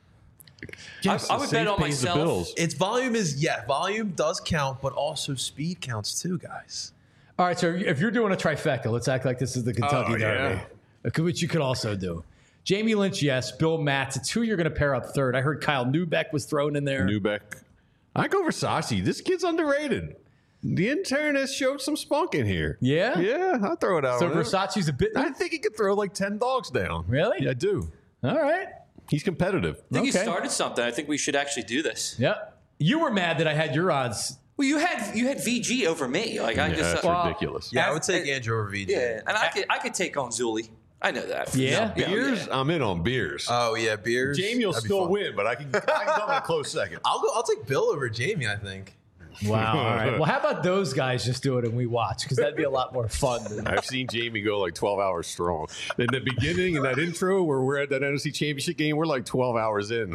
Yes, I- I the would safe bet on pays the myself. bills. It's volume is yeah, volume does count, but also speed counts too, guys. All right. So if you're doing a trifecta, let's act like this is the Kentucky Oh, Derby, yeah. which you could also do. Jamie Lynch, yes. Bill Matz. It's who you're going to pair up third. I heard Kyle Newbeck was thrown in there. Newbeck. I go Versace. This kid's underrated. The intern has showed some spunk in here. Yeah? Yeah, I'll throw it out. So on him. Versace's a bit. I think he could throw like ten dogs down. Really? Yeah, I do. All right. He's competitive. I think Okay. you started something. I think we should actually do this. Yep. You were mad that I had your odds. Well, you had you had V G over me. Like I Yeah, just that's uh, Well, ridiculous. Yeah, I As- would take as- Andrew over V J. yeah, and I could I could take on Zuli. I know that. Yeah? Yeah, Beers? yeah. I'm in on beers. Oh yeah, beers. Jamie will That'd be still fun. win, but I can, I can come in a close second. I'll go. I'll take Bill over Jamie. I think. Wow. All right. Well, how about those guys just do it and we watch? Because that'd be a lot more fun. Than, I've seen Jamie go like twelve hours strong. In the beginning, in that intro where we're at that N F C Championship game, we're like twelve hours in.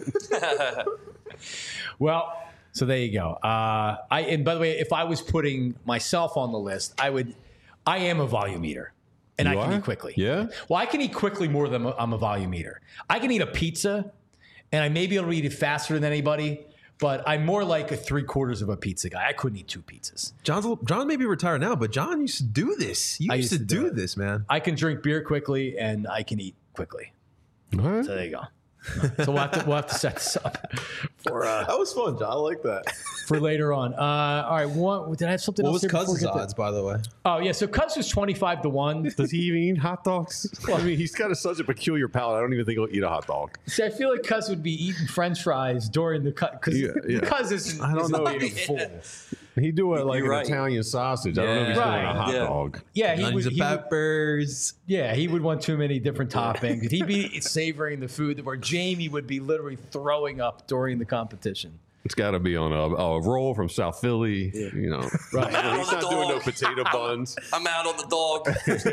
well, so there you go. Uh, I and by the way, if I was putting myself on the list, I would. I am a volume eater, and You I can are? eat quickly. Yeah? Well, I can eat quickly more than I'm a volume eater. I can eat a pizza, and I may be able to eat it faster than anybody. But I'm more like a three quarters of a pizza guy. I couldn't eat two pizzas. John's John may be retired now, but John used to do this. You I used, used to, to do do it. this, man. I can drink beer quickly, and I can eat quickly. All right. So there you go. So we'll have to we'll have to set this up for uh, That was fun, John. I like that. for later on. Uh, all right, one. Did I have something What else? was here before we Cousins' get to- odds, by the way? Oh yeah, so Cuz was twenty five to one. Does he even eat hot dogs? I mean, he's got a, such a peculiar palate. I don't even think he'll eat a hot dog. See, I feel like Cuz would be eating French fries during the cut because Yeah, yeah. Cuz isn't. I don't isn't know. eating full. He do it like You're an right. Italian sausage. I don't know if he's Right. doing a hot Yeah. dog. Yeah, he would. Onions and He would peppers. yeah, he would want too many different toppings. He'd be savoring the food where Jamie would be literally throwing up during the competition. It's got to be on a, a roll from South Philly. You know, Right. he's not doing no Dog. potato buns. I'm out on the dog.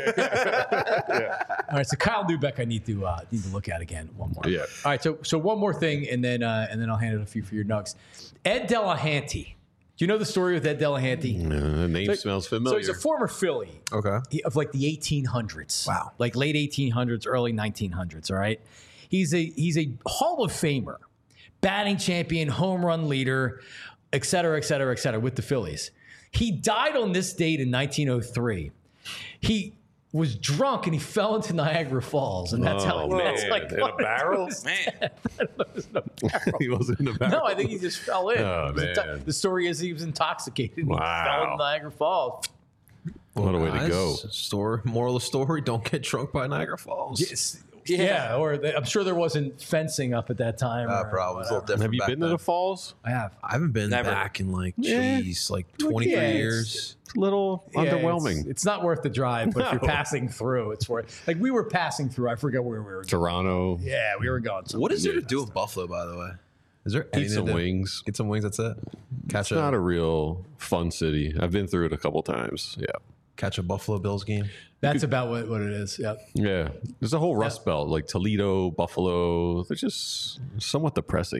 All right, so Kyle Newbeck, I need to uh, need to look at again one more. Yeah. All right, so so one more thing, and then uh, and then I'll hand it a few for your nugs. Ed Delahanty. Do you know the story with Ed Delahanty? Uh, the name So- smells So familiar. he's a former Philly Okay. he- of like the eighteen hundreds. Wow. Like late eighteen hundreds, early nineteen hundreds, all right? He's a he's a Hall of Famer, batting champion, home run leader, et cetera, et cetera, et cetera, with the Phillies. He died on this date in nineteen oh three. He was drunk and he fell into Niagara Falls, and that's how oh, he man. that's like in a barrel? Man, He wasn't in a barrel. No, I think he just fell in. Oh, It was into- man. the story is he was intoxicated and he Wow. fell in Niagara Falls. What a way to Guys, go. Story, moral of the story: don't get drunk by Niagara Falls. Yes. Yeah. Yeah, or they, I'm sure there wasn't fencing up at that time. Uh, or probably. It's a little whatever. different Have you back been to then. the falls? I have. I haven't been Never. back in like, Yeah. jeez, like twenty-three Yeah, it's- years. It's a little Yeah, underwhelming. It's, it's not worth the drive, but if you're No. passing through, it's worth. Like we were passing through. I forget where we were. Going. Toronto. Yeah, we were going. What is there to Yeah. do with Buffalo, by the way? Is there Eat anything some to do? wings. Get some wings. That's it. Catch It's a not a real fun city. I've been through it a couple times. Yeah. catch a Buffalo Bills game. That's about what, what it is. Yep. Yeah. There's a whole Rust Belt, like Toledo, Buffalo. They're just somewhat depressing.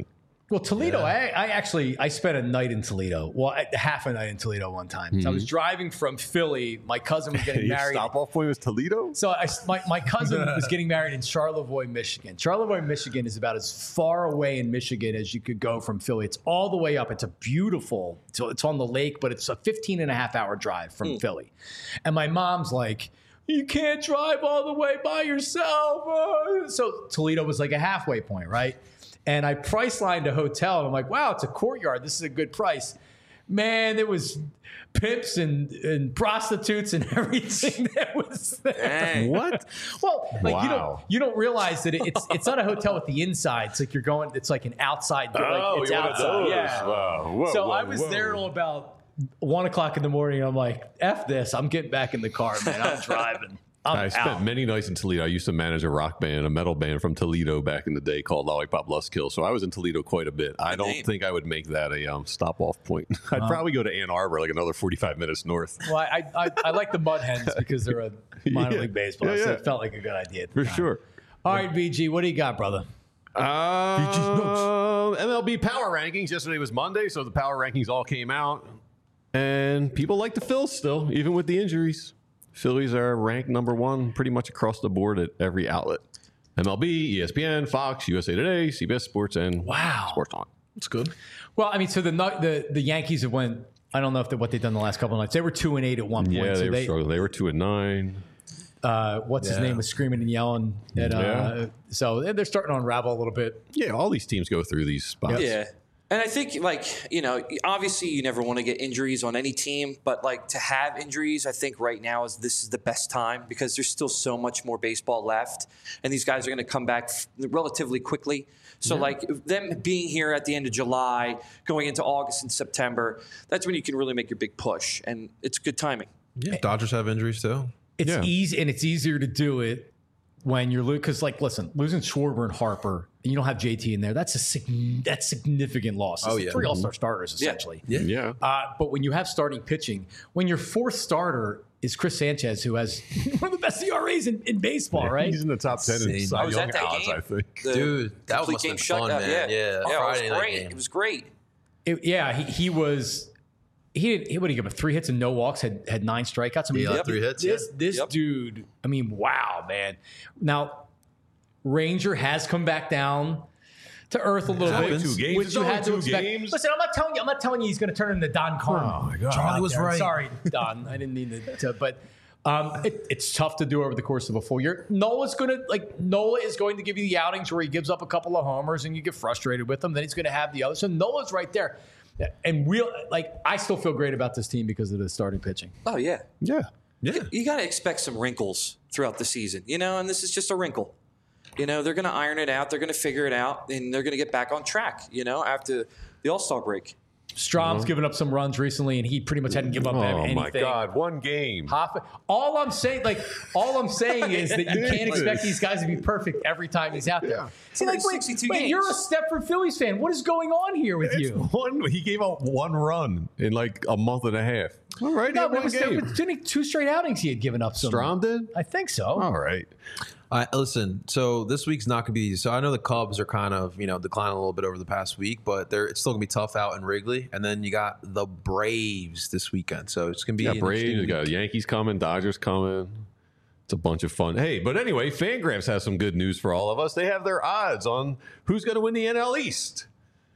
Well, Toledo, I, I actually I spent a night in Toledo. Well, I- half a night in Toledo one time. So I was driving from Philly. My cousin was getting Your married. stop off point was Toledo. So I, my, my cousin was getting married in Charlevoix, Michigan. Charlevoix, Michigan is about as far away in Michigan as you could go from Philly. It's all the way up. It's a beautiful, so it's on the lake, but it's a fifteen and a half hour drive from Philly. And my mom's like, you can't drive all the way by yourself. Uh. So Toledo was like a halfway point, right? And I price lined a hotel, and I'm like, wow, it's a Courtyard. This is a good price. Man, there was pimps and, and prostitutes and everything that was there. Dang. What? Well, like you don't Wow. you don't realize that it, it's it's not a hotel with the inside. It's like you're going. It's like an outside. Like Oh, it's you're one of outside. those. Yeah. Wow. Whoa, so whoa, I was whoa. there till about one o'clock in the morning. I'm like, F this. I'm getting back in the car, man. I'm driving. I'm I spent out. many nights in Toledo. I used to manage a rock band, a metal band from Toledo back in the day called Lollipop Lustkill. So I was in Toledo quite a bit. I don't name. think I would make that a um, stop off point. I'd probably go to Ann Arbor, like another forty-five minutes north. Well, I, I I like the Mud Hens because they're a minor Yeah. league baseball, Yeah, so yeah. it felt like a good idea. At the For time. sure. All right, V G, what do you got, brother? Um, M L B power rankings. Yesterday was Monday, so the power rankings all came out. And people like the Phils still, even with the injuries. Phillies are ranked number one pretty much across the board at every outlet. M L B, E S P N, Fox, U S A Today, C B S Sports, and Wow. Sports On. It's good. Well, I mean, so the the the Yankees have went. I don't know if they, what they've done the last couple of nights. They were two and eight at one point. Yeah, so they were struggling. They were two and nine. uh, what's his Yeah. name was screaming and yelling. At, uh, Yeah. So they're starting to unravel a little bit. Yeah, all these teams go through these spots. Yeah. And I think, like, you know, obviously you never want to get injuries on any team, but, like, to have injuries, I think right now is this is the best time because there's still so much more baseball left, and these guys are going to come back f- relatively quickly. So, like, them being here at the end of July, going into August and September, that's when you can really make your big push, and it's good timing. Yeah. Dodgers have injuries too. It's Yeah. easy, and it's easier to do it when you're losing. Because, like, listen, losing Schwarber and Harper, and you don't have J T in there. That's a sig- that's significant loss. It's Oh, like yeah. three All Star starters Yeah. essentially. Yeah. Yeah. Uh, but when you have starting pitching, when your fourth starter is Chris Sanchez, who has one of the best E R As in, in baseball, right? He's in the top ten in Insane. Cy I was Young at that odds, game. I think. The Dude, that complete must have game been fun, shutout, man. Yeah. yeah, Friday it was night great. game. It was great. It- yeah, he, he was. He did. He would he give up three hits and no walks. Had had nine strikeouts. I mean, Yeah, th- three hits, This yeah. this Yep. dude. I mean, wow, man. Now, Ranger has come back down to earth a little Happens. bit, Two games. which It's you only had to two expect. games. Listen, I'm not telling you. I'm not telling you he's going to turn into Don Carmen. Oh, my God. Charlie was right. Sorry, Don. I didn't mean to. to but um, it, it's tough to do over the course of a full year. Nola's going to like Nola is going to give you the outings where he gives up a couple of homers and you get frustrated with him. Then he's going to have the other. So Nola's right there. And real like I still feel great about this team because of the starting pitching. Oh, yeah. Yeah. Yeah. You got to expect some wrinkles throughout the season, you know, and this is just a wrinkle. You know, they're going to iron it out. They're going to figure it out, and they're going to get back on track, you know, after the All-Star break. Strom's given up some runs recently, and he pretty much hadn't given up Oh, anything. my God. One game. Hoffa- All I'm saying, like, all I'm saying is that you can't expect these guys to be perfect every time he's out there. See, like, wait, sixty-two wait, games. you're a Stepford Phillies fan. What is going on here with you? One, he gave out one run in like a month and a half. All right, No, yeah, but it one was, game. it was only two straight outings he had given up. Some, Strom did? I think so. All right. I listen. So this week's not going to be easy. So I know the Cubs are kind of you know declining a little bit over the past week, but they're it's still going to be tough out in Wrigley. And then you got the Braves this weekend, so it's going to be You an got Braves, interesting you got week. Yankees coming, Dodgers coming. It's a bunch of fun. Hey, but anyway, Fangraphs has some good news for all of us. They have their odds on who's going to win the N L East.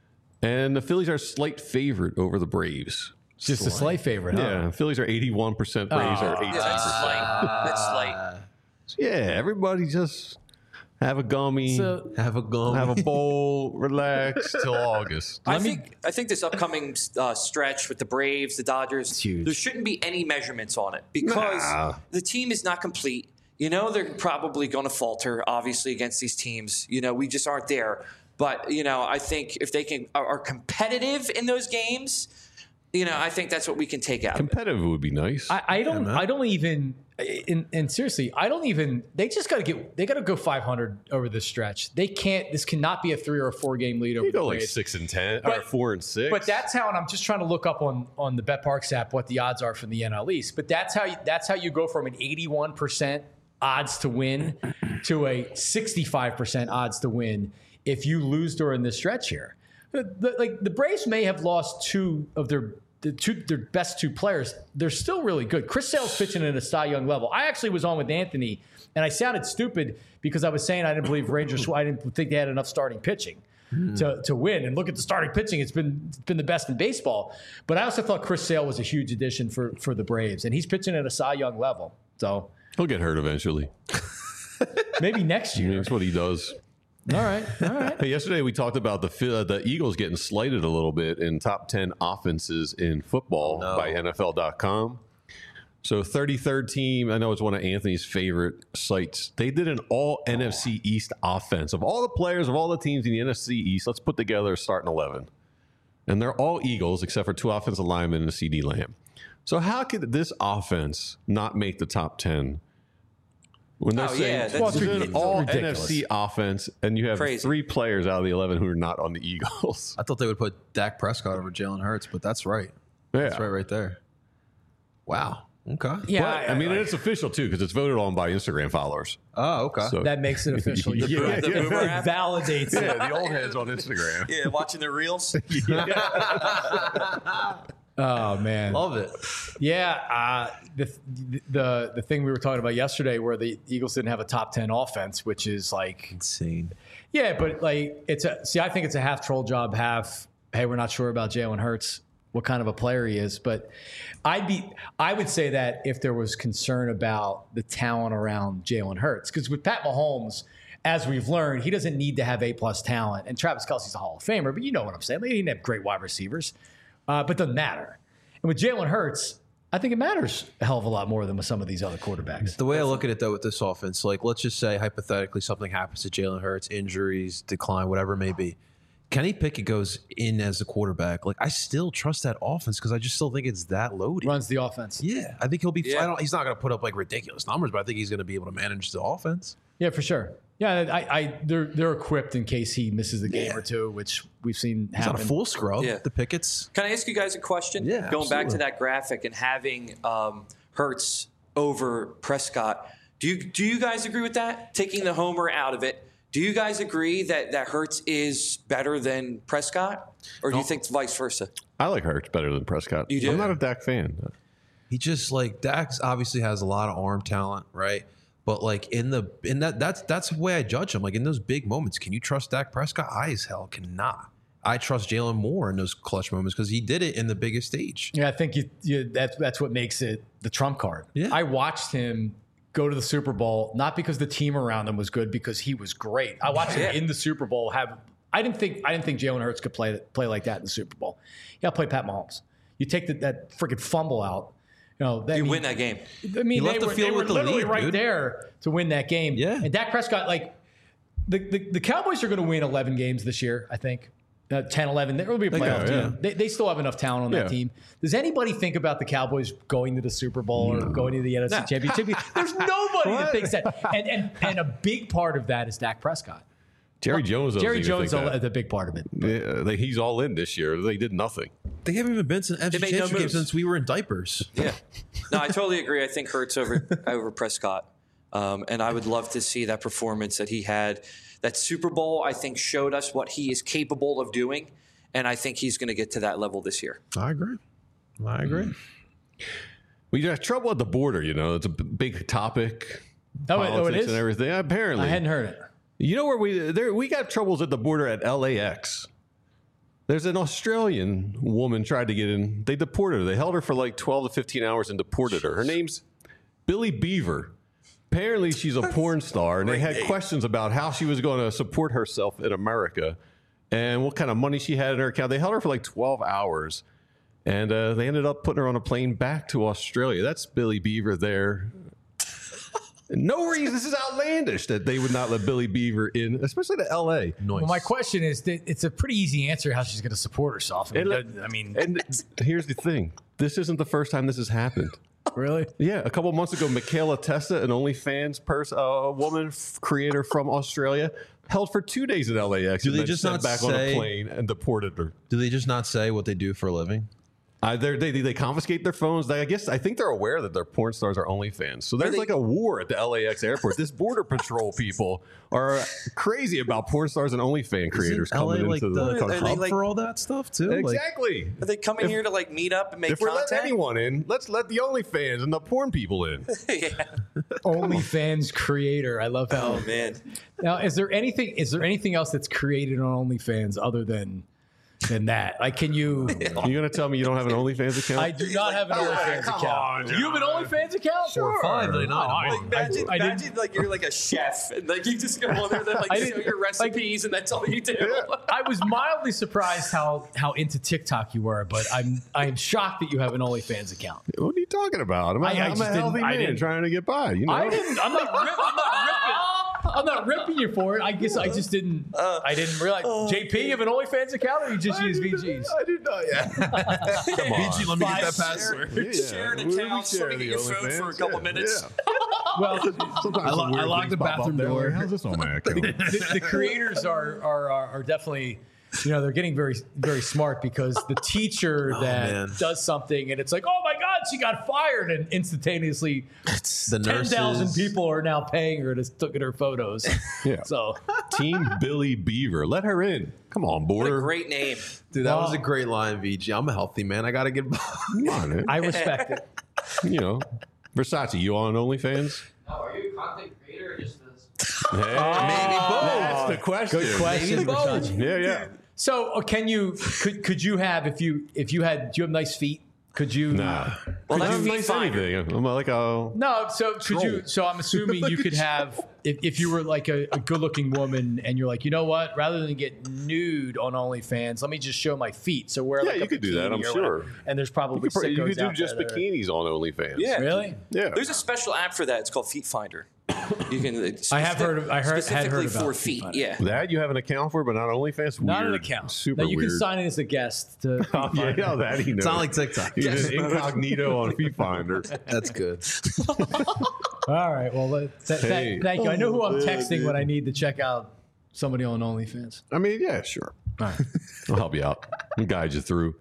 And the Phillies are a slight favorite over the Braves. Just a slight favorite, huh? Yeah, Phillies are eighty-one percent, Braves are Oh. eighteen Yeah, that's percent. slight. That's slight. Yeah, everybody just have a gummy, So, Have a gum. have a bowl, relax till August. I Let me- think I think this upcoming uh, stretch with the Braves, the Dodgers, huge. there shouldn't be any measurements on it because Nah. the team is not complete. You know, they're probably going to falter, obviously, against these teams. You know, we just aren't there. But, you know, I think if they can are, are competitive in those games, you know, I think that's what we can take out of it. Competitive would be nice. I, I don't. man. I don't even. And, and seriously, I don't even. They just got to get. They got to go five hundred over this stretch. They can't. This cannot be a three or a four game lead over you the go like Braves. six and ten, or But- four and six. But that's how, and I'm just trying to look up on on the BetParks app what the odds are for the N L East. But that's how you, that's how you go from an eighty-one percent odds to win to a sixty-five percent odds to win if you lose during this stretch here. the, the, like the Braves may have lost two of their the two their best two players. They're still really good. Chris Sale's pitching at a Cy Young level. I actually was on with Anthony, and I sounded stupid because I was saying I didn't believe Rangers. I didn't think they had enough starting pitching mm. to, to win. And look at the starting pitching; it's been it's been the best in baseball. But I also thought Chris Sale was a huge addition for for the Braves, and he's pitching at a Cy Young level. So he'll get hurt eventually. Maybe next year. That's what he does. All right, all right. Hey, yesterday we talked about the uh, the Eagles getting slighted a little bit in top ten offenses in football oh, no. by N F L dot com. So thirty-third team, I know it's one of Anthony's favorite sites. They did an all N F C East offense. Of all the players, of all the teams in the N F C East, let's put together a starting eleven. And they're all Eagles except for two offensive linemen and a C D Lamb. So how could this offense not make the top ten? When they're Oh, saying yeah, that's well, this is an all ridiculous. N F C offense, and you have Crazy. three players out of the eleven who are not on the Eagles. I thought they would put Dak Prescott over Jalen Hurts, but that's right. Yeah. That's right, right there. Wow. Okay. Yeah, But, I, mean, it's official, too, because it's voted on by Instagram followers. Oh, okay. So, that makes it official. Yeah, You're right. the Boomer It app? validates it. yeah, the old heads on Instagram. Yeah, watching the reels. Oh man, Love it. yeah. Uh, the the the thing we were talking about yesterday, where the Eagles didn't have a top ten offense, which is like Insane. yeah, but like it's a see. I think it's a half troll job, half hey, we're not sure about Jalen Hurts, what kind of a player he is. But I'd be I would say that if there was concern about the talent around Jalen Hurts, because with Pat Mahomes, as we've learned, he doesn't need to have A plus talent, and Travis Kelce's a Hall of Famer, but you know what I'm saying. They didn't have great wide receivers. Uh, but it doesn't matter. And with Jalen Hurts, I think it matters a hell of a lot more than with some of these other quarterbacks. The way I look at it, though, with this offense, like, let's just say, hypothetically, something happens to Jalen Hurts, injuries, decline, whatever it may be. Kenny Pickett goes in as the quarterback. Like, I still trust that offense because I just still think it's that loaded. Runs the offense. Yeah, I think he'll be Yeah. I don't, he's not going to put up, like, ridiculous numbers, but I think he's going to be able to manage the offense. Yeah, for sure. Yeah, I, I they're they're equipped in case he misses a game Yeah. or two, which we've seen He's happen. not a full scrub, Yeah. the Pickett's. Can I ask you guys a question? Yeah, Going back to absolutely. that graphic and having um, Hurts over Prescott, do you do you guys agree with that? Taking the homer out of it, do you guys agree that that Hurts is better than Prescott, or do you think vice versa? I like Hurts better than Prescott. You do? I'm not a Dak fan. He just like Dax obviously has a lot of arm talent, right? But like in the in that that's that's the way I judge him. Like in those big moments, can you trust Dak Prescott? I as hell cannot. I trust Jalen more in those clutch moments because he did it in the biggest stage. Yeah, I think you, you, that's that's what makes it the trump card. Yeah. I watched him go to the Super Bowl not because the team around him was good, because he was great. I watched Yeah. him in the Super Bowl have. I didn't think I didn't think Jalen Hurts could play play like that in the Super Bowl. You got to play Pat Mahomes. You take the, that freaking fumble out. You know, that, You I mean, win that game. I mean, He left they the were, field they were with the literally lead, right dude. there to win that game. Yeah. And Dak Prescott, like the the, the Cowboys are going to win eleven games this year. I think. Uh, ten, eleven. There will be a playoff go, yeah. team. They, they still have enough talent on Yeah. that team. Does anybody think about the Cowboys going to the Super Bowl or going to the N F C No. Championship? There's nobody that thinks that. And, and and a big part of that is Dak Prescott. Jerry Jones. doesn't Jerry even Jones think is that. a big part of it. Yeah, they, he's all in this year. They did nothing. They haven't even been to an N F C They made no Championship game moves. since we were in diapers. Yeah. No, I totally agree. I think Hurts over over Prescott. Um, and I would love to see that performance that he had. That Super Bowl, I think, showed us what he is capable of doing. And I think he's going to get to that level this year. I agree. I agree. We got trouble at the border. You know, it's a b- big topic. Oh, it- oh, it politics is? and everything. Apparently, I hadn't heard it. You know where we there we got troubles at the border at L A X. There's an Australian woman tried to get in. They deported her. They held her for like twelve to fifteen hours and deported her. Her name's Billy Beaver. Apparently, she's a porn star, and they had questions about how she was going to support herself in America and what kind of money she had in her account. They held her for like twelve hours, and uh, they ended up putting her on a plane back to Australia. That's Billy Beaver there. No reason. This is outlandish that they would not let Billy Beaver in, especially to L A. Nice. Well, my question is, that it's a pretty easy answer how she's going to support herself. I mean, And- I mean And here's the thing. This isn't the first time this has happened. really? Yeah, a couple months ago, Michaela Testa, an OnlyFans person, a woman f- creator from Australia, held for two days in L A X. Do and they then just sent not back on say- a plane and deported her? Do they just not say what they do for a living? Uh, they they they confiscate their phones. They, I guess I think they're aware that their porn stars are OnlyFans. So there's they- like a war at the L A X airport. This border patrol people are crazy about porn stars and OnlyFans creators Isn't L A coming like into the, the Are country. they hub like- for all that stuff too? Like, Exactly. Are they coming If- here to like meet up and make if we're content? letting anyone in, let's let the OnlyFans and the porn people in. yeah. OnlyFans creator. I love how. Oh man. Now, is there anything? Is there anything else that's created on OnlyFans other than than that? Like, can you? You gonna tell me you don't have an OnlyFans account? I do not have an OnlyFans come account. on, you have an OnlyFans account? For five ninety-nine a I- month. Imagine, I didn't- imagine like you're like a chef and like you just go on there and like I show didn't- your recipes and that's all you do. I was mildly surprised how how into TikTok you were, but I'm I'm shocked that you have an OnlyFans account. What are you talking about? I'm, a- I- I I'm just a healthy didn't- I man didn't- trying to get by. You know, I didn't. I'm not. Rip, I'm not ripping. I'm not ripping you for it. I guess I just didn't. I didn't realize. J P, you have an OnlyFans account, or you just use V Gs? I did not. Yeah. Come on. B G, let me get that Five password. Yeah, Share an we- we account, share let me the get your phone for a OnlyFans. couple Yeah, minutes. yeah. Well, Sometimes I lo- some weird I locked things the pop up bathroom there. door. How's this on my account? the, the creators are, are are are definitely, you know, they're getting very very smart because the teacher that man. does something and it's like, oh my God, she got fired, and instantaneously The ten nurses. thousand people are now paying her to look at her photos. Yeah. So Team Billy Beaver. Let her in. Come on, What a border. great name. Dude, that was Wow. a great line, V G. I'm a healthy man. I gotta get. Come on, man. I respect it. You know, Versace, you on OnlyFans? No, are you a content creator or just this? Hey, Maybe both. That's the question. Good question. Maybe both. Versace. Yeah, yeah. So uh, can you could could you have if you if you had do you have nice feet? Could you Nah. Well, I that's don't feet nice finder. anything. I'm like a. No, so could you? So I'm assuming you could have if, if you were like a, a good-looking woman and you're like, you know what? Rather than get nude on OnlyFans, let me just show my feet. So wear Yeah, like you a could do that, bikini I'm or sure. whatever. And there's probably You could, you sickos could do out just there that are- bikinis on OnlyFans. Yeah. Really? Yeah. There's a special app for that. It's called Feet Finder. You can. it's I have heard of- I heard- had specifically heard about for Feet feet. Finder. Yeah. That you have an account for, but not OnlyFans? Not an Weird. account. Super Now you weird. can sign in as a guest to. Yeah, yeah, that he knows. It's not like TikTok. He's an incognito on Feet Finder. That's good. All right. Well, let- th- th- Hey. thank you. I know who I'm Oh, texting man. when I need to check out somebody on OnlyFans. I mean, yeah, sure. All right. I'll help you out. I'll guide you through.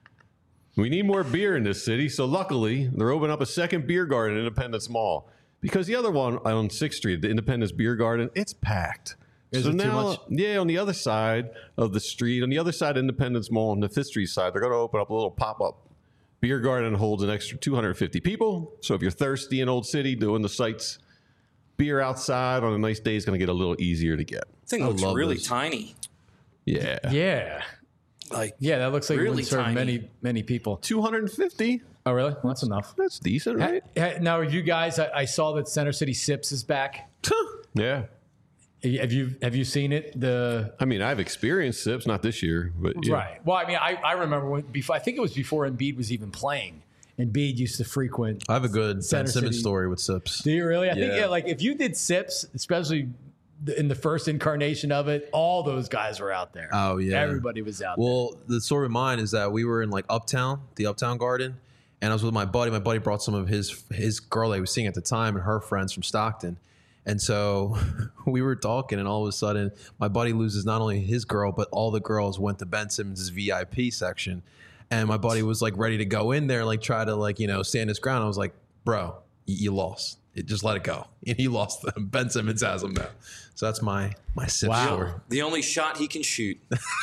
We need more beer in this city, so luckily they're opening up a second beer garden in Independence Mall. Because the other one on sixth Street, the Independence Beer Garden, it's packed. Is so it too now, much? yeah, on the other side of the street, on the other side of Independence Mall, on the Fifth Street side, they're going to open up a little pop-up beer garden that holds an extra two hundred fifty people. So if you're thirsty in Old City doing the sights, beer outside on a nice day is going to get a little easier to get. Thing I looks love really this. tiny. Yeah. Yeah. Like Yeah, that looks like it Really would serve tiny. many many people. two hundred fifty? Oh, really? Well, that's enough. That's decent, right? Ha- Now, you guys, I, I saw that Center City Sips is back. Yeah. Have you have you seen it? The I mean, I've experienced sips, not this year, but yeah. right. Well, I mean, I, I remember when before. I think it was before Embiid was even playing. Embiid used to frequent. I have a good Center Ben Simmons City. story with Sips. Do you really? I think Yeah. yeah. Like if you did Sips, especially the- in the first incarnation of it, all those guys were out there. Oh, yeah. everybody was out there. Well, the story of mine is that we were in like Uptown, the Uptown Garden, and I was with my buddy. My buddy brought some of his his girl that he was seeing at the time and her friends from Stockton. And so we were talking, and all of a sudden, my buddy loses not only his girl, but all the girls went to Ben Simmons' V I P section. And my buddy was like ready to go in there, like try to like, you know, stand his ground. I was like, bro, you, you lost. It, just let it go. And he lost them. Ben Simmons has them now. So that's my my sip Wow. story. the only shot he can shoot.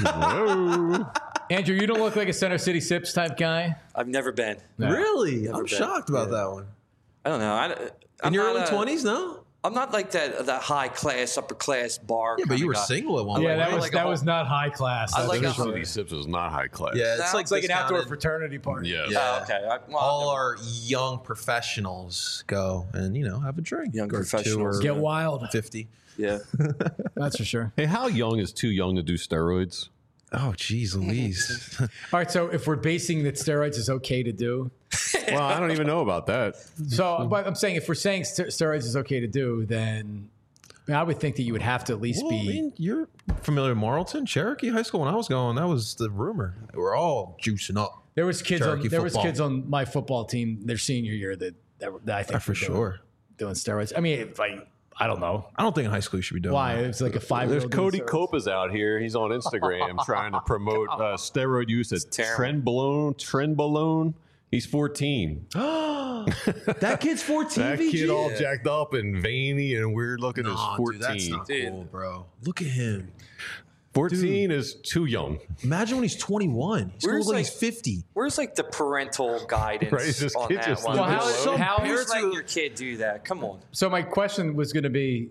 Whoa. Andrew, you don't look like a Center City Sips type guy. I've never been. No. Really? I'm been. shocked about that one. I don't know. I, In I'm your not early a- twenties, no? I'm not like that that high class, upper class bar. Yeah, but kinda you were guy. single at one Yeah, point. that right? was like a that whole- was not high class. I that's like for a- sure. City Sips is not high class. Yeah, it's Sounds like It's like this an outdoor town in- fraternity party. Yeah. Yeah. Oh, okay. I, well, all I've our young professionals go and you know have a drink. Young or two professionals. or Get wild. fifty. never- yeah. That's for sure. Hey, how young is too young to do steroids? Oh, geez, Louise. All right, so if we're basing that steroids is okay to do, Well, I don't even know about that. so but I'm saying if we're saying st- steroids is okay to do, then I, mean, I would think that you would have to at least Well, I be. mean, you're familiar with Marlton, Cherokee High School. When I was going, that was the rumor. They were all juicing up. There was kids on Cherokee there was football. kids on my football team their senior year that that, that I think Uh, for were doing- sure. doing steroids. I mean, if I I don't know. I don't think in high school you should be doing Why? that. It's like a five year There's old. Cody Copas out here. He's on Instagram trying to promote uh, steroid use at Trenbolone. Trenbolone. He's fourteen. That kid's fourteen. That V G? kid all jacked up and veiny and weird looking is Nah, fourteen. dude, that's not cool, bro. Look at him. fourteen is too young. Imagine when he's twenty-one. He's gonna Where's, look like like- he's fifty. Where's like the parental guidance Right, this on kid that just one? Well, how- Who's how- Who's letting your kid do that? Come on. So my question was going to be,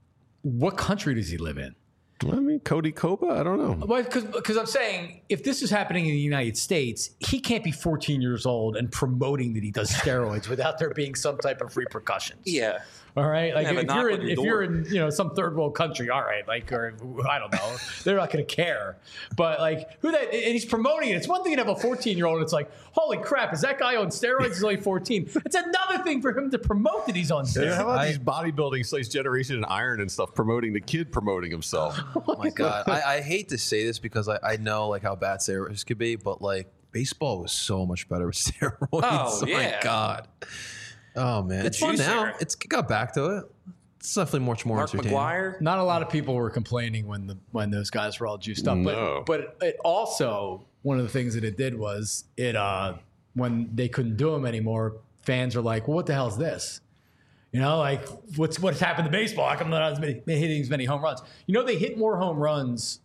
what country does he live in? I mean, Cody Copa, I don't know. Well, because I'm saying if this is happening in the United States, he can't be fourteen years old and promoting that he does steroids without there being some type of repercussions. Yeah. All right. Like Have a if knock you're on in, your if door. you're in, you know, some third world country, all right, like, or I don't know, they're not going to care. But like, who that? And he's promoting it. It's one thing to have a fourteen year old. It's like, holy crap, is that guy on steroids? He's only fourteen. It's another thing for him to promote that he's on Yeah, steroids. how about these bodybuilding slash Generation and Iron and stuff promoting the kid promoting himself? Oh my god. I, I hate to say this because I, I know like how bad steroids could be, but like baseball was so much better with steroids. Oh, my yeah. god. Oh man, it's fun juice now. era. It's it got back to it. It's definitely much more Mark entertaining. McGuire. Not a lot of people were complaining when the when those guys were all juiced up. No. But but it also one of the things that it did was it uh when they couldn't do them anymore, fans are like, well, what the hell is this? You know, like what's what's happened to baseball? How come they're not as many, hitting as many home runs? You know, they hit more home runs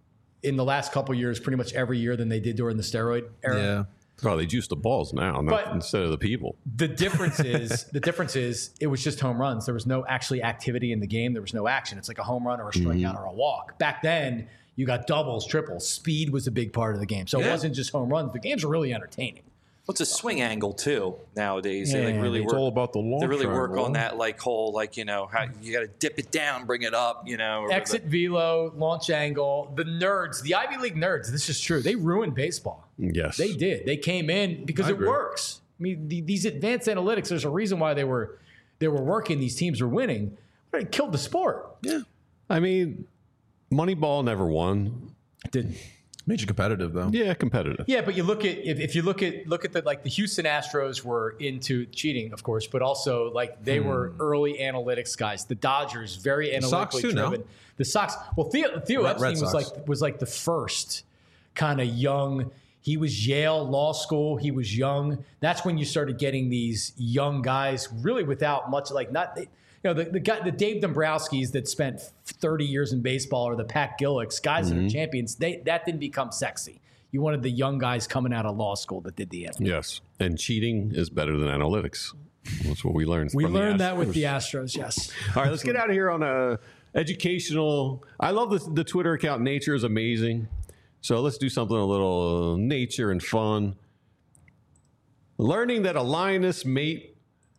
in the last couple of years, pretty much every year, than they did during the steroid era. Yeah. Oh, they juice the balls now, not But- instead of the people. The difference is the difference is it was just home runs. There was no actually activity in the game. There was no action. It's like a home run or a strikeout or a walk. Back then, you got doubles, triples. Speed was a big part of the game. So it Yeah. wasn't just home runs. The games were really entertaining. What's a swing angle too nowadays? They Yeah, like really It's work. all about the long They really work triangle. on that like whole like you know how you got to dip it down, bring it up, you know. or Exit velo, launch angle. The nerds, the Ivy League nerds, this is true. They ruined baseball. Yes. They did. They came in because I it agree. works. I mean, the, these advanced analytics, there's a reason why they were they were working. These teams were winning. But it killed the sport. Yeah. I mean, Moneyball never won. It didn't. Made you competitive though. Yeah, competitive. Yeah, but you look at if, if you look at look at the like the Houston Astros were into cheating, of course, but also like they were early analytics guys. The Dodgers very analytically Sox too, no? driven. The Sox, well, Theo, Theo Red- Epstein Red was Sox. like was like the first kind of young. He was Yale Law School. He was young. That's when you started getting these young guys, really without much like not. You know, the, the guy, the Dave Dombrowskis that spent thirty years in baseball, or the Pat Gillicks, guys that are champions, they that didn't become sexy. You wanted the young guys coming out of law school that did the analytics. Yes. And cheating is better than analytics. That's what we learned. We from the learned that with Astros. the Astros, yes. All right, let's get out of here on a educational. I love the, the Twitter account. Nature is amazing. So let's do something a little uh, nature and fun. Learning that a lioness mate,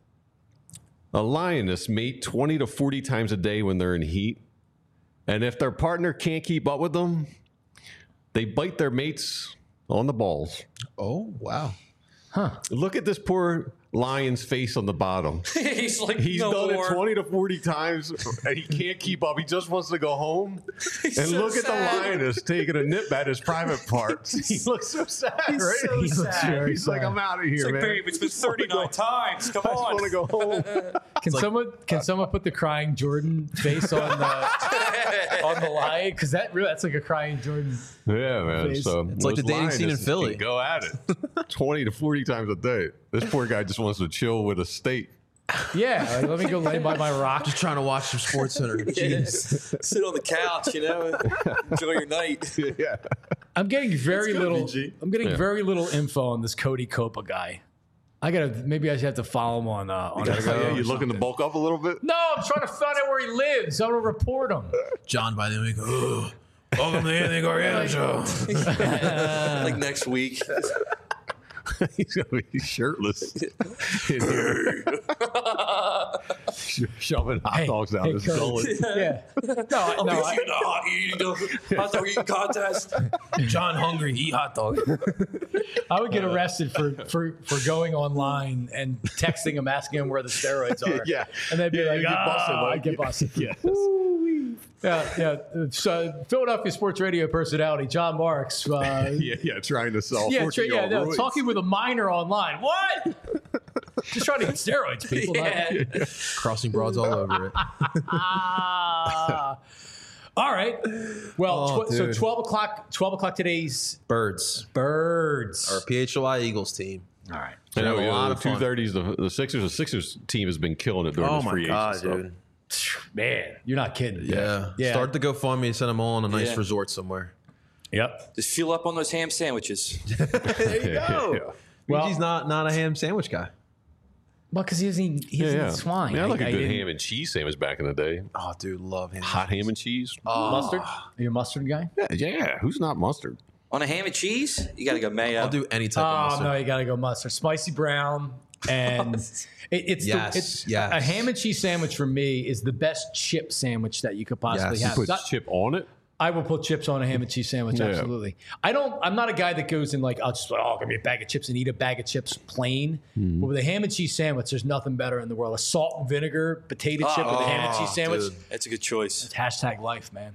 a lioness mate twenty to forty times a day when they're in heat, and if their partner can't keep up with them, they bite their mates on the balls. Oh wow. Look at this poor lion's face on the bottom. He's like He's no done more. it twenty to forty times and he can't keep up. He just wants to go home. and so look at sad. the lioness taking a nip at his private parts. He looks so sad, right? so He looks sad. very He's like, sad. I'm out of here, It's like, man. babe, it's been I just wanna thirty-nine go- times. Come I just on. want to go home. Can someone can someone put the crying Jordan face on the on the lion? Because that really that's like a crying Jordan. Yeah, man. Face. So It's like the those dating scene in lionesses Philly. can Go at it. twenty to forty times a day. This poor guy just wants to chill with a steak. Yeah, like, let me go lay by my rock. Just trying to watch some Sports Center. Jeez. Sit on the couch, you know, enjoy your night. Yeah. I'm getting very good, little. B G. I'm getting Yeah. very little info on this Cody Copa guy. I gotta maybe I should have to follow him on. Uh, on Yeah, Instagram or you looking to something. bulk up a little bit? No, I'm trying to find out where he lives. I want to report him. John by the way, oh, welcome to the Anthony Gargano show. Like next week. He's gonna be shirtless in here, shoving hot Hey, dogs out hey, his Kurt. gullet. Yeah. No, I'm no. no, I, in a hot eating hot dog eating contest. John hungry, eat hot dog. I would get arrested for, for, for going online and texting him, asking him where the steroids are. Yeah. And they'd be Yeah, like, you get busted, ah, like- I get busted. Yes. Yeah, yeah. So Philadelphia sports radio personality John Marks. Uh, Yeah, yeah, trying to sell. yeah, tra- fourteen yeah, year no, old talking with a minor online. What? Just trying to get steroids, people. Yeah. Crossing broads all over it. Ah. All right. Well, Oh, tw- so dude. twelve o'clock. Twelve o'clock today's Birds. birds. Our P H L I Eagles team. All right. I know, a yeah, lot the of fun. two thirties, the, the Sixers. The Sixers team has been killing it during Oh this my free god, agency stuff. dude. Man, you're not kidding. Yeah. Yeah. Start the GoFundMe, send them all on a nice Yeah. resort somewhere. Yep. Just fuel up on those ham sandwiches. There you go. Well- Luigi's not not a ham sandwich guy. Well, because he doesn't eat, he Yeah, doesn't yeah. eat swine. Yeah, I like a a good ham and cheese sandwich back in the day. Oh, dude, love ham. Hot ham and cheese. Mustard? Are you a mustard guy? Yeah, yeah, who's not mustard? On a ham and cheese, you got to go mayo. I'll do any type of Oh, mustard. no, you got to go mustard. Spicy brown. And it, it's, Yes, the, it's yes. a ham and cheese sandwich for me is the best chip sandwich that you could possibly Yes. have. Put Not- chip on it. I will put chips on a ham and cheese sandwich. Yeah. Absolutely. I don't. I'm not a guy that goes in like I'll just oh give me a bag of chips and eat a bag of chips plain. Hmm. But with a ham and cheese sandwich, there's nothing better in the world. A salt and vinegar potato chip with a ham and cheese sandwich. dude. That's a good choice. It's hashtag life, man.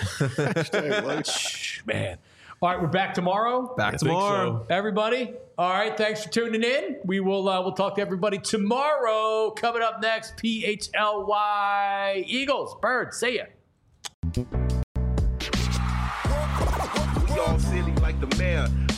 man. All right, we're back tomorrow. Back I think tomorrow. Everybody. All right, thanks for tuning in. We will uh, we'll talk to everybody tomorrow. Coming up next, P H L Y Eagles, Birds. See ya. We all silly like the mayor.